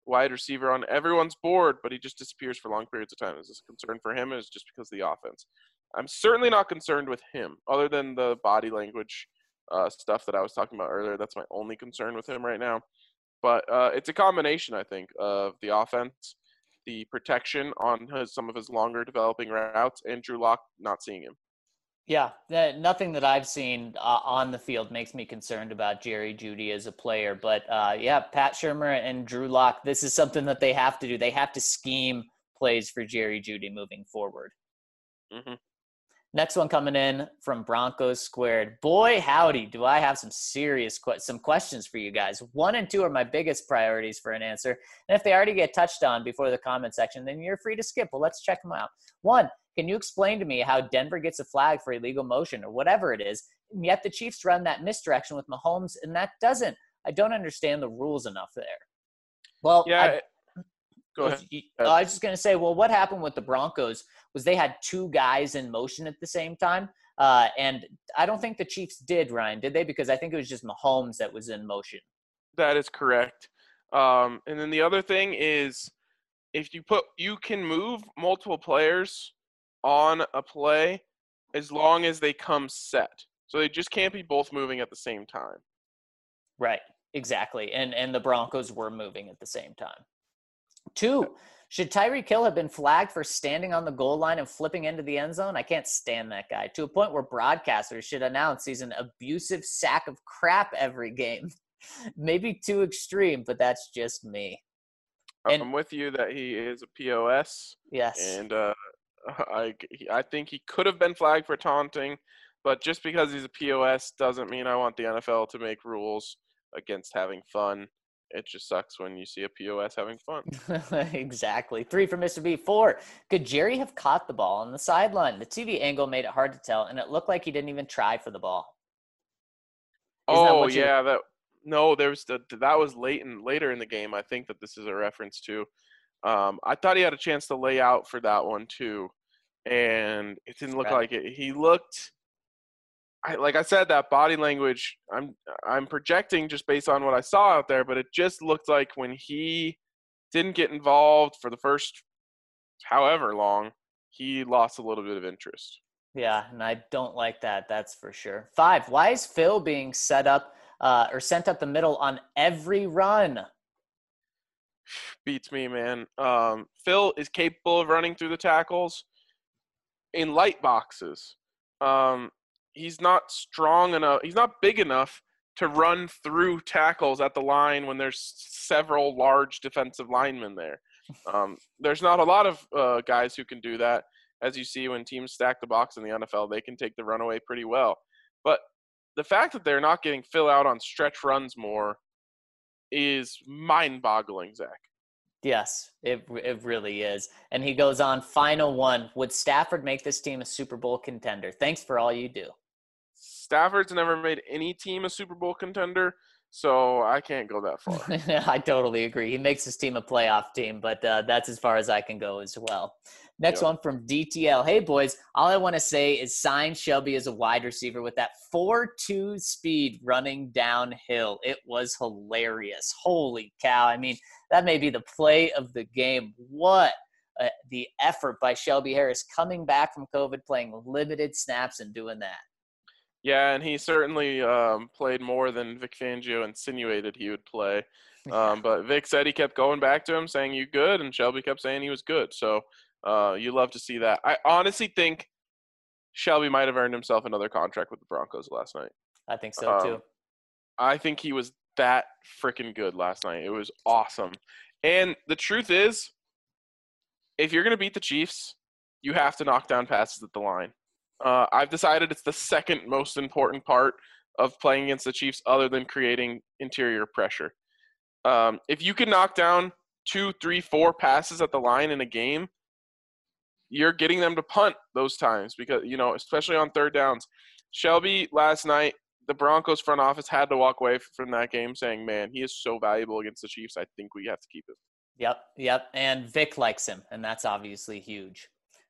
wide receiver on everyone's board, but he just disappears for long periods of time. Is this a concern for him, or is it just because of the offense? I'm certainly not concerned with him, other than the body language stuff that I was talking about earlier. That's my only concern with him right now. But it's a combination, I think, of the offense, the protection on some of his longer developing routes, and Drew Lock not seeing him. Yeah, nothing that I've seen on the field makes me concerned about Jerry Jeudy as a player. But yeah, Pat Shurmur and Drew Lock, this is something that they have to do. They have to scheme plays for Jerry Jeudy moving forward. Mm-hmm. Next one coming in from Broncos Squared. Boy, howdy, do I have some serious some questions for you guys. 1 and 2 are my biggest priorities for an answer. And if they already get touched on before the comment section, then you're free to skip. Well, let's check them out. 1, can you explain to me how Denver gets a flag for illegal motion or whatever it is, and yet the Chiefs run that misdirection with Mahomes, and that doesn't? I don't understand the rules enough there. Well, yeah. Go ahead. I was just going to say, well, what happened with the Broncos was they had 2 guys in motion at the same time. And I don't think the Chiefs did, Ryan, did they? Because I think it was just Mahomes that was in motion. That is correct. And then the other thing is if you can move multiple players on a play as long as they come set. So they just can't be both moving at the same time. Right, exactly. And the Broncos were moving at the same time. 2, should Tyreek Hill have been flagged for standing on the goal line and flipping into the end zone? I can't stand that guy, to a point where broadcasters should announce he's an abusive sack of crap every game. Maybe too extreme, but that's just me. I'm with you that he is a POS. Yes. And I think he could have been flagged for taunting, but just because he's a POS doesn't mean I want the NFL to make rules against having fun. It just sucks when you see a POS having fun. Exactly. 3 for Mr. B. 4, could Jerry have caught the ball on the sideline? The TV angle made it hard to tell, and it looked like he didn't even try for the ball. That was later in the game. I think that this is a reference to. I thought he had a chance to lay out for that one too, and it didn't look like it. He looked. Like I said, that body language, I'm projecting just based on what I saw out there, but it just looked like when he didn't get involved for the first however long, he lost a little bit of interest. Yeah, and I don't like that, that's for sure. 5, why is Phil being set up or sent up the middle on every run? Beats me, man. Phil is capable of running through the tackles in light boxes. He's not strong enough. He's not big enough to run through tackles at the line when there's several large defensive linemen there. There's not a lot of guys who can do that. As you see when teams stack the box in the NFL, they can take the runaway pretty well. But the fact that they're not getting Phil out on stretch runs more is mind-boggling, Zach. Yes, it really is. And he goes on, final one. Would Stafford make this team a Super Bowl contender? Thanks for all you do. Stafford's never made any team a Super Bowl contender, so I can't go that far. I totally agree. He makes his team a playoff team, but that's as far as I can go as well. Next one from DTL. Hey, boys, all I want to say is sign Shelby as a wide receiver with that 4.2 speed running downhill. It was hilarious. Holy cow. I mean, that may be the play of the game. What the effort by Shelby Harris coming back from COVID, playing limited snaps and doing that. Yeah, and he certainly played more than Vic Fangio insinuated he would play. But Vic said he kept going back to him, saying, "You good?" And Shelby kept saying he was good. So you love to see that. I honestly think Shelby might have earned himself another contract with the Broncos last night. I think so, too. I think he was that freaking good last night. It was awesome. And the truth is, if you're going to beat the Chiefs, you have to knock down passes at the line. I've decided it's the second most important part of playing against the Chiefs other than creating interior pressure. If you can knock down 2, 3, 4 passes at the line in a game, you're getting them to punt those times because, especially on third downs. Shelby last night, the Broncos front office had to walk away from that game saying, man, he is so valuable against the Chiefs. I think we have to keep him. Yep. And Vic likes him, and that's obviously huge.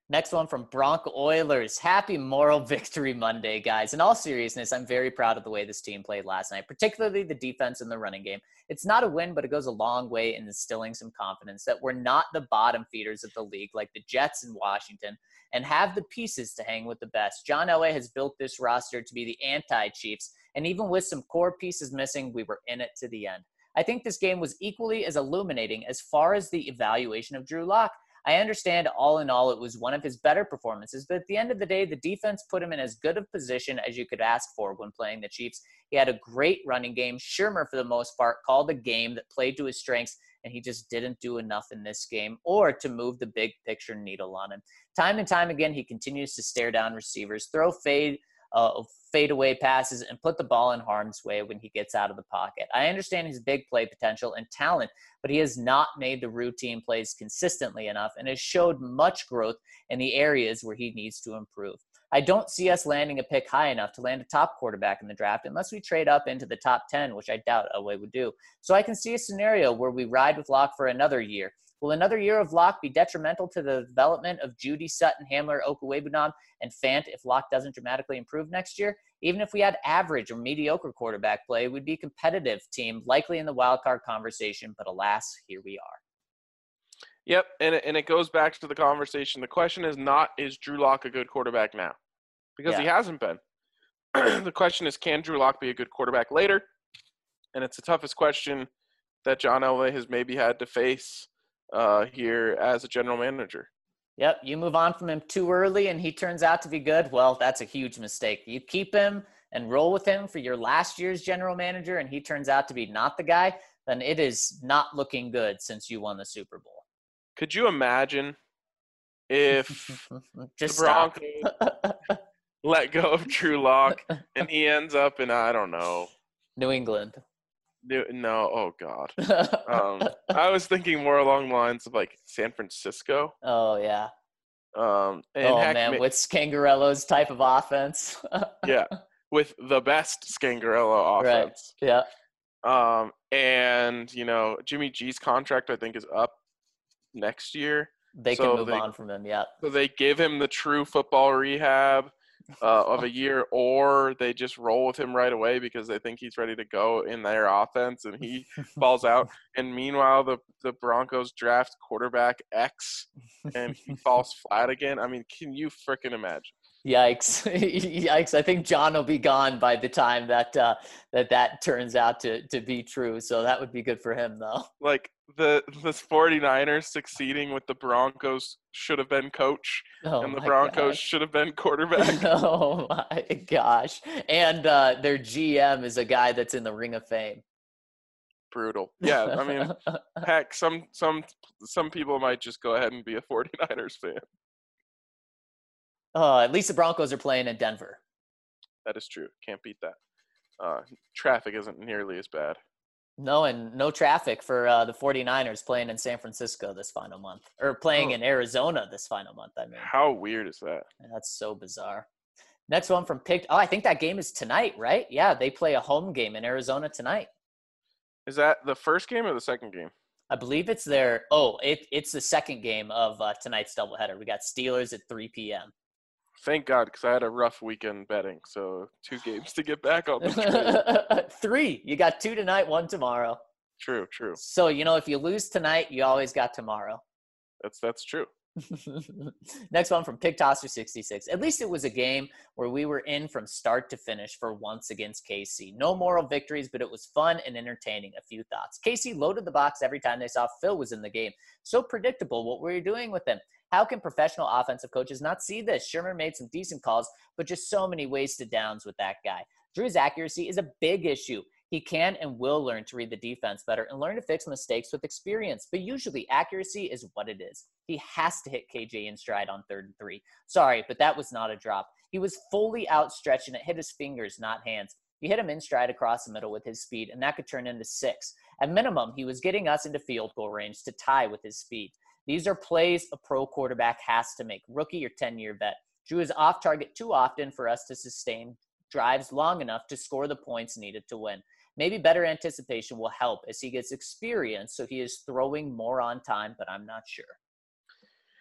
Next one from Bronco Oilers. Happy Moral Victory Monday, guys. In all seriousness, I'm very proud of the way this team played last night, particularly the defense and the running game. It's not a win, but it goes a long way in instilling some confidence that we're not the bottom feeders of the league like the Jets in Washington and have the pieces to hang with the best. John Elway has built this roster to be the anti-Chiefs, and even with some core pieces missing, we were in it to the end. I think this game was equally as illuminating as far as the evaluation of Drew Lock. I understand all in all, it was one of his better performances, but at the end of the day, the defense put him in as good a position as you could ask for when playing the Chiefs. He had a great running game. Shermer, for the most part, called a game that played to his strengths, and he just didn't do enough in this game or to move the big picture needle on him. Time and time again, he continues to stare down receivers, throw fadeaway passes, and put the ball in harm's way when he gets out of the pocket. I understand his big play potential and talent, but he has not made the routine plays consistently enough and has showed much growth in the areas where he needs to improve. I don't see us landing a pick high enough to land a top quarterback in the draft unless we trade up into the top 10, which I doubt Elway would do. So I can see a scenario where we ride with Locke for another year. Will another year of Locke be detrimental to the development of Judy, Sutton, Hamler, Okwuegbunam, and Fant if Locke doesn't dramatically improve next year? Even if we had average or mediocre quarterback play, we'd be a competitive team, likely in the wild card conversation, but alas, here we are. Yep, and it goes back to the conversation. The question is not, is Drew Lock a good quarterback now? Because he hasn't been. The question is, can Drew Lock be a good quarterback later? And it's the toughest question that John Elway has maybe had to face here as a general manager. Yep, you move on from him too early and he turns out to be good, well, that's a huge mistake. You keep him and roll with him for your last year's general manager and he turns out to be not the guy, then it is not looking good since you won the Super Bowl. Could you imagine if the Broncos let go of Drew Lock and he ends up in, I don't know, New England? No, oh God. I was thinking more along the lines of like San Francisco. Oh yeah. And with Scangarello's type of offense. Yeah, with the best Scangarello offense. Right. Yeah. And Jimmy G's contract I think is up next year. They can move on from him. Yeah. So they give him the true football rehab of a year, or they just roll with him right away because they think he's ready to go in their offense and he falls out. And meanwhile, the Broncos draft quarterback X and he falls flat again. I mean, can you freaking imagine? Yikes. Yikes. I think John will be gone by the time that turns out to be true. So that would be good for him, though. Like the 49ers succeeding with the Broncos should have been coach, and the Broncos should have been quarterback. Oh, my gosh. And their GM is a guy that's in the Ring of Fame. Brutal. Yeah, I mean, heck, some people might just go ahead and be a 49ers fan. At least the Broncos are playing in Denver. That is true. Can't beat that. Traffic isn't nearly as bad. No, and no traffic for the 49ers playing in San Francisco this final month. Or playing in Arizona this final month, I mean. How weird is that? That's so bizarre. Next one from Picked. Oh, I think that game is tonight, right? Yeah, they play a home game in Arizona tonight. Is that the first game or the second game? I believe it's it's the second game of tonight's doubleheader. We got Steelers at 3 p.m. Thank God, because I had a rough weekend betting, so 2 games to get back on the train. 3. You got 2 tonight, 1 tomorrow. True. So, if you lose tonight, you always got tomorrow. That's true. Next one from PigTosser66. At least it was a game where we were in from start to finish for once against KC. No moral victories, but it was fun and entertaining. A few thoughts. KC loaded the box every time they saw Phil was in the game. So predictable. What were you doing with him? How can professional offensive coaches not see this? Shermer made some decent calls, but just so many wasted downs with that guy. Drew's accuracy is a big issue. He can and will learn to read the defense better and learn to fix mistakes with experience. But usually accuracy is what it is. He has to hit KJ in stride on 3rd and 3. Sorry, but that was not a drop. He was fully outstretched and it hit his fingers, not hands. He hit him in stride across the middle with his speed, and that could turn into 6. At minimum, he was getting us into field goal range to tie with his speed. These are plays a pro quarterback has to make, rookie or 10-year vet. Drew is off target too often for us to sustain drives long enough to score the points needed to win. Maybe better anticipation will help as he gets experience, so he is throwing more on time, but I'm not sure.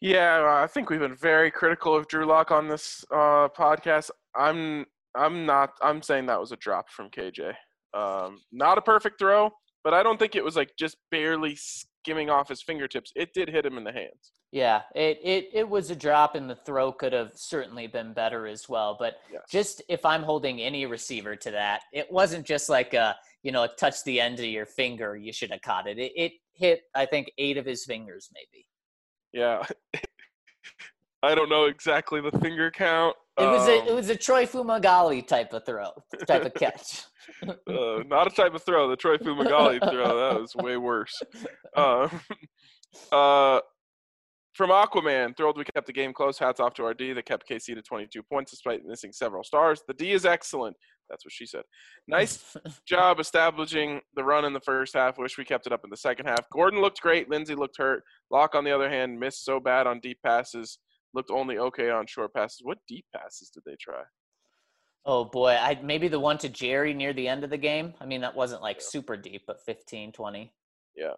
Yeah, I think we've been very critical of Drew Lock on this podcast. I'm saying that was a drop from KJ. Not a perfect throw, but I don't think it was like just barely skimming off his fingertips. It did hit him in the hands. Yeah, it was a drop, and the throw could have certainly been better as well. But Yes. just if I'm holding any receiver to that, it wasn't just like it touched the end of your finger. You should have caught it. It hit, I think, 8 of his fingers, maybe. Yeah. I don't know exactly the finger count. It was a Troy Fumagalli type of catch. Not a type of throw. The Troy Fumagalli throw, that was way worse. From Aquaman, thrilled we kept the game close. Hats off to our D that kept KC to 22 points despite missing several stars. The D is excellent. That's what she said. Nice job establishing the run in the first half. Wish we kept it up in the second half. Gordon looked great. Lindsey looked hurt. Locke, on the other hand, missed so bad on deep passes. Looked only okay on short passes. What deep passes did they try? Oh, boy. Maybe the one to Jerry near the end of the game. I mean, that wasn't like super deep, but 15, 20. Yeah.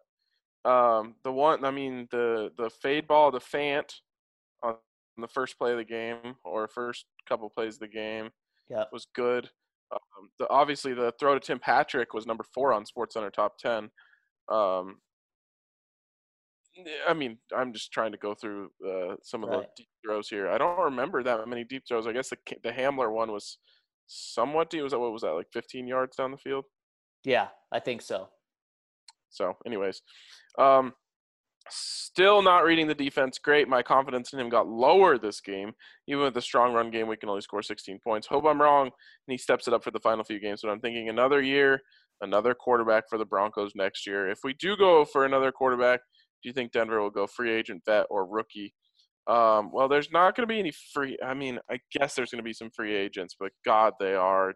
The fade ball to Fant on the first play of the game or first couple plays of the game was good. Obviously, the throw to Tim Patrick was number 4 on SportsCenter Top 10. I'm just trying to go through some of the deep throws here. I don't remember that many deep throws. I guess the Hamler one was somewhat deep. What was that, like 15 yards down the field? Yeah, I think so. So, anyways, still not reading the defense great. My confidence in him got lower this game. Even with a strong run game, we can only score 16 points. Hope I'm wrong, and he steps it up for the final few games. But I'm thinking another year, another quarterback for the Broncos next year. If we do go for another quarterback, do you think Denver will go free agent, vet, or rookie? Well, there's not going to be any free – I mean, I guess there's going to be some free agents, but, God, they are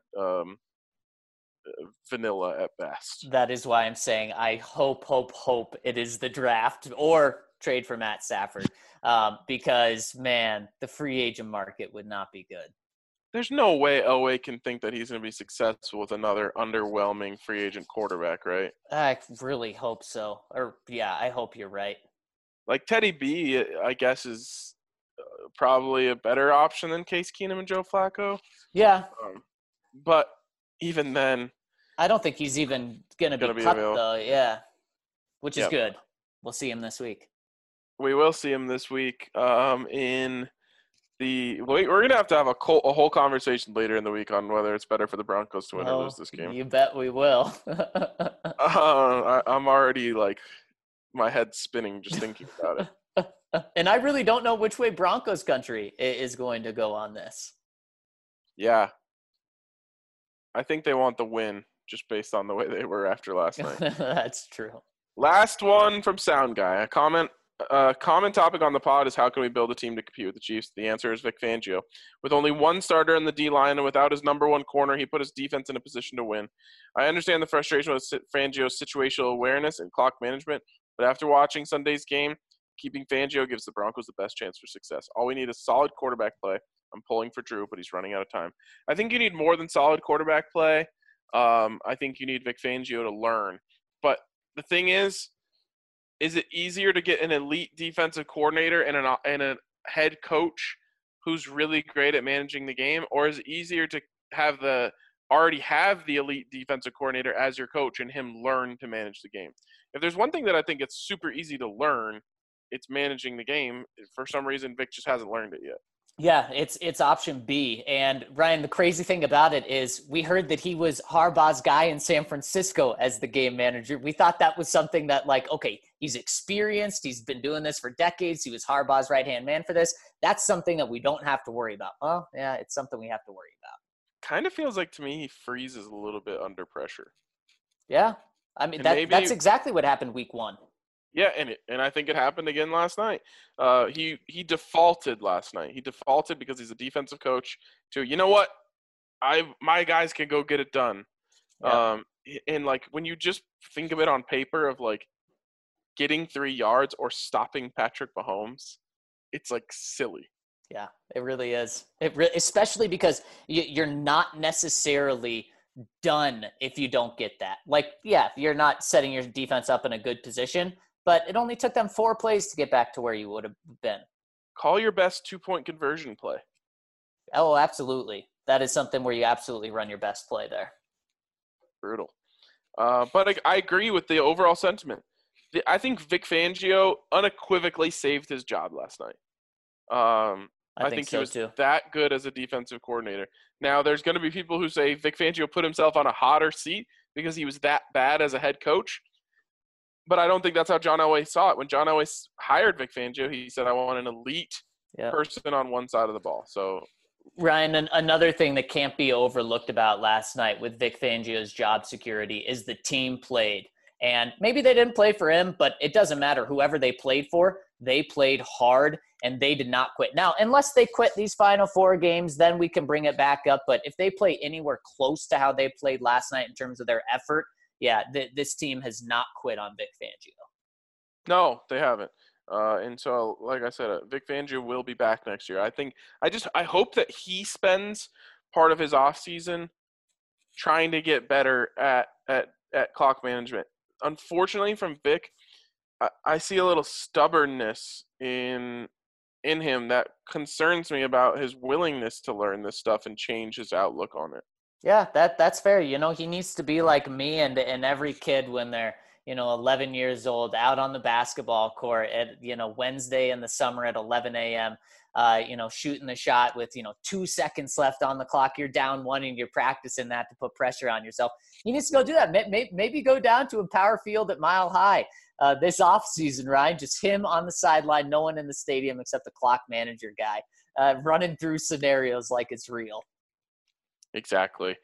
vanilla at best. That is why I'm saying I hope it is the draft or trade for Matt Stafford because, man, the free agent market would not be good. There's no way Elway can think that he's going to be successful with another underwhelming free agent quarterback, right? I really hope so. I hope you're right. Like Teddy B, I guess, is probably a better option than Case Keenum and Joe Flacco. Yeah. But even then, I don't think he's even going to be cut, though. Yeah. Which is good. We'll see him this week. We will see him this week we're going to have a whole conversation later in the week on whether it's better for the Broncos to win or lose this game. You bet we will. I'm already, like, my head's spinning just thinking about it. And I really don't know which way Broncos country is going to go on this. Yeah. I think they want the win just based on the way they were after last night. That's true. Last one from Sound Guy. A common topic on the pod is how can we build a team to compete with the Chiefs? The answer is Vic Fangio. With only one starter in the D-line and without his number one corner, he put his defense in a position to win. I understand the frustration with Fangio's situational awareness and clock management, but after watching Sunday's game, keeping Fangio gives the Broncos the best chance for success. All we need is solid quarterback play. I'm pulling for Drew, but he's running out of time. I think you need more than solid quarterback play. I think you need Vic Fangio to learn. But the thing is it easier to get an elite defensive coordinator and a head coach who's really great at managing the game, or is it easier to already have the elite defensive coordinator as your coach and him learn to manage the game? If there's one thing that I think it's super easy to learn, it's managing the game. For some reason, Vic just hasn't learned it yet. Yeah, it's option B. And Ryan, the crazy thing about it is we heard that he was Harbaugh's guy in San Francisco as the game manager. We thought that was something that, like, okay, he's experienced. He's been doing this for decades. He was Harbaugh's right-hand man for this. That's something that we don't have to worry about. Well, yeah, it's something we have to worry about. Kind of feels like to me he freezes a little bit under pressure. Yeah. I mean, that's exactly what happened week 1. Yeah, and I think it happened again last night. He defaulted last night. He defaulted because he's a defensive coach to, you know what, my guys can go get it done. Yeah. And like when you just think of it on paper of like getting 3 yards or stopping Patrick Mahomes, it's like silly. Yeah, it really is. Especially because you're not necessarily done if you don't get that. Like, yeah, you're not setting your defense up in a good position. But it only took them 4 plays to get back to where you would have been. call your best 2-point conversion play. Oh, absolutely. That is something where you absolutely run your best play there. Brutal. But I agree with the overall sentiment. I think Vic Fangio unequivocally saved his job last night. I think so he was too. that good as a defensive coordinator. Now, there's going to be people who say Vic Fangio put himself on a hotter seat because he was that bad as a head coach. But I don't think that's how John Elway saw it. When John Elway hired Vic Fangio, he said, I want an elite person on one side of the ball. So, Ryan, another thing that can't be overlooked about last night with Vic Fangio's job security is the team played. And maybe they didn't play for him, but it doesn't matter. Whoever they played for, they played hard, and they did not quit. Now, unless they quit these final 4 games, then we can bring it back up. But if they play anywhere close to how they played last night in terms of their effort, this team has not quit on Vic Fangio. No, they haven't. And so, like I said, Vic Fangio will be back next year. I hope that he spends part of his offseason trying to get better at clock management. Unfortunately, from Vic, I see a little stubbornness in him that concerns me about his willingness to learn this stuff and change his outlook on it. Yeah, that's fair. You know, he needs to be like me and every kid when they're, 11 years old, out on the basketball court at, Wednesday in the summer at 11 a.m., shooting the shot with, 2 seconds left on the clock. You're down 1 and you're practicing that to put pressure on yourself. He needs to go do that. Maybe go down to a power field at Mile High this offseason, Ryan. Just him on the sideline, no one in the stadium except the clock manager guy, running through scenarios like it's real. Exactly.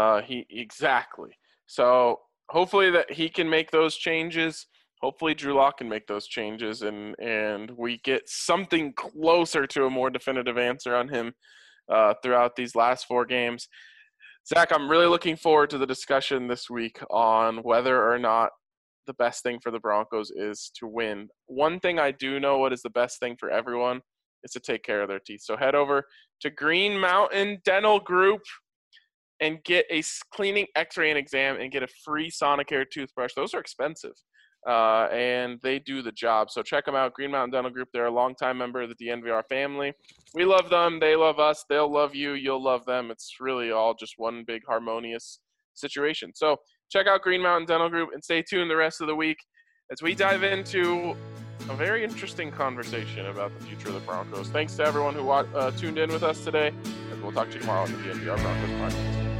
Exactly. So hopefully that he can make those changes. Hopefully Drew Lock can make those changes and we get something closer to a more definitive answer on him throughout these last 4 games. Zach, I'm really looking forward to the discussion this week on whether or not the best thing for the Broncos is to win. One thing I do know what is the best thing for everyone is to take care of their teeth. So head over to Green Mountain Dental Group and get a cleaning, x-ray, and exam and get a free Sonicare toothbrush. Those are expensive, and they do the job. So check them out, Green Mountain Dental Group. They're a longtime member of the DNVR family. We love them. They love us. They'll love you. You'll love them. It's really all just one big harmonious situation. So check out Green Mountain Dental Group and stay tuned the rest of the week as we dive into a very interesting conversation about the future of the Broncos. Thanks to everyone who tuned in with us today, and we'll talk to you tomorrow on the DNVR Broncos podcast.